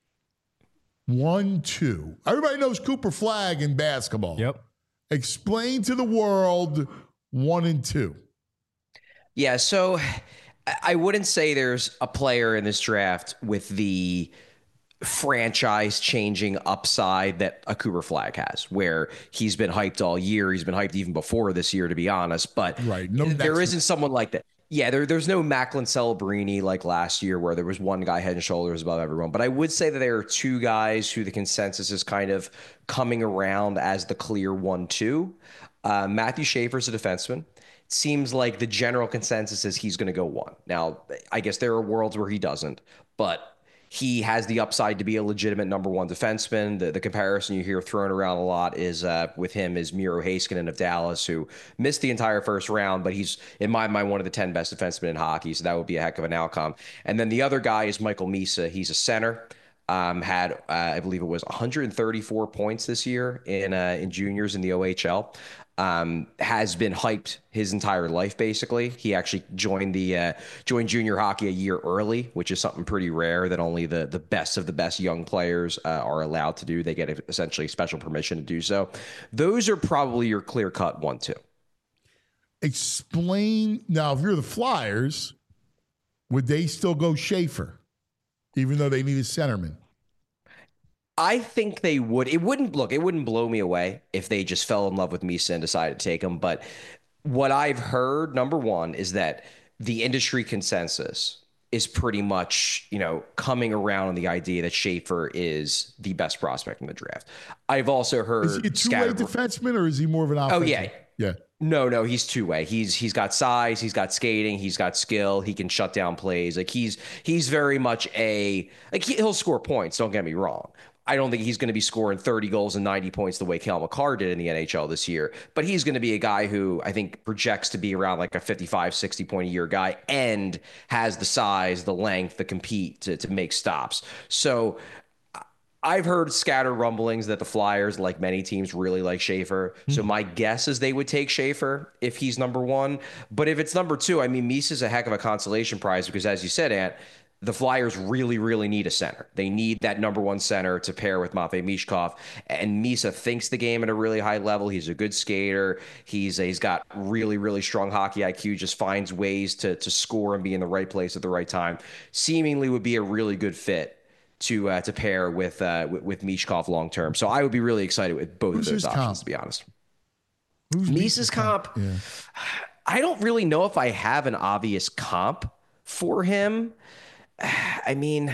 1, 2. Everybody knows Cooper Flagg in basketball. Yep. Explain to the world 1 and 2. Yeah, so I wouldn't say there's a player in this draft with the franchise-changing upside that a Cooper Flagg has, where he's been hyped all year. He's been hyped even before this year, to be honest. But there isn't someone like that. Yeah, there's no Macklin Celebrini like last year where there was one guy head and shoulders above everyone. But I would say that there are 2 guys who the consensus is kind of coming around as the clear 1-2. Matthew Schaefer's a defenseman. It seems like the general consensus is he's going to go 1. Now, I guess there are worlds where he doesn't, but he has the upside to be a legitimate number 1 defenseman. The comparison you hear thrown around a lot is with him is Miro Heiskanen of Dallas, who missed the entire first round, but he's, in my mind, one of the 10 best defensemen in hockey, so that would be a heck of an outcome. And then the other guy is Michael Misa. He's a center. Had, I believe it was 134 points this year in juniors in the OHL. Has been hyped his entire life, basically. He actually joined junior hockey a year early, which is something pretty rare that only the best of the best young players are allowed to do. They get essentially special permission to do so. Those are probably your clear-cut 1-2. Explain now. If you're the Flyers, would they still go Schaefer, even though they need a centerman? I think they would. It wouldn't blow me away if they just fell in love with Misa and decided to take him. But what I've heard, number one, is that the industry consensus is pretty much, coming around on the idea that Schaefer is the best prospect in the draft. I've also heard. Is he a two-way defenseman, or is he more of an offensive? Oh, yeah. Yeah. No, he's two-way. He's got size, he's got skating, he's got skill, he can shut down plays. Like he's very much he'll score points, don't get me wrong. I don't think he's going to be scoring 30 goals and 90 points the way Cale Makar did in the NHL this year, but he's going to be a guy who I think projects to be around like a 55, 60 point a year guy and has the size, the length to compete to make stops. So I've heard scattered rumblings that the Flyers, like many teams, really like Schaefer. So my guess is they would take Schaefer if he's number one. But if it's number two, I mean, Misa's a heck of a consolation prize because, as you said, Ant, the Flyers really, really need a center. They need that number one center to pair with Matvei Michkov. And Misa thinks the game at a really high level. He's a good skater. He's got really, really strong hockey IQ, just finds ways to score and be in the right place at the right time. Seemingly would be a really good fit to pair with Michkov long term. So I would be really excited with both of those options, to be honest. Who's Misa's comp? Yeah. I don't really know if I have an obvious comp for him. I mean,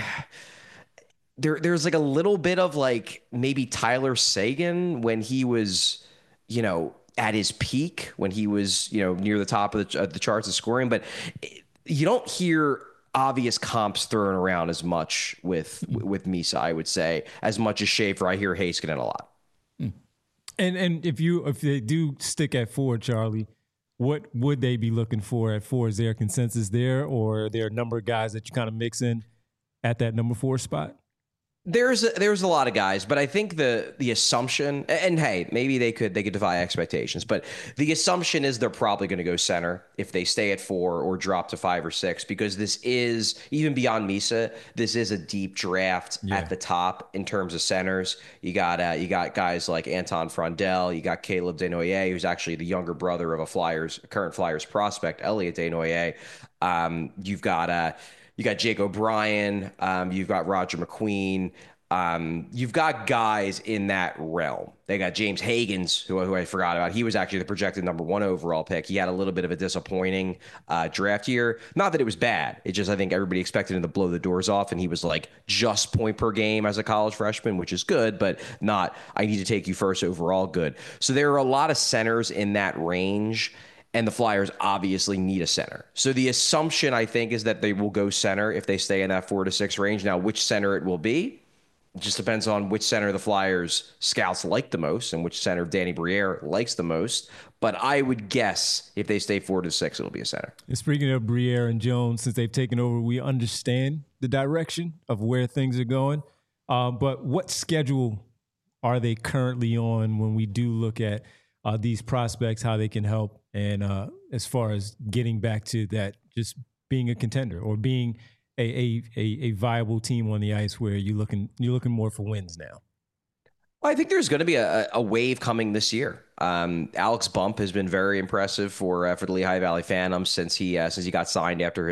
there's like a little bit of like maybe Tyler Seguin when he was, at his peak, when he was, near the top of the charts of scoring, but you don't hear obvious comps thrown around as much with Misa, I would say, as much as Schaefer. I hear Heiskanen a lot. And if they do stick at 4, Charlie, what would they be looking for at 4? Is there a consensus there, or are there a number of guys that you kind of mix in at that number 4 spot? There's a lot of guys, but I think the assumption, and hey, maybe they could defy expectations, but the assumption is they're probably going to go center if they stay at 4 or drop to 5 or 6, because this is, even beyond Misa, this is a deep draft at the top in terms of centers. You got guys like Anton Frondel, you got Caleb Desnoyers, who's actually the younger brother of a current Flyers prospect, Elliot Desnoyers. You got Jake O'Brien. You've got Roger McQueen. You've got guys in that realm. They got James Higgins, who I forgot about. He was actually the projected number 1 overall pick. He had a little bit of a disappointing draft year. Not that it was bad. It just, I think everybody expected him to blow the doors off, and he was like just point per game as a college freshman, which is good, but not, I need to take you first overall good. So there are a lot of centers in that range, and the Flyers obviously need a center. So the assumption, I think, is that they will go center if they stay in that 4 to 6 range. Now, which center it will be, it just depends on which center the Flyers scouts like the most and which center Danny Briere likes the most. But I would guess if they stay 4 to 6, it'll be a center. And speaking of Briere and Jones, since they've taken over, we understand the direction of where things are going. But what schedule are they currently on when we do look at these prospects, how they can help, and as far as getting back to that, just being a contender or being a viable team on the ice where you're looking more for wins now? Well, I think there's going to be a wave coming this year. Alex Bump has been very impressive for the Lehigh Valley Phantoms since he got signed after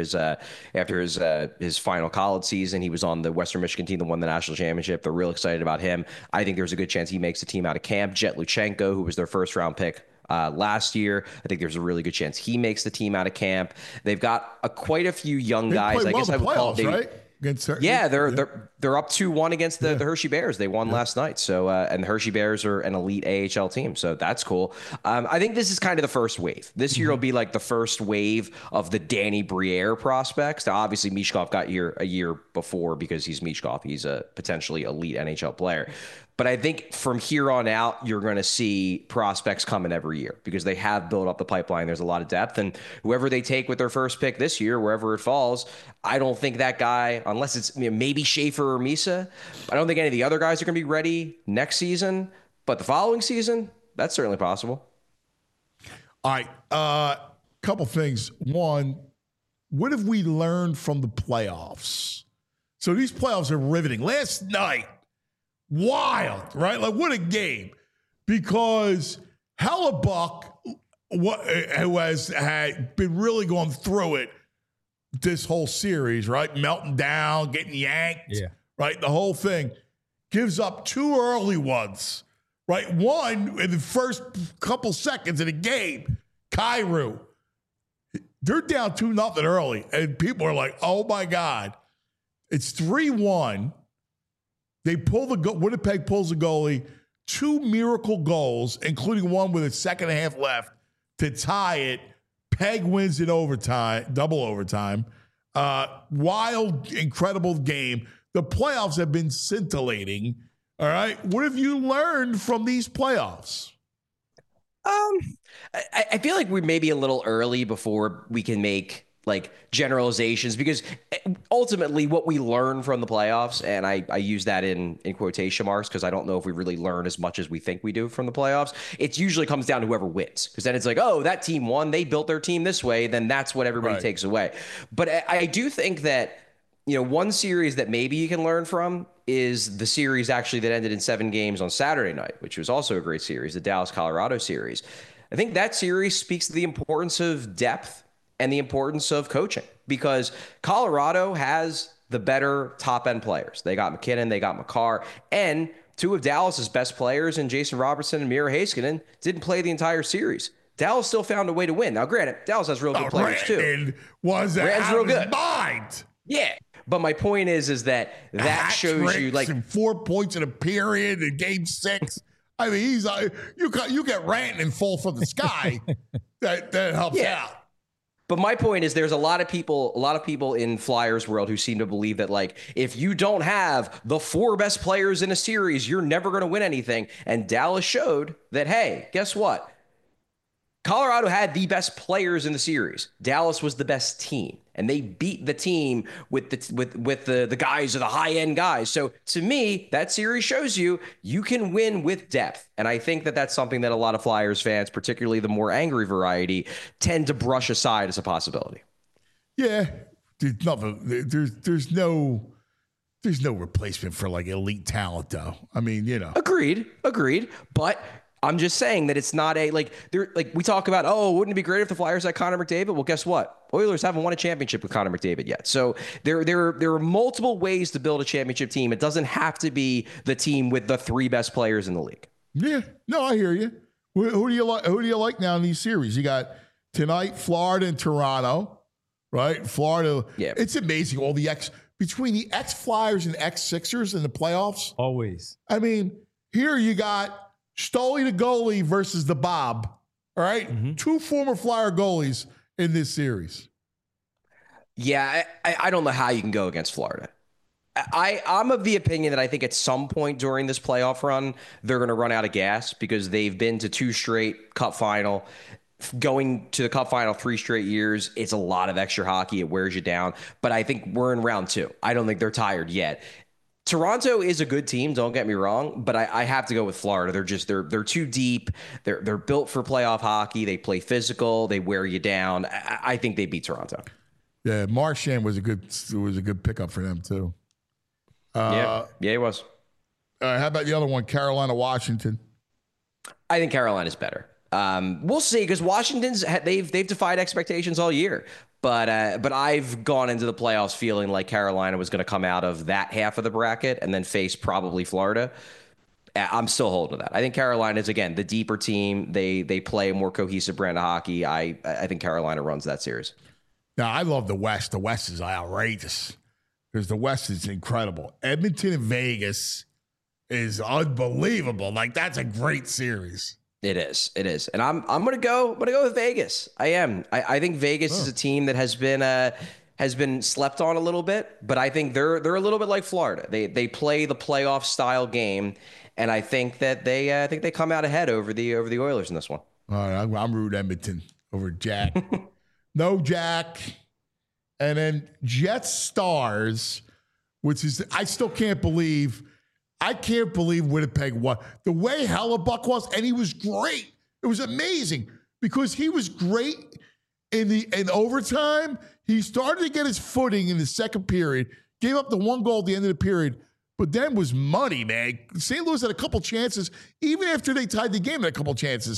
his final college season. He was on the Western Michigan team that won the national championship. They're real excited about him. I think there's a good chance he makes the team out of camp. Jet Luchenko, who was their first round pick last year, I think there's a really good chance he makes the team out of camp. They've got quite a few young guys. I guess I would call them. Right? They're up 2-1 against the Hershey Bears. They won last night. So and the Hershey Bears are an elite AHL team, so that's cool. I think this is kind of the first wave. This year will be like the first wave of the Danny Briere prospects. Now, obviously, Michkov got here a year before because he's Michkov. He's a potentially elite NHL player. But I think from here on out, you're going to see prospects coming every year because they have built up the pipeline. There's a lot of depth. And whoever they take with their first pick this year, wherever it falls, I don't think that guy, unless it's maybe Schaefer or Misa, I don't think any of the other guys are going to be ready next season. But the following season, that's certainly possible. All right. Couple things. One, what have we learned from the playoffs? So these playoffs are riveting. Last night, wild, right? Like, what a game. Because Hellebuck who had been really going through it this whole series, right? Melting down, getting yanked, right? The whole thing. Gives up 2 early ones, right? One in the first couple seconds of the game, Kyrou. They're down 2-0 early, and people are like, oh, my God. It's 3-1. They pull Winnipeg pulls the goalie. 2 miracle goals, including one with a second half left to tie it. Peg wins in overtime, double overtime. Wild, incredible game. The playoffs have been scintillating. All right. What have you learned from these playoffs? I feel like we may be a little early before we can make like generalizations, because ultimately what we learn from the playoffs, and I use that in quotation marks because I don't know if we really learn as much as we think we do from the playoffs. It usually comes down to whoever wins, because then it's like, oh, that team won. They built their team this way. Then that's what everybody takes away. But I do think that, one series that maybe you can learn from is the series actually that ended in 7 games on Saturday night, which was also a great series, the Dallas-Colorado series. I think that series speaks to the importance of depth and the importance of coaching, because Colorado has the better top-end players. They got McKinnon, they got Makar, and 2 of Dallas's best players in Jason Robertson and Miro Heiskanen didn't play the entire series. Dallas still found a way to win. Now, granted, Dallas has real good players too. Was out real of his mind. Yeah. But my point is that shows you, like, 4 points in a period in Game 6. I mean, he's you get ranting and fall from the sky. that helps out. But my point is, there's a lot of people in Flyers world who seem to believe that, like, if you don't have the 4 best players in a series, you're never going to win anything. And Dallas showed that, hey, guess what? Colorado had the best players in the series. Dallas was the best team, and they beat the team with the guys, or the high end guys. So to me, that series shows you can win with depth, and I think that that's something that a lot of Flyers fans, particularly the more angry variety, tend to brush aside as a possibility. Yeah, there's nothing. There's no replacement for like elite talent, though. I mean, Agreed. But I'm just saying that it's not we talk about, oh, wouldn't it be great if the Flyers had Connor McDavid? Well, guess what? Oilers haven't won a championship with Connor McDavid yet. So there are multiple ways to build a championship team. It doesn't have to be the team with the 3 best players in the league. Yeah, no, I hear you. Who do you like? Who do you like now in these series? You got tonight, Florida and Toronto, right? Florida. Yeah, it's amazing all between the ex-Flyers and ex-Sixers in the playoffs. Always. I mean, here you got Stoley the goalie versus the Bob. All right? Mm-hmm. 2 former Flyer goalies in this series. Yeah, I don't know how you can go against Florida. I'm of the opinion that I think at some point during this playoff run, they're going to run out of gas, because they've been to 2 straight Cup final. Going to the Cup final 3 straight years, it's a lot of extra hockey. It wears you down. But I think we're in round 2. I don't think they're tired yet. Toronto is a good team, don't get me wrong, but I have to go with Florida. They're too deep. They're built for playoff hockey. They play physical. They wear you down. I think they beat Toronto. Yeah, Marchand was a good pickup for them too. Yeah, he was. How about the other one, Carolina, Washington? I think Carolina's better. We'll see, because Washington's they've defied expectations all year. But I've gone into the playoffs feeling like Carolina was going to come out of that half of the bracket and then face probably Florida. I'm still holding to that. I think Carolina is, again, the deeper team. They play a more cohesive brand of hockey. I think Carolina runs that series. Now, I love the West. The West is outrageous, because the West is incredible. Edmonton and Vegas is unbelievable. Like, that's a great series. It is. And I'm gonna go with Vegas. I am. I think Vegas is a team that has been slept on a little bit, but I think they're a little bit like Florida. They play the playoff style game, and I think that they come out ahead over the Oilers in this one. All right, I'm rooting Edmonton over Jack. No Jack. And then Jets Stars, which is, I still can't believe Winnipeg won. The way Hellebuck was, and he was great. It was amazing, because he was great in overtime. He started to get his footing in the second period, gave up the 1 goal at the end of the period, but then was money, man. St. Louis had a couple chances, even after they tied the game, had a couple chances,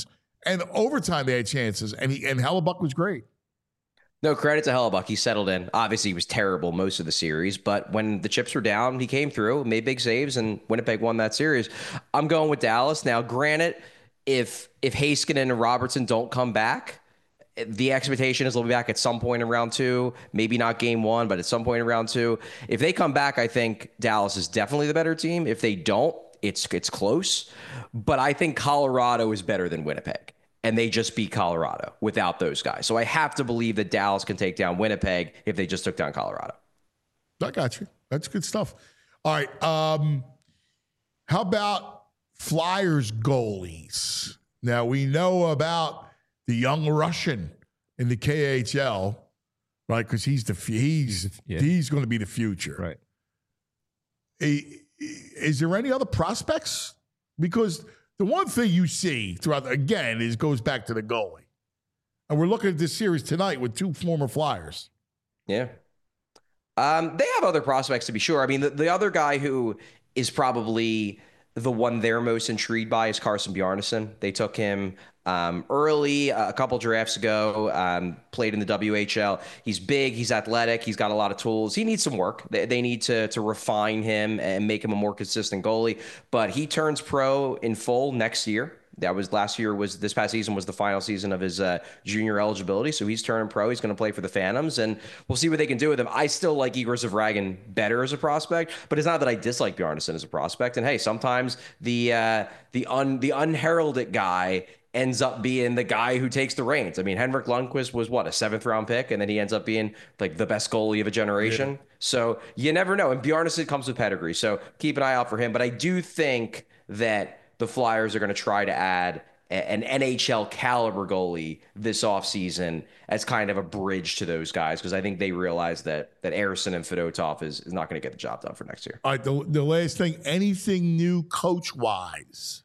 And overtime, they had chances, and Hellebuyck was great. No, credit to Hellebuyck. He settled in. Obviously, he was terrible most of the series, but when the chips were down, he came through, made big saves, and Winnipeg won that series. I'm going with Dallas. Now, granted, if Heiskanen and Robertson don't come back, the expectation is they'll be back at some point in round 2, maybe not game 1, but at some point in round 2. If they come back, I think Dallas is definitely the better team. If they don't, it's close. But I think Colorado is better than Winnipeg. And they just beat Colorado without those guys. So I have to believe that Dallas can take down Winnipeg if they just took down Colorado. I got you. That's good stuff. All right. How about Flyers goalies? Now, we know about the young Russian in the KHL, right? Because he's going to be the future. Right. Is there any other prospects? Because the one thing you see throughout, again, goes back to the goalie. And we're looking at this series tonight with 2 former Flyers. Yeah. They have other prospects, to be sure. I mean, the other guy who is probably the one they're most intrigued by is Carson Bjarnason. They took him early, a couple drafts ago, played in the WHL. He's big, he's athletic, he's got a lot of tools. He needs some work. They need to refine him and make him a more consistent goalie. But he turns pro in full next year. This past season was the final season of his junior eligibility. So he's turning pro. He's going to play for the Phantoms, and we'll see what they can do with him. I still like Igor Zavragin better as a prospect, but it's not that I dislike Bjarnason as a prospect. And hey, sometimes the unheralded guy ends up being the guy who takes the reins. I mean, Henrik Lundqvist was a 7th round pick, and then he ends up being like the best goalie of a generation. Yeah. So you never know. And Bjarnason comes with pedigree. So keep an eye out for him. But I do think that the Flyers are going to try to add an NHL caliber goalie this offseason as kind of a bridge to those guys, because I think they realize that Ersson and Fedotov is not going to get the job done for next year. All right, the last thing, anything new coach-wise?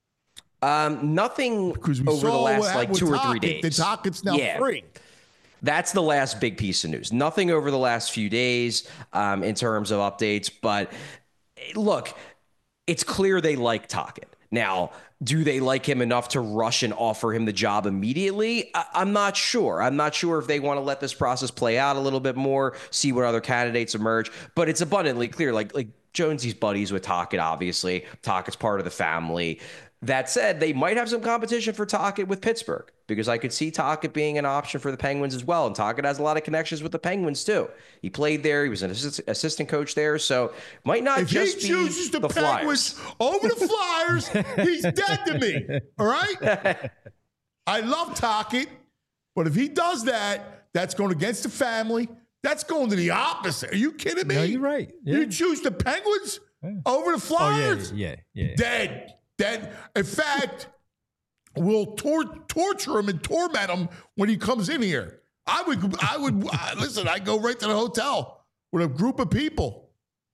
Nothing over the last 2 or 3 days. The Tocchet's now free. That's the last big piece of news. Nothing over the last few days in terms of updates. But look, it's clear they like Tocchet. Now, do they like him enough to rush and offer him the job immediately? I'm not sure. I'm not sure if they want to let this process play out a little bit more, see what other candidates emerge. But it's abundantly clear, like Jonesy's buddies with Tocchet, obviously. Tocchet's part of the family. That said, they might have some competition for Tocchet with Pittsburgh, because I could see Tocchet being an option for the Penguins as well. And Tocchet has a lot of connections with the Penguins too. He played there. He was an assistant coach there. So might not if just he chooses the Penguins Flyers over the Flyers, he's dead to me. All right? I love Tocchet, but if he does that, that's going against the family. That's going to the opposite. Are you kidding me? No, you're right. Yeah. You choose the Penguins over the Flyers? Oh, yeah. Dead. In fact, we'll torture him and torment him when he comes in here. I would listen. I'd go right to the hotel with a group of people.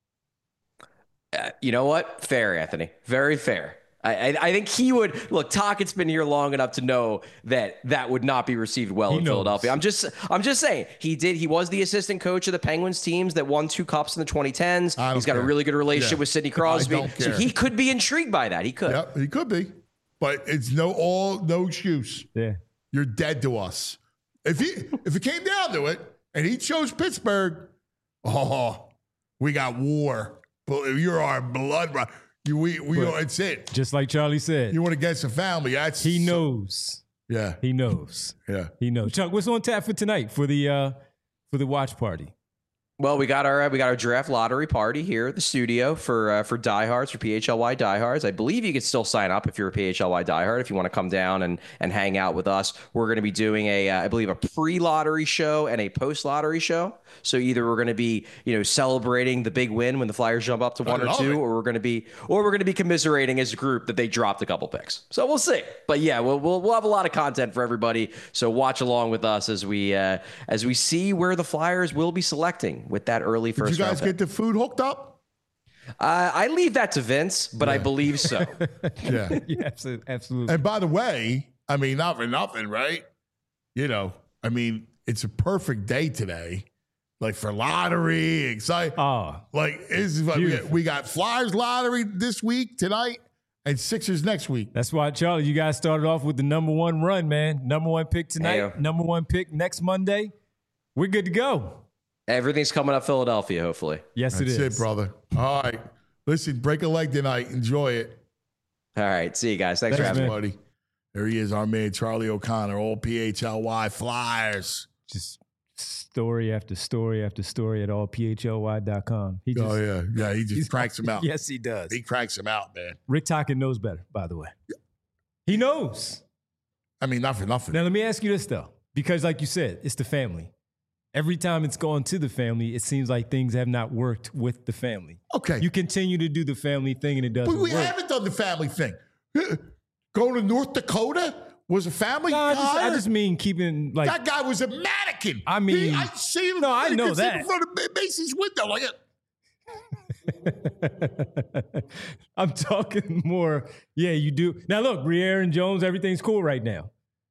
You know what? Fair, Anthony. Very fair. I think he would look. Tocchet's been here long enough to know that would not be received well in Philadelphia. I'm just saying he was the assistant coach of the Penguins teams that won 2 cups in the 2010s. He's got a really good relationship with Sidney Crosby, so he could be intrigued by that. He could. Yep, he could be, but it's no excuse. Yeah, you're dead to us. If it came down to it, and he chose Pittsburgh, we got war. You're our blood. It's it. Just like Charlie said. You went against the family. He knows. Yeah. He knows. Yeah. He knows. Chuck, what's on tap for tonight for the watch party? Well, we got our draft lottery party here at the studio for diehards, for PHLY diehards. I believe you can still sign up if you're a PHLY diehard if you want to come down and hang out with us. We're going to be doing I believe a pre-lottery show and a post-lottery show. So either we're going to be celebrating the big win when the Flyers jump up to 1 or 2, or we're going to be commiserating as a group that they dropped a couple picks. So we'll see. But yeah, we'll have a lot of content for everybody. So watch along with us as we see where the Flyers will be selecting with that early first round. Did you guys get the food hooked up? I leave that to Vince, but I believe so. Yeah. Yeah, absolutely. And by the way, I mean, not for nothing, right? I mean, it's a perfect day today. Like for lottery, exciting. Oh, we got Flyers lottery this week, tonight. And Sixers next week. That's why, Charlie, you guys started off with the number one run, man. Number one pick tonight, number one pick next Monday. We're good to go. Everything's coming up Philadelphia, hopefully. Yes, it is. That's it, brother. All right. Listen, break a leg tonight. Enjoy it. All right. See you guys. Thanks for having me, buddy. There he is, our man, Charlie O'Connor, all PHLY Flyers. Just story after story after story at allphly.com. He just cranks them out. Yes, he does. He cranks them out, man. Rick Tocchet knows better, by the way. He knows. I mean, not for nothing. Now, let me ask you this, though, because like you said, it's the family. Every time it's gone to the family, it seems like things have not worked with the family. Okay. You continue to do the family thing and it doesn't work. But we haven't done the family thing. Going to North Dakota was a family. I just mean keeping like that guy was a mannequin. I mean, I see him. No, I know that in front of Macy's window like it. I'm talking more. Yeah, you do. Now look, Briere and Jones, everything's cool right now.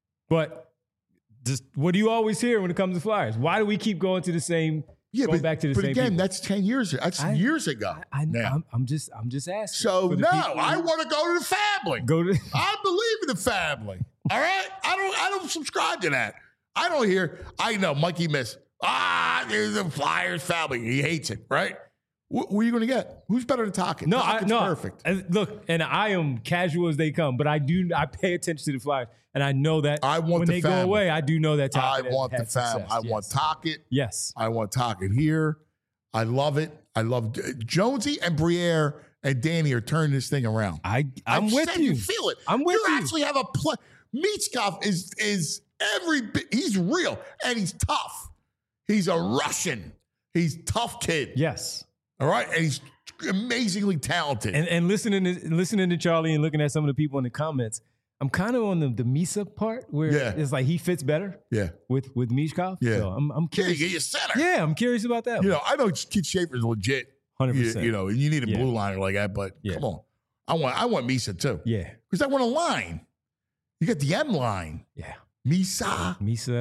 But just what do you always hear when it comes to Flyers? Why do we keep going to the same? Back to the same. But again, people? that's 10 years. That's years ago. I'm just asking. So no, I want to go to the family. I believe in the family. All right, I don't subscribe to that. I don't hear. I know Mikey Miss. There's the Flyers family. He hates it, right? Who are you going to get? Who's better than Tocchet? No, Tockett's perfect. Look, and I am casual as they come, but I pay attention to the Flyers, and I know that when they go away, I do know that Tocchet I want the family. I want Tocchet. Yes. I want Tocchet here. I love it. I love Jonesy and Briere and Danny are turning this thing around. I'm with you. You feel it. I'm with you. You actually have a play. Michkov is every bit. He's real and he's tough. He's a Russian. He's a tough kid. Yes. All right, and he's amazingly talented. And listening to Charlie and looking at some of the people in the comments, I'm kind of on the Misa part where it's like he fits better. Yeah. With Michkov. Yeah. So I'm curious. Yeah, you get your center. Yeah, I'm curious about that. I know Keith Schaefer's legit. 100%. You need a blue liner like that, but come on. I want Misa too. Yeah. Because I want a line. You got the M line. Yeah. Misa,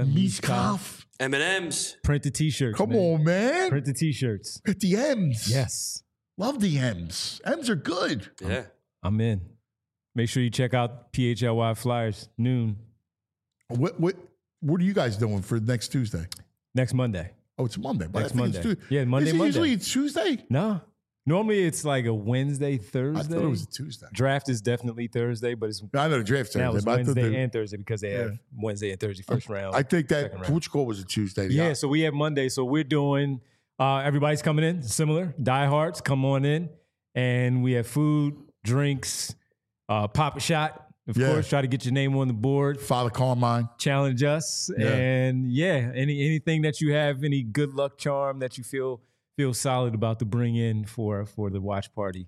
Michkov. M&M's. Print the T-shirts. Come on, man. Print the T-shirts. Get the M's. Yes. Love the M's. M's are good. Yeah. I'm in. Make sure you check out PHLY Flyers noon. What are you guys doing for next Tuesday? Next Monday. Oh, it's Monday. Next Monday. Yeah, Monday. Usually it's Tuesday? No. Normally it's like a Wednesday, Thursday. I thought it was a Tuesday. Draft is definitely Thursday, but it's I know the draft's Thursday. Now it's Wednesday and Thursday because they have Wednesday and Thursday first round. I think that Portugal was a Tuesday. Yeah, so we have Monday. So we're doing everybody's coming in, similar. Diehards, come on in. And we have food, drinks, pop a shot. Of course, try to get your name on the board. Father Carmine. Challenge us. Yeah. And anything that you have, any good luck charm that you feel solid about to bring in for the watch party.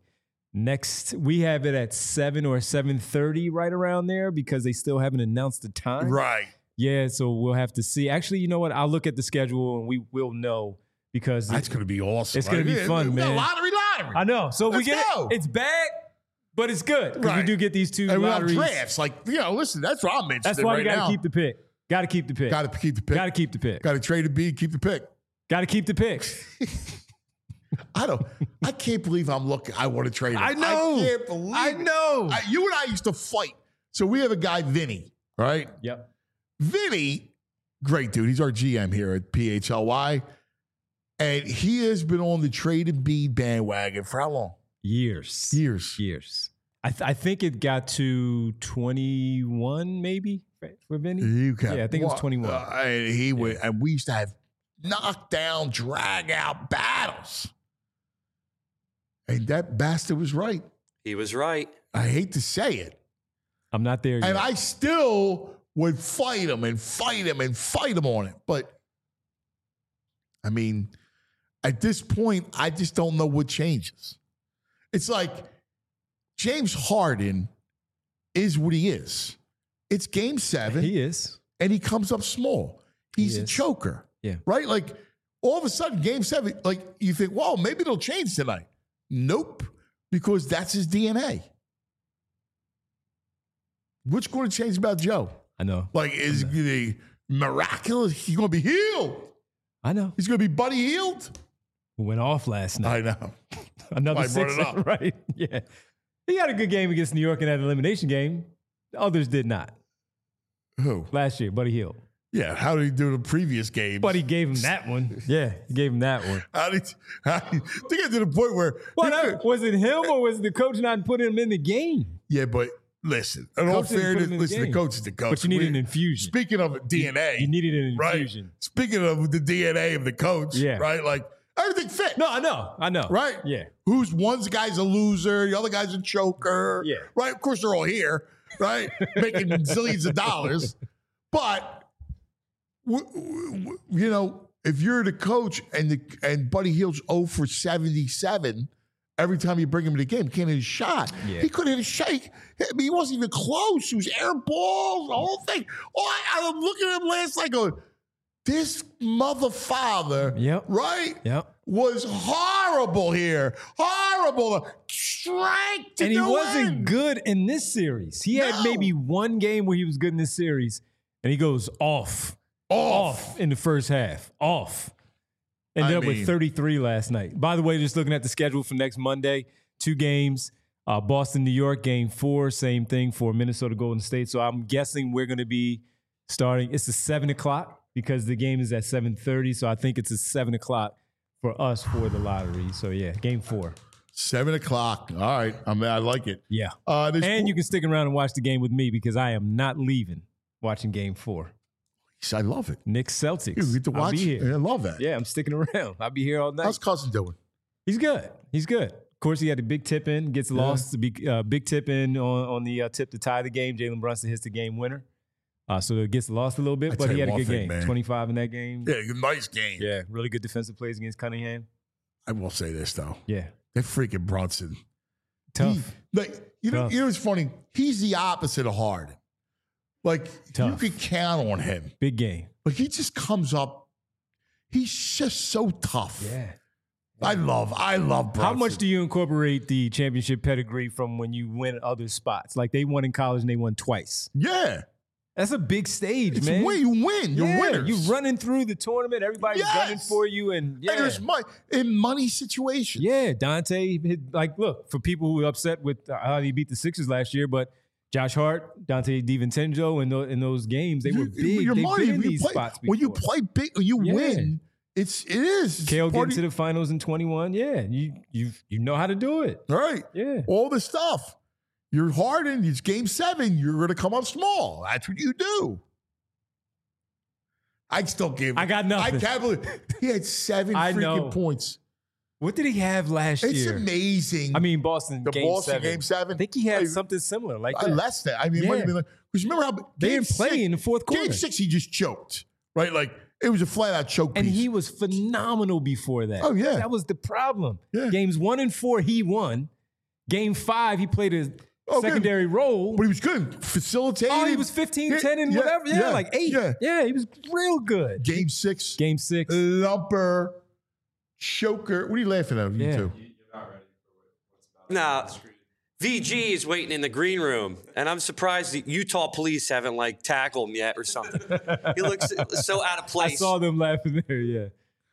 Next, we have it at 7 or 7:30, right around there, because they still haven't announced the time. Right. Yeah, so we'll have to see. Actually, you know what? I'll look at the schedule and we will know because that's going to be awesome. It's going to be fun, man. Lottery. I know. So Let's go. It's bad, but it's good because we do get these two lotteries. Drafts. Listen, that's what I'm interested in. That's why right you got now. to keep the pick. Got to keep the pick. Got to keep the pick. Got to keep the pick. Got to trade a B, keep the pick. Got to keep the pick. I can't believe I'm looking. I want to trade him. I know. I can't believe I know. You and I used to fight. So we have a guy, Vinny, right? Yep. Vinny, great dude. He's our GM here at PHLY. And he has been on the trade and B bandwagon for how long? Years. I think it got to 21 maybe for Vinny. Yeah, I think it was 21. And and we used to have knockdown, drag out battles. And that bastard was right. He was right. I hate to say it. I'm not there yet. And I still would fight him on it. But, I mean, at this point, I just don't know what changes. It's like James Harden is what he is. It's game 7. He is. And he comes up small. He's a choker. Yeah. Right? Like, all of a sudden, game 7, like, you think, well, maybe it'll change tonight. Nope. Because that's his DNA. What's going to change about Joe? I know. Like, is he miraculous? He's going to be healed. I know. He's going to be Buddy healed. Who went off last night. I know. Another I brought it Sixer, up. right? Yeah. He had a good game against New York in that elimination game. Others did not. Who? Last year, Buddy Hield. Yeah, how did he do the previous game? But he gave him that one. Yeah, he gave him that one. How did to get to the point where was it him or was the coach not putting him in the game? Yeah, but listen, in all fairness, listen, the coach is the coach. But you needed an infusion. Speaking of DNA, you needed an infusion. Right? Speaking of the DNA of the coach, right? Like everything fit. No, I know. Right? Yeah. One guy's a loser, the other guy's a choker. Yeah. Right? Of course, they're all here, right? Making zillions of dollars. But you know, if you're the coach and Buddy Hield's 0 for 77 every time you bring him to the game, can't hit a shot. Yeah. He couldn't hit a shot. He wasn't even close. He was air balls, the whole thing. Oh, I'm looking at him last night going, this mother father, right? Yep. Was horrible here. Horrible. Strike to and he wasn't win. good in this series. He had maybe one game where he was good in this series, and he goes off in the first half. Ended up with 33 last night. By the way, just looking at the schedule for next Monday, 2 games. Boston, New York, game 4. Same thing for Minnesota, Golden State. So I'm guessing we're going to be starting. It's a 7 o'clock because the game is at 7:30. So I think it's a 7 o'clock for us for the lottery. So yeah, game 4. 7 o'clock. All right. I like it. Yeah. And you can stick around and watch the game with me because I am not leaving watching game 4. I love it. Knicks Celtics. You get to watch. I'll be here. I love that. Yeah, I'm sticking around. I'll be here all night. How's Cousin doing? He's good. Of course, he had a big tip in, gets lost. Big tip in on the tip to tie the game. Jalen Brunson hits the game winner. So it gets lost a little bit, but he had a good game. Man. 25 in that game. Yeah, nice game. Yeah, really good defensive plays against Cunningham. I will say this, though. Yeah. That freaking Brunson. Tough. You know what's funny? He's the opposite of Harden. Like, tough. You can count on him. Big game. But he just comes up. He's just so tough. Yeah. I love Brunson. How much do you incorporate the championship pedigree from when you win at other spots? Like they won in college and they won twice. Yeah. That's a big stage, it's man. Where you win. You're winners. You're running through the tournament. Everybody's gunning for you. And there's money in money situations. Yeah. Dante, look, for people who were upset with how he beat the Sixers last year, but Josh Hart, Dante DiVincenzo in those games, they were big. They've been in these spots before. When you play big, when you win, it is. Kale getting to the finals in 21. Yeah, you know how to do it. Right. Yeah. All the stuff. You're Harden. It's game 7. You're going to come up small. That's what you do. I'd still give. I got nothing. I can't believe he had 7 freaking points. What did he have last year? It's amazing. I mean, Boston game 7. Game 7. I think he had something similar, like that. Less than. I mean, it might have been because remember how they didn't play in the fourth quarter. Game 6, he just choked. Right, like it was a flat out choke. And piece. he was phenomenal before that. Oh yeah, that was the problem. Yeah. Games 1 and 4, he won. Game 5, he played a secondary role, but he was good. Facilitating. Oh, he was 15, 10, and whatever. Yeah, like 8. Yeah, he was real good. Game 6. Lumper. Choker. What are you laughing at? You two? Nah, VG is waiting in the green room, and I'm surprised the Utah police haven't tackled him yet or something. He looks so out of place. I saw them laughing there. Yeah.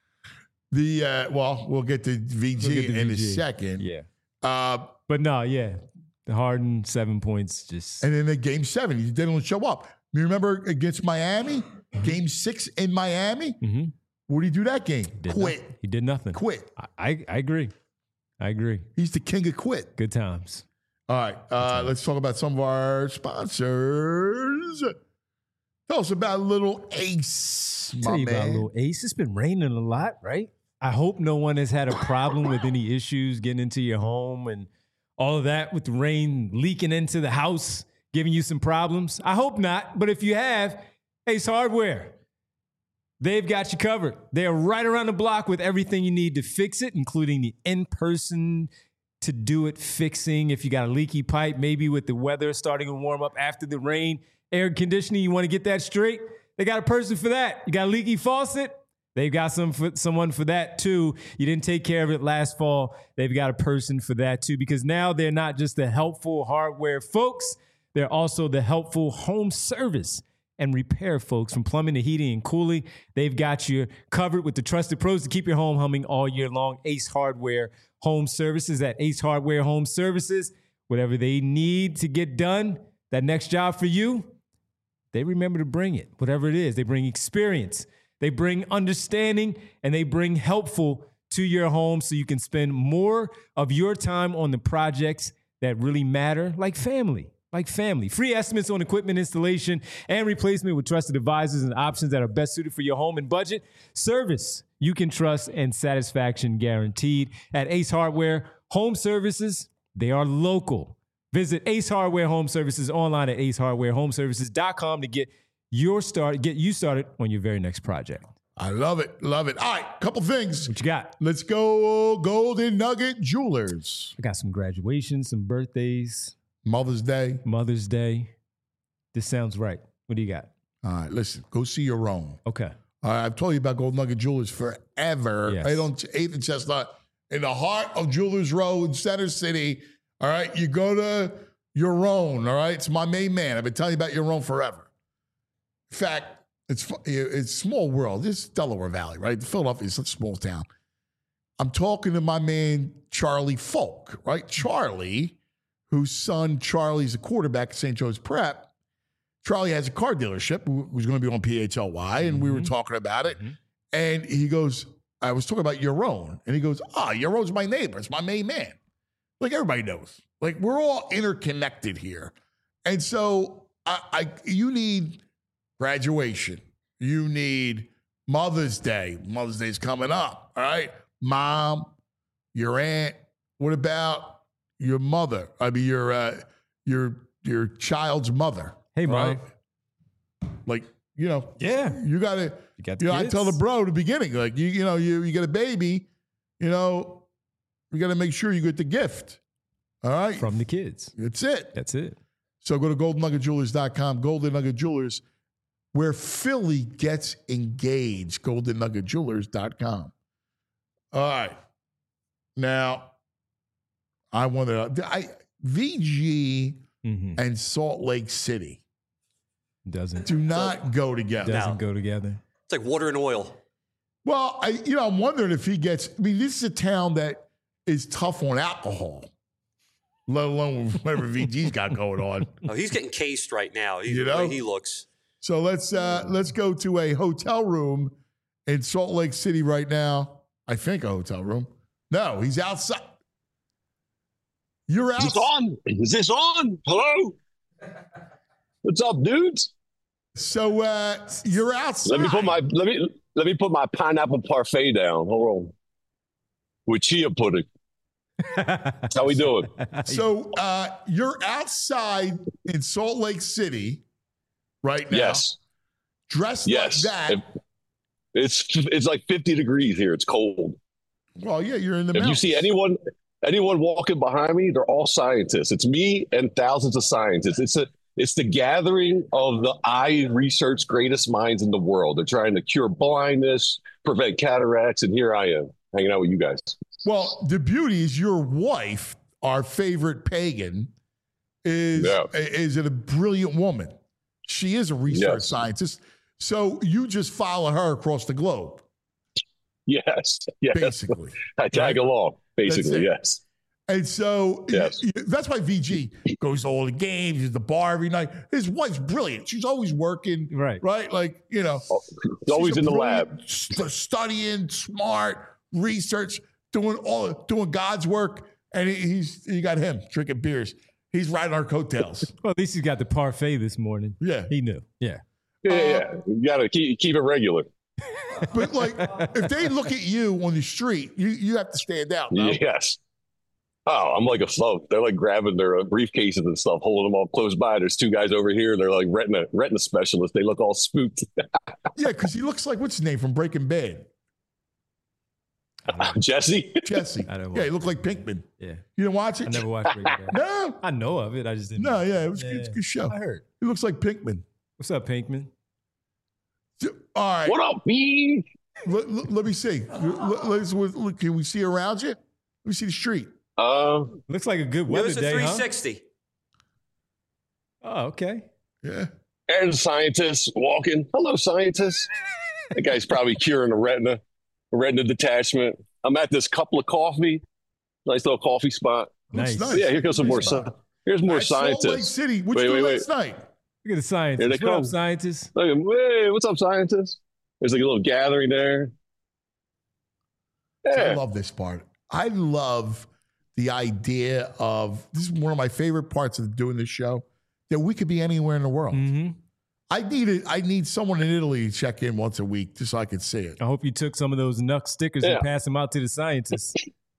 We'll get to VG in a second. Yeah. But no, yeah, the Harden 7 points just. And then the game 7, he didn't show up. You remember against Miami, game 6 in Miami. Mm-hmm. What did he do that game? Quit. He did nothing. Quit. I agree. He's the king of quit. Good times. All right. Let's talk about some of our sponsors. Tell us about Little Ace, my man. About Little Ace. It's been raining a lot, right? I hope no one has had a problem with any issues getting into your home and all of that with the rain leaking into the house, giving you some problems. I hope not. But if you have, Ace Hardware. They've got you covered. They're right around the block with everything you need to fix it, including the in-person to do it fixing. If you got a leaky pipe, maybe with the weather starting to warm up after the rain, air conditioning, you want to get that straight, they got a person for that. You got a leaky faucet, they've got someone for that too. You didn't take care of it last fall, they've got a person for that too, because now they're not just the helpful hardware folks, they're also the helpful home service and repair folks. From plumbing to heating and cooling, they've got you covered with the trusted pros to keep your home humming all year long. Ace Hardware Home Services at Ace Hardware Home Services. whatever they need to get done, that next job for you, they remember to bring it, whatever it is. They bring experience, they bring understanding, and they bring helpful to your home so you can spend more of your time on the projects that really matter, like family. Free estimates on equipment installation and replacement with trusted advisors and options that are best suited for your home and budget. Service you can trust and satisfaction guaranteed. At Ace Hardware Home Services, they are local. Visit Ace Hardware Home Services online at acehardwarehomeservices.com to get you started on your very next project. I love it. All right, couple things. What you got? Let's go Golden Nugget Jewelers. I got some graduations, some birthdays. Mother's Day. This sounds right. What do you got? All right, listen, go see your own. Okay. All right, I've told you about Golden Nugget Jewelers forever. Yes. Right on 8th and Chestnut, in the heart of Jewelers Row in Center City. All right, you go to your own. All right, it's my main man. I've been telling you about your own forever. In fact, it's small world. This is Delaware Valley, right? Philadelphia is such a small town. I'm talking to my man, Charlie Folk, right? Charlie, whose son Charlie's a quarterback at St. Joe's Prep. Charlie has a car dealership who's going to be on PHLY, and we were talking about it. And he goes, I was talking about Yaron. And he goes, Yaron's my neighbor. It's my main man. Like everybody knows. Like we're all interconnected here. And so you need graduation. You need Mother's Day. Mother's Day's coming up. All right. Mom, your aunt. What about your mother? I mean, your child's mother. Hey, Mom. Right? Like, yeah, you got to, I tell the bro at the beginning, like, you get a baby, you got to make sure you get the gift. All right. From the kids. That's it. So go to goldennuggetjewelers.com, Golden Nugget Jewelers, where Philly gets engaged, goldennuggetjewelers.com. All right. Now, VG and Salt Lake City doesn't go together. Go together. It's like water and oil. Well, I'm wondering if he gets. I mean, this is a town that is tough on alcohol, let alone whatever VG's got going on. Oh, he's getting cased right now. The way he looks. So let's go to a hotel room in Salt Lake City right now. I think a hotel room. No, he's outside. You're out. Is this on? Hello? What's up, dudes? So you're outside. Let me put my pineapple parfait down. Hold on. With chia pudding. How we doing? So you're outside in Salt Lake City right now. Yes. Dressed like that. It's like 50 degrees here. It's cold. Well, yeah, you're in the mountains. If you see anyone walking behind me, they're all scientists. It's me and thousands of scientists. It's the gathering of the eye research greatest minds in the world. They're trying to cure blindness, prevent cataracts, and here I am hanging out with you guys. Well, the beauty is your wife, our favorite pagan, is a brilliant woman. She is a research scientist. So you just follow her across the globe. Yes. Basically. I tag along, basically, yes. And so that's why VG goes to all the games, at the bar every night. His wife's brilliant. She's always working. Right. Like, she's always in the lab. Studying, smart, research, doing God's work. And you got him drinking beers. He's riding our coattails. Well, at least he got the parfait this morning. Yeah. He knew. Yeah. Yeah. You got to keep it regular. But like, if they look at you on the street, you have to stand out. No? Yes. Oh, I'm like a float. They're like grabbing their briefcases and stuff, holding them all close by. There's two guys over here. They're like retina specialists. They look all spooked. Yeah, because he looks like, what's his name from Breaking Bad? Jesse? He looked like Pinkman. Yeah. You didn't watch it? I never watched Breaking Bad. No. I know of it. I just didn't. No, yeah, it's a good show. I heard. He looks like Pinkman. What's up, Pinkman? All right. What up, B? Let me see. Can we see around you? Let me see the street. Looks like a good weather day, 360. Huh? Oh, okay. Yeah. And scientists walking. Hello, scientists. That guy's probably curing a retina detachment. I'm at this Cup of Coffee, nice little coffee spot. Nice. Yeah, here goes some more. Here's more scientists. Salt Lake City. What'd you do last night? Look at the scientists. What up, scientists? Look, hey, what's up, scientists? There's like a little gathering there. Yeah. I love this part. I love the idea of, this is one of my favorite parts of doing this show, that we could be anywhere in the world. Mm-hmm. I need someone in Italy to check in once a week just so I could see it. I hope you took some of those Nuck stickers and passed them out to the scientists.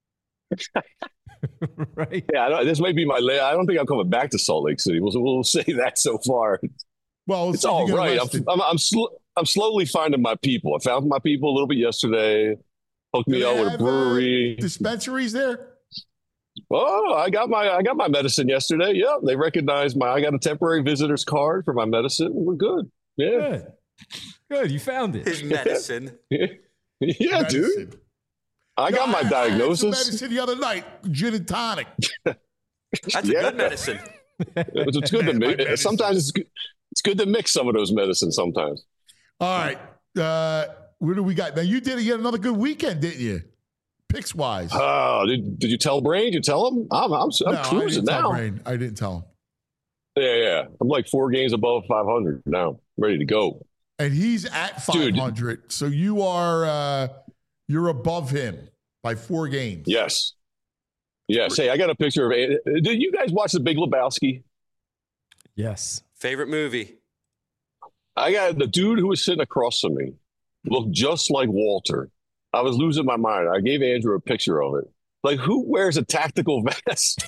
Right? Yeah, this might be my last. I don't think I'm coming back to Salt Lake City. We'll say that so far. Well, it's all right. I'm slowly finding my people. I found my people a little bit yesterday. Hooked me up with a brewery. Dispensaries there? Oh, I got my medicine yesterday. Yeah, they recognized I got a temporary visitor's card for my medicine. We're good. Yeah. Good. You found it. His medicine. Yeah, medicine. Dude. I got my diagnosis. I had some medicine the other night, gin and tonic. That's a good medicine. It's good to mix. Sometimes it's good to mix some of those medicines sometimes. All right. What do we got? Now, you had another good weekend, didn't you? Picks wise. Oh, did you tell Brain? Did you tell him? I'm cruising now. I didn't tell him. Yeah. I'm like 4 games above 500 now. Ready to go. And he's at 500. Dude. So you are you're above him by 4 games. Yes. Hey, I got a picture of it. Did you guys watch The Big Lebowski? Yes. Favorite movie? I got the dude who was sitting across from me looked just like Walter. I was losing my mind. I gave Andrew a picture of it. Like, who wears a tactical vest?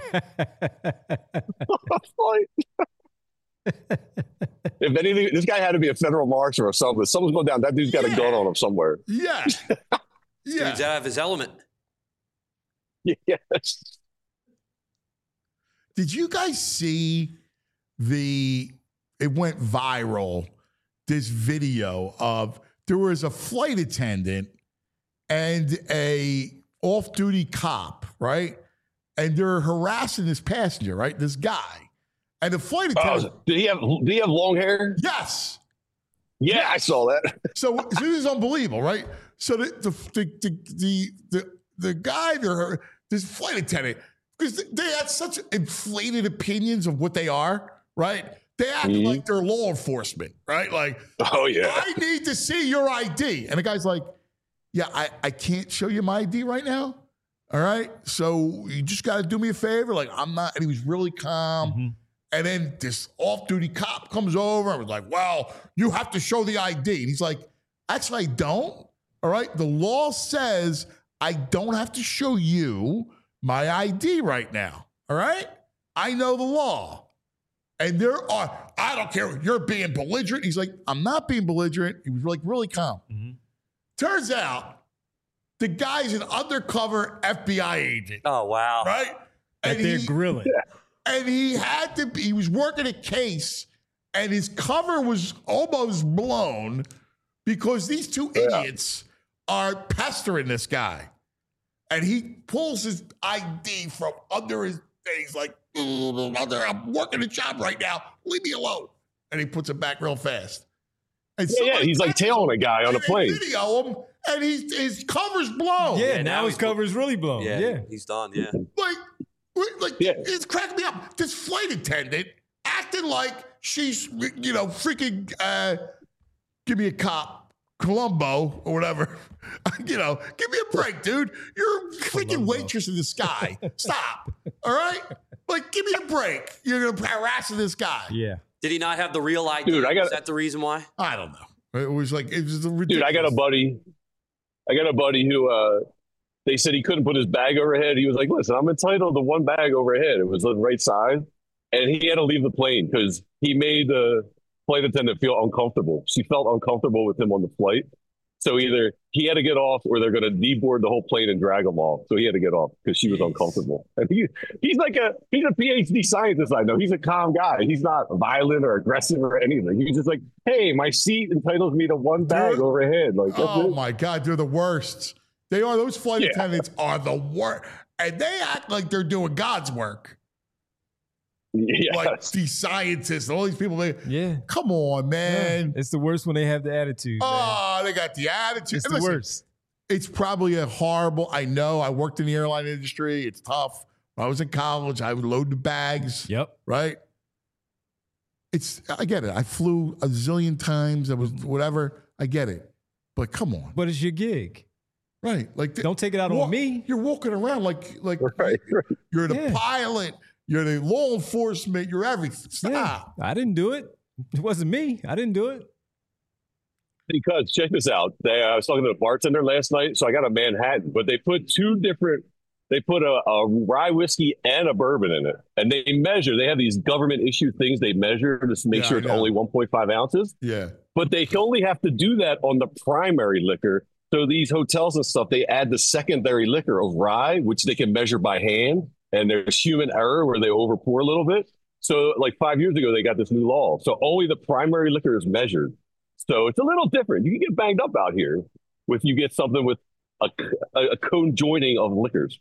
If anything, this guy had to be a federal marshal or something. Someone's going down. That dude's got a gun on him somewhere. Yeah. Dude's out of his element. Yes. Did you guys see it went viral, this video of there was a flight attendant and a off-duty cop, right? And they're harassing this passenger, right? This guy. And the flight attendant. Did he have long hair? Yes. Yeah, I saw that. So this is unbelievable, right? So the guy there, this flight attendant, because they had such inflated opinions of what they are, right? They act like they're law enforcement, right? Like, oh yeah, I need to see your ID. And the guy's like, yeah, I can't show you my ID right now. All right. So you just got to do me a favor. Like, I'm not, and he was really calm. Mm-hmm. And then this off-duty cop comes over and was like, well, you have to show the ID. And he's like, actually, I don't. All right. The law says I don't have to show you my ID right now. All right. I know the law. And I don't care if you're being belligerent. He's like, I'm not being belligerent. He was like really calm. Mm-hmm. Turns out the guy's an undercover FBI agent. Oh, wow. Right? And they're grilling. And he was working a case and his cover was almost blown because these 2 idiots are pestering this guy. And he pulls his ID from under his, and he's like, I'm working a job right now. Leave me alone. And he puts it back real fast. And he's like tailing a guy on a plane. Video him, and his cover's blown. Yeah, now his cover's really blown. Yeah, he's done. Yeah, it's cracking me up. This flight attendant acting like she's, freaking, give me a cop, Columbo or whatever. Give me a break, dude. You're a freaking waitress in the sky. Stop. All right? Like, give me a break. You're going to harass this guy. Yeah. Did he not have the real ID? Dude, Is that the reason why? I don't know. It was ridiculous. Dude, I got a buddy who they said he couldn't put his bag overhead. He was like, listen, I'm entitled to 1 bag overhead. It was the right size. And he had to leave the plane because he made the flight attendant feel uncomfortable. She felt uncomfortable with him on the flight. So either he had to get off or they're going to deboard the whole plane and drag him off. So he had to get off because she was uncomfortable. And he's a PhD scientist. I know he's a calm guy. He's not violent or aggressive or anything. He's just like, hey, my seat entitles me to 1 bag overhead. Like, oh my God, they're the worst. They are. Those flight attendants are the worst. And they act like they're doing God's work. Yes. Like these scientists, all these people. Come on, man. Yeah. It's the worst when they have the attitude. Oh, they got the attitude. It's the worst. It's probably a horrible. I know. I worked in the airline industry. It's tough. I was in college. I would load the bags. Yep. Right? I get it. I flew a zillion times. I was whatever. I get it. But come on. But it's your gig. Right. Like don't take it out on me. You're walking around like right. You're the pilot. You're the law enforcement. You're everything. Stop. Yeah, I didn't do it. It wasn't me. I didn't do it. Because check this out. I was talking to a bartender last night. So I got a Manhattan, but they put they put a rye whiskey and a bourbon in it. And they have these government issued things they measure to make sure it's only 1.5 ounces. Yeah. But they only have to do that on the primary liquor. So these hotels and stuff, they add the secondary liquor of rye, which they can measure by hand. And there's human error where they overpour a little bit. So like 5 years ago, they got this new law. So only the primary liquor is measured. So it's a little different. You can get banged up out here if you get something with a conjoining of liquors.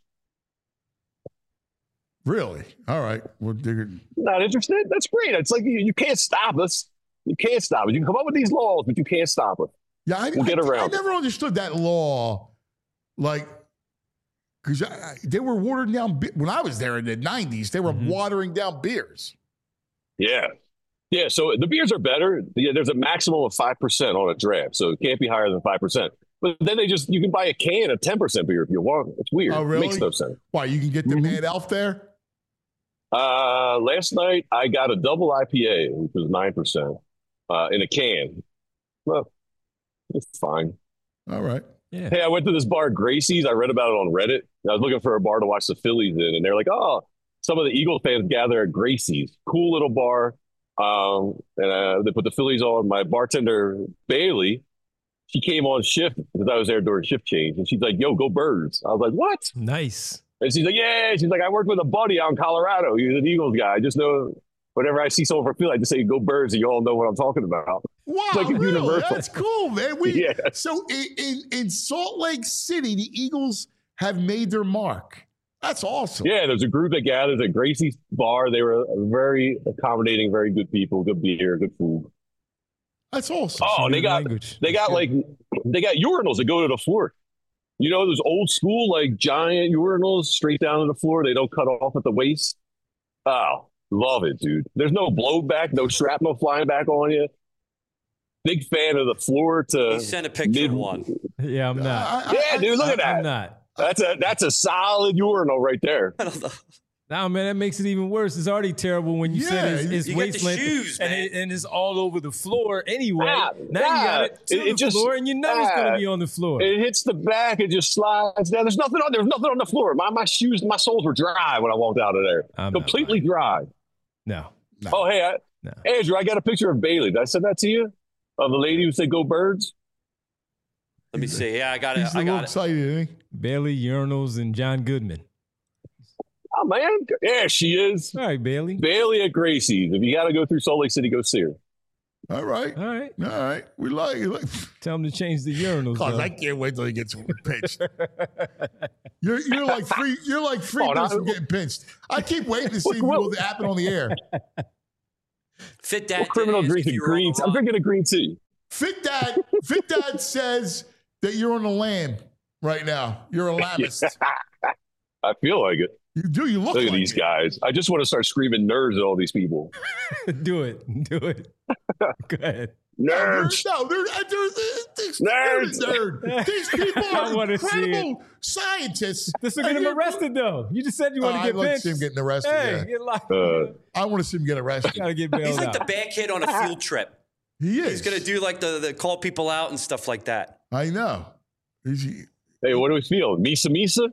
Really? All right. Well, not interested? That's great. It's like you can't stop us. You can't stop it. You can come up with these laws, but you can't stop it. Yeah, we'll get around. I never understood that law, like, because they were watering down when I was there in the 90s. They were watering down beers. Yeah. Yeah, so the beers are better. Yeah, there's a maximum of 5% on a draft, so it can't be higher than 5%. But then you can buy a can of 10% beer if you want. It's weird. Oh, really? It makes no sense. Why, you can get the Mad Elf there? Last night I got a double IPA, which was 9%, in a can. Well, it's fine. All right. Yeah. Hey, I went to this bar, Gracie's. I read about it on Reddit. I was looking for a bar to watch the Phillies in, and they're like, oh, some of the Eagles fans gather at Gracie's. Cool little bar. And they put the Phillies on. My bartender, Bailey, she came on shift because I was there during shift change. And she's like, yo, go Birds. I was like, what? Nice. And she's like, yeah. She's like, I worked with a buddy out in Colorado. He's an Eagles guy. I just know whenever I see someone from Philly, I just say, go Birds, and you all know what I'm talking about. Wow, it's like really? universal. That's cool, man. So in Salt Lake City, the Eagles have made their mark. That's awesome. Yeah, there's a group that gathers at Gracie's bar. They were very accommodating, very good people, good beer, good food. That's awesome. Oh, they got urinals that go to the floor. You know, those old school, like giant urinals straight down to the floor. They don't cut off at the waist. Oh, love it, dude. There's no blowback, no shrapnel flying back on you. Big fan of the floor to. He sent a picture of one. Yeah, I'm not. Dude, look at that. I'm not. That's a solid urinal right there. I don't know. Nah, man, that makes it even worse. It's already terrible when you said it's you waist length shoes, and it's all over the floor anyway. Now you got it to the just, floor, and you know it's going to be on the floor. It hits the back, it just slides down. There's nothing on the floor. My shoes, my soles were dry when I walked out of there. Completely dry. No. Oh, hey, Andrew, I got a picture of Bailey. Did I send that to you? Of the lady who said "Go Birds." Let me see. Yeah, I got it. He's a little excited, isn't he? Bailey, urinals, and John Goodman. Oh, man. Yeah, she is. All right, Bailey. Bailey at Gracie's. If you got to go through Salt Lake City, go see her. All right. We like it. Tell him to change the urinals. Cause I can't wait till he gets pinched. You're like three minutes from getting pinched. I keep waiting to see what will happen on the air. Fit Dad. Criminal drinking green. I'm drinking a green tea. Fit Dad says that you're on the lamb right now. You're a lambist. I feel like it. You do. You look at like these guys. I just want to start screaming nerds at all these people. Do it. Go ahead. Nerds. They're nerd. These people are incredible scientists. This will get him arrested, though. You just said you want to get pinched. I want to see him getting arrested. Hey, get locked. I want to see him get arrested. Gotta get bailed He's like out. the bad kid on a field trip. He is. He's gonna do like the call people out and stuff like that. I know. Hey, what do we feel? Misa?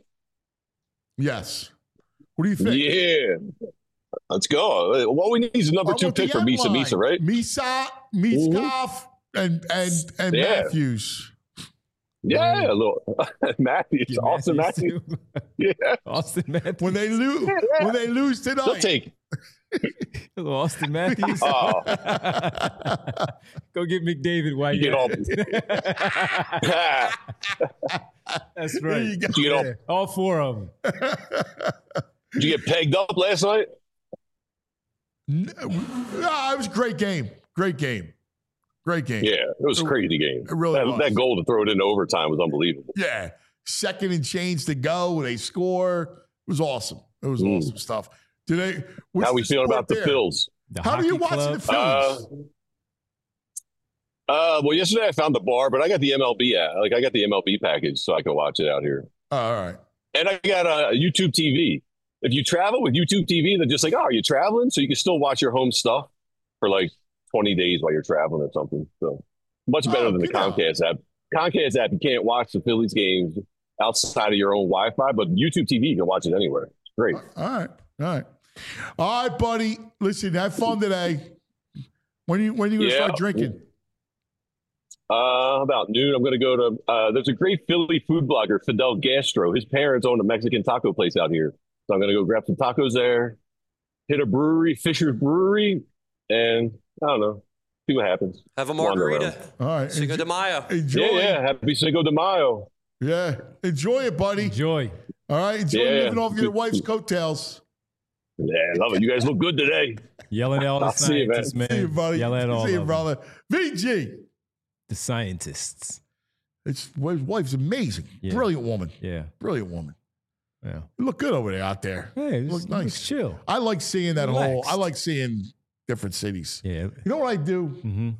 Yes. What do you think? Yeah. Let's go. What we need is a number 2 pick for Misa, right? Miskov, and Matthews. Yeah, a little Matthews. Austin Matthews. Yeah. Austin Matthews. When they lose tonight. They'll take Hello, Austin Matthews. Oh. Go get McDavid while you get all. That's right. You get all 4 of them. Did you get pegged up last night? No, it was a great game. Great game. Yeah, it was a crazy game. It really was. That goal to throw it into overtime was unbelievable. Yeah. Second and change to go. They score. It was awesome. It was awesome stuff. How we feeling about the Phils? How are you watching the Phillies? Well, yesterday I found the bar, but I got the MLB app. Like I got the MLB package, so I can watch it out here. Oh, all right. And I got a YouTube TV. If you travel with YouTube TV, they're just like, oh, are you traveling? So you can still watch your home stuff for like 20 days while you're traveling or something. So much better than the Comcast app. Comcast app, you can't watch the Phillies games outside of your own Wi-Fi, but YouTube TV, you can watch it anywhere. It's great. All right, buddy. Listen, have fun today. When are you going to start drinking? About noon. I'm going to go to, there's a great Philly food blogger, Fidel Gastro. His parents own a Mexican taco place out here. So I'm going to go grab some tacos there, hit a brewery, Fisher's Brewery, and I don't know, see what happens. Have a margarita. All right. Cinco de Mayo. Enjoy. Yeah. Happy Cinco de Mayo. Yeah. Enjoy it, buddy. Enjoy. All right. Enjoy living off your wife's coattails. Yeah, I love it. You guys look good today. Yelling at all the scientists, man. See you, buddy. Yelling at all See you, brother. VG. The scientists. His wife's amazing. Yeah. Brilliant woman. Yeah. Brilliant woman. Yeah. You look good over there out there. Hey, look nice. Looks chill. I like seeing that I like seeing different cities. Yeah. You know what I do? Mm-hmm.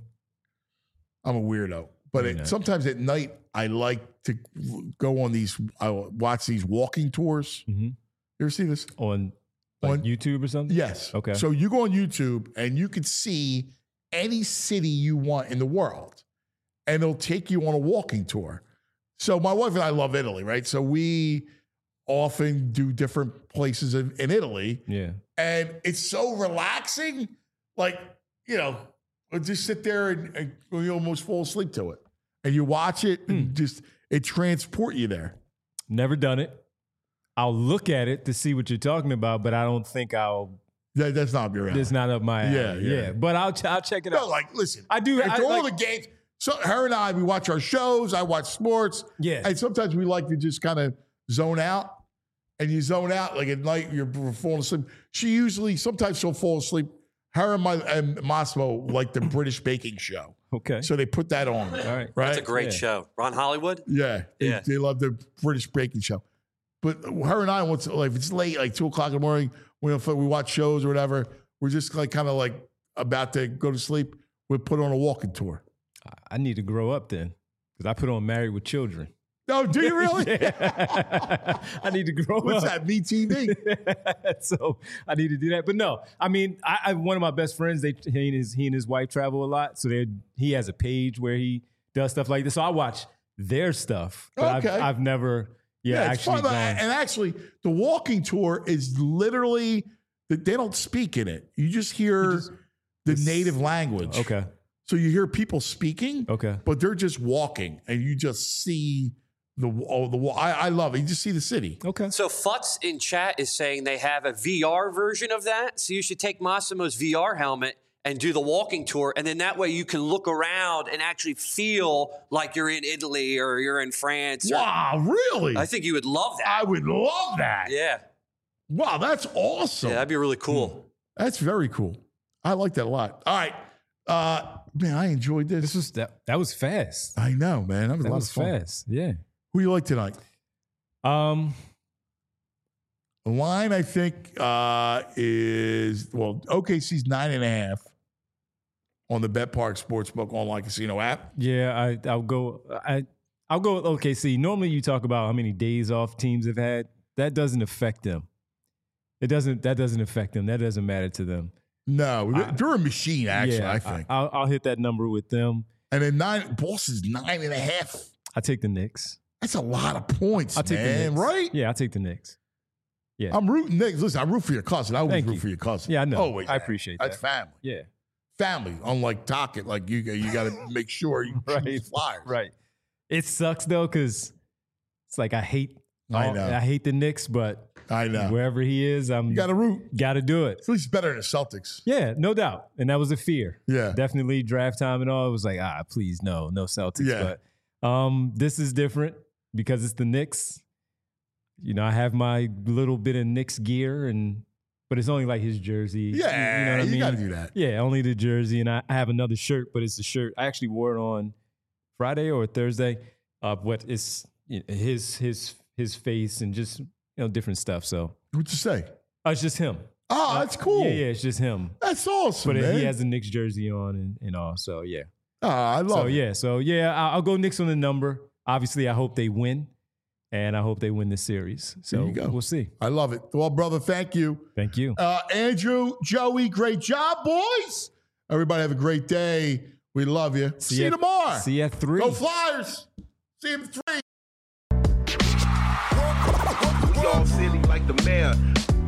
I'm a weirdo. But sometimes at night, I like to go on watch these walking tours. Mm-hmm. You ever see this? On YouTube or something? Yes. Okay. So you go on YouTube and you can see any city you want in the world. And they'll take you on a walking tour. So my wife and I love Italy, right? So we often do different places in Italy. Yeah. And it's so relaxing. Like, we'll just sit there and you almost fall asleep to it. And you watch it and it transport you there. Never done it. I'll look at it to see what you're talking about, but I don't think I'll. That's not your alley. That's not up my alley. Yeah. But I'll check it out. No, like, listen. I do. After all the games. So her and I, we watch our shows. I watch sports. Yeah. And sometimes we like to just kind of zone out. And you zone out, like at night, you're falling asleep. Sometimes she'll fall asleep. Her and Massimo like the British baking show. Okay. So they put that on. All right. That's a great show. Ron Hollywood? Yeah. They love the British baking show. But her and I, if it's late, like 2 o'clock in the morning, we watch shows or whatever, we're just like kind of like about to go to sleep. We put on a walking tour. I need to grow up then because I put on Married with Children. No, do you really? I need to grow up. What's that, MeTV? So I need to do that. But no, I mean, I one of my best friends, he and his wife travel a lot. So he has a page where he does stuff like this. So I watch their stuff. But okay. I've never, actually gone. And actually, the walking tour is literally, they don't speak in it. You just hear the native language. Okay. So you hear people speaking, but they're just walking, and you just see I love it. You just see the city. Okay. So Futz in chat is saying they have a VR version of that. So you should take Massimo's VR helmet and do the walking tour, and then that way you can look around and actually feel like you're in Italy or you're in France. Wow, really? I think you would love that. I would love that. Yeah. Wow, that's awesome. Yeah, that'd be really cool. That's very cool. I like that a lot. All right. Man, I enjoyed this. That was fast. I know, man. That was a lot of fun. Fast. Yeah. Who you like tonight? The line I think is OKC's 9.5 on the BetPark Sportsbook online casino app. Yeah, I'll go with OKC. Normally you talk about how many days off teams have had. That doesn't affect them. That doesn't affect them. That doesn't matter to them. No, they're a machine, actually, I think. I'll hit that number with them. And then Boston's 9.5. I take the Knicks. That's a lot of points, I'll take the Knicks. Right? Yeah, I'll take the Knicks. Yeah. I'm rooting Knicks. Listen, I root for your cousin. I always root for your cousin. Yeah, I know. Always. I appreciate that. That's family. Yeah. Family. Unlike Tockett, like you got to make sure you choose Flyers. Right. It sucks, though, because it's like I hate the Knicks, but I know. Wherever he is, you got to root. Got to do it. At least better than the Celtics. Yeah, no doubt. And that was a fear. Yeah. Definitely draft time and all. It was like, please, no Celtics. Yeah. But this is different because it's the Knicks. You know, I have my little bit of Knicks gear, but it's only like his jersey. Yeah, you know what I mean? got to do that. Yeah, only the jersey. And I have another shirt, but it's a shirt. I actually wore it on Friday or Thursday. But it's his face and just different stuff. So What'd you say? It's just him. Oh, that's cool. Yeah, it's just him. That's awesome, but man. He has the Knicks jersey on and all, so yeah. I love it. I'll go Knicks on the number. Obviously, I hope they win, and I hope they win this series. So we'll see. I love it. Well, brother, thank you. Thank you. Andrew, Joey, great job, boys. Everybody have a great day. We love you. See you tomorrow. See you at 3. Go Flyers. See you at 3. Y'all silly like the mayor.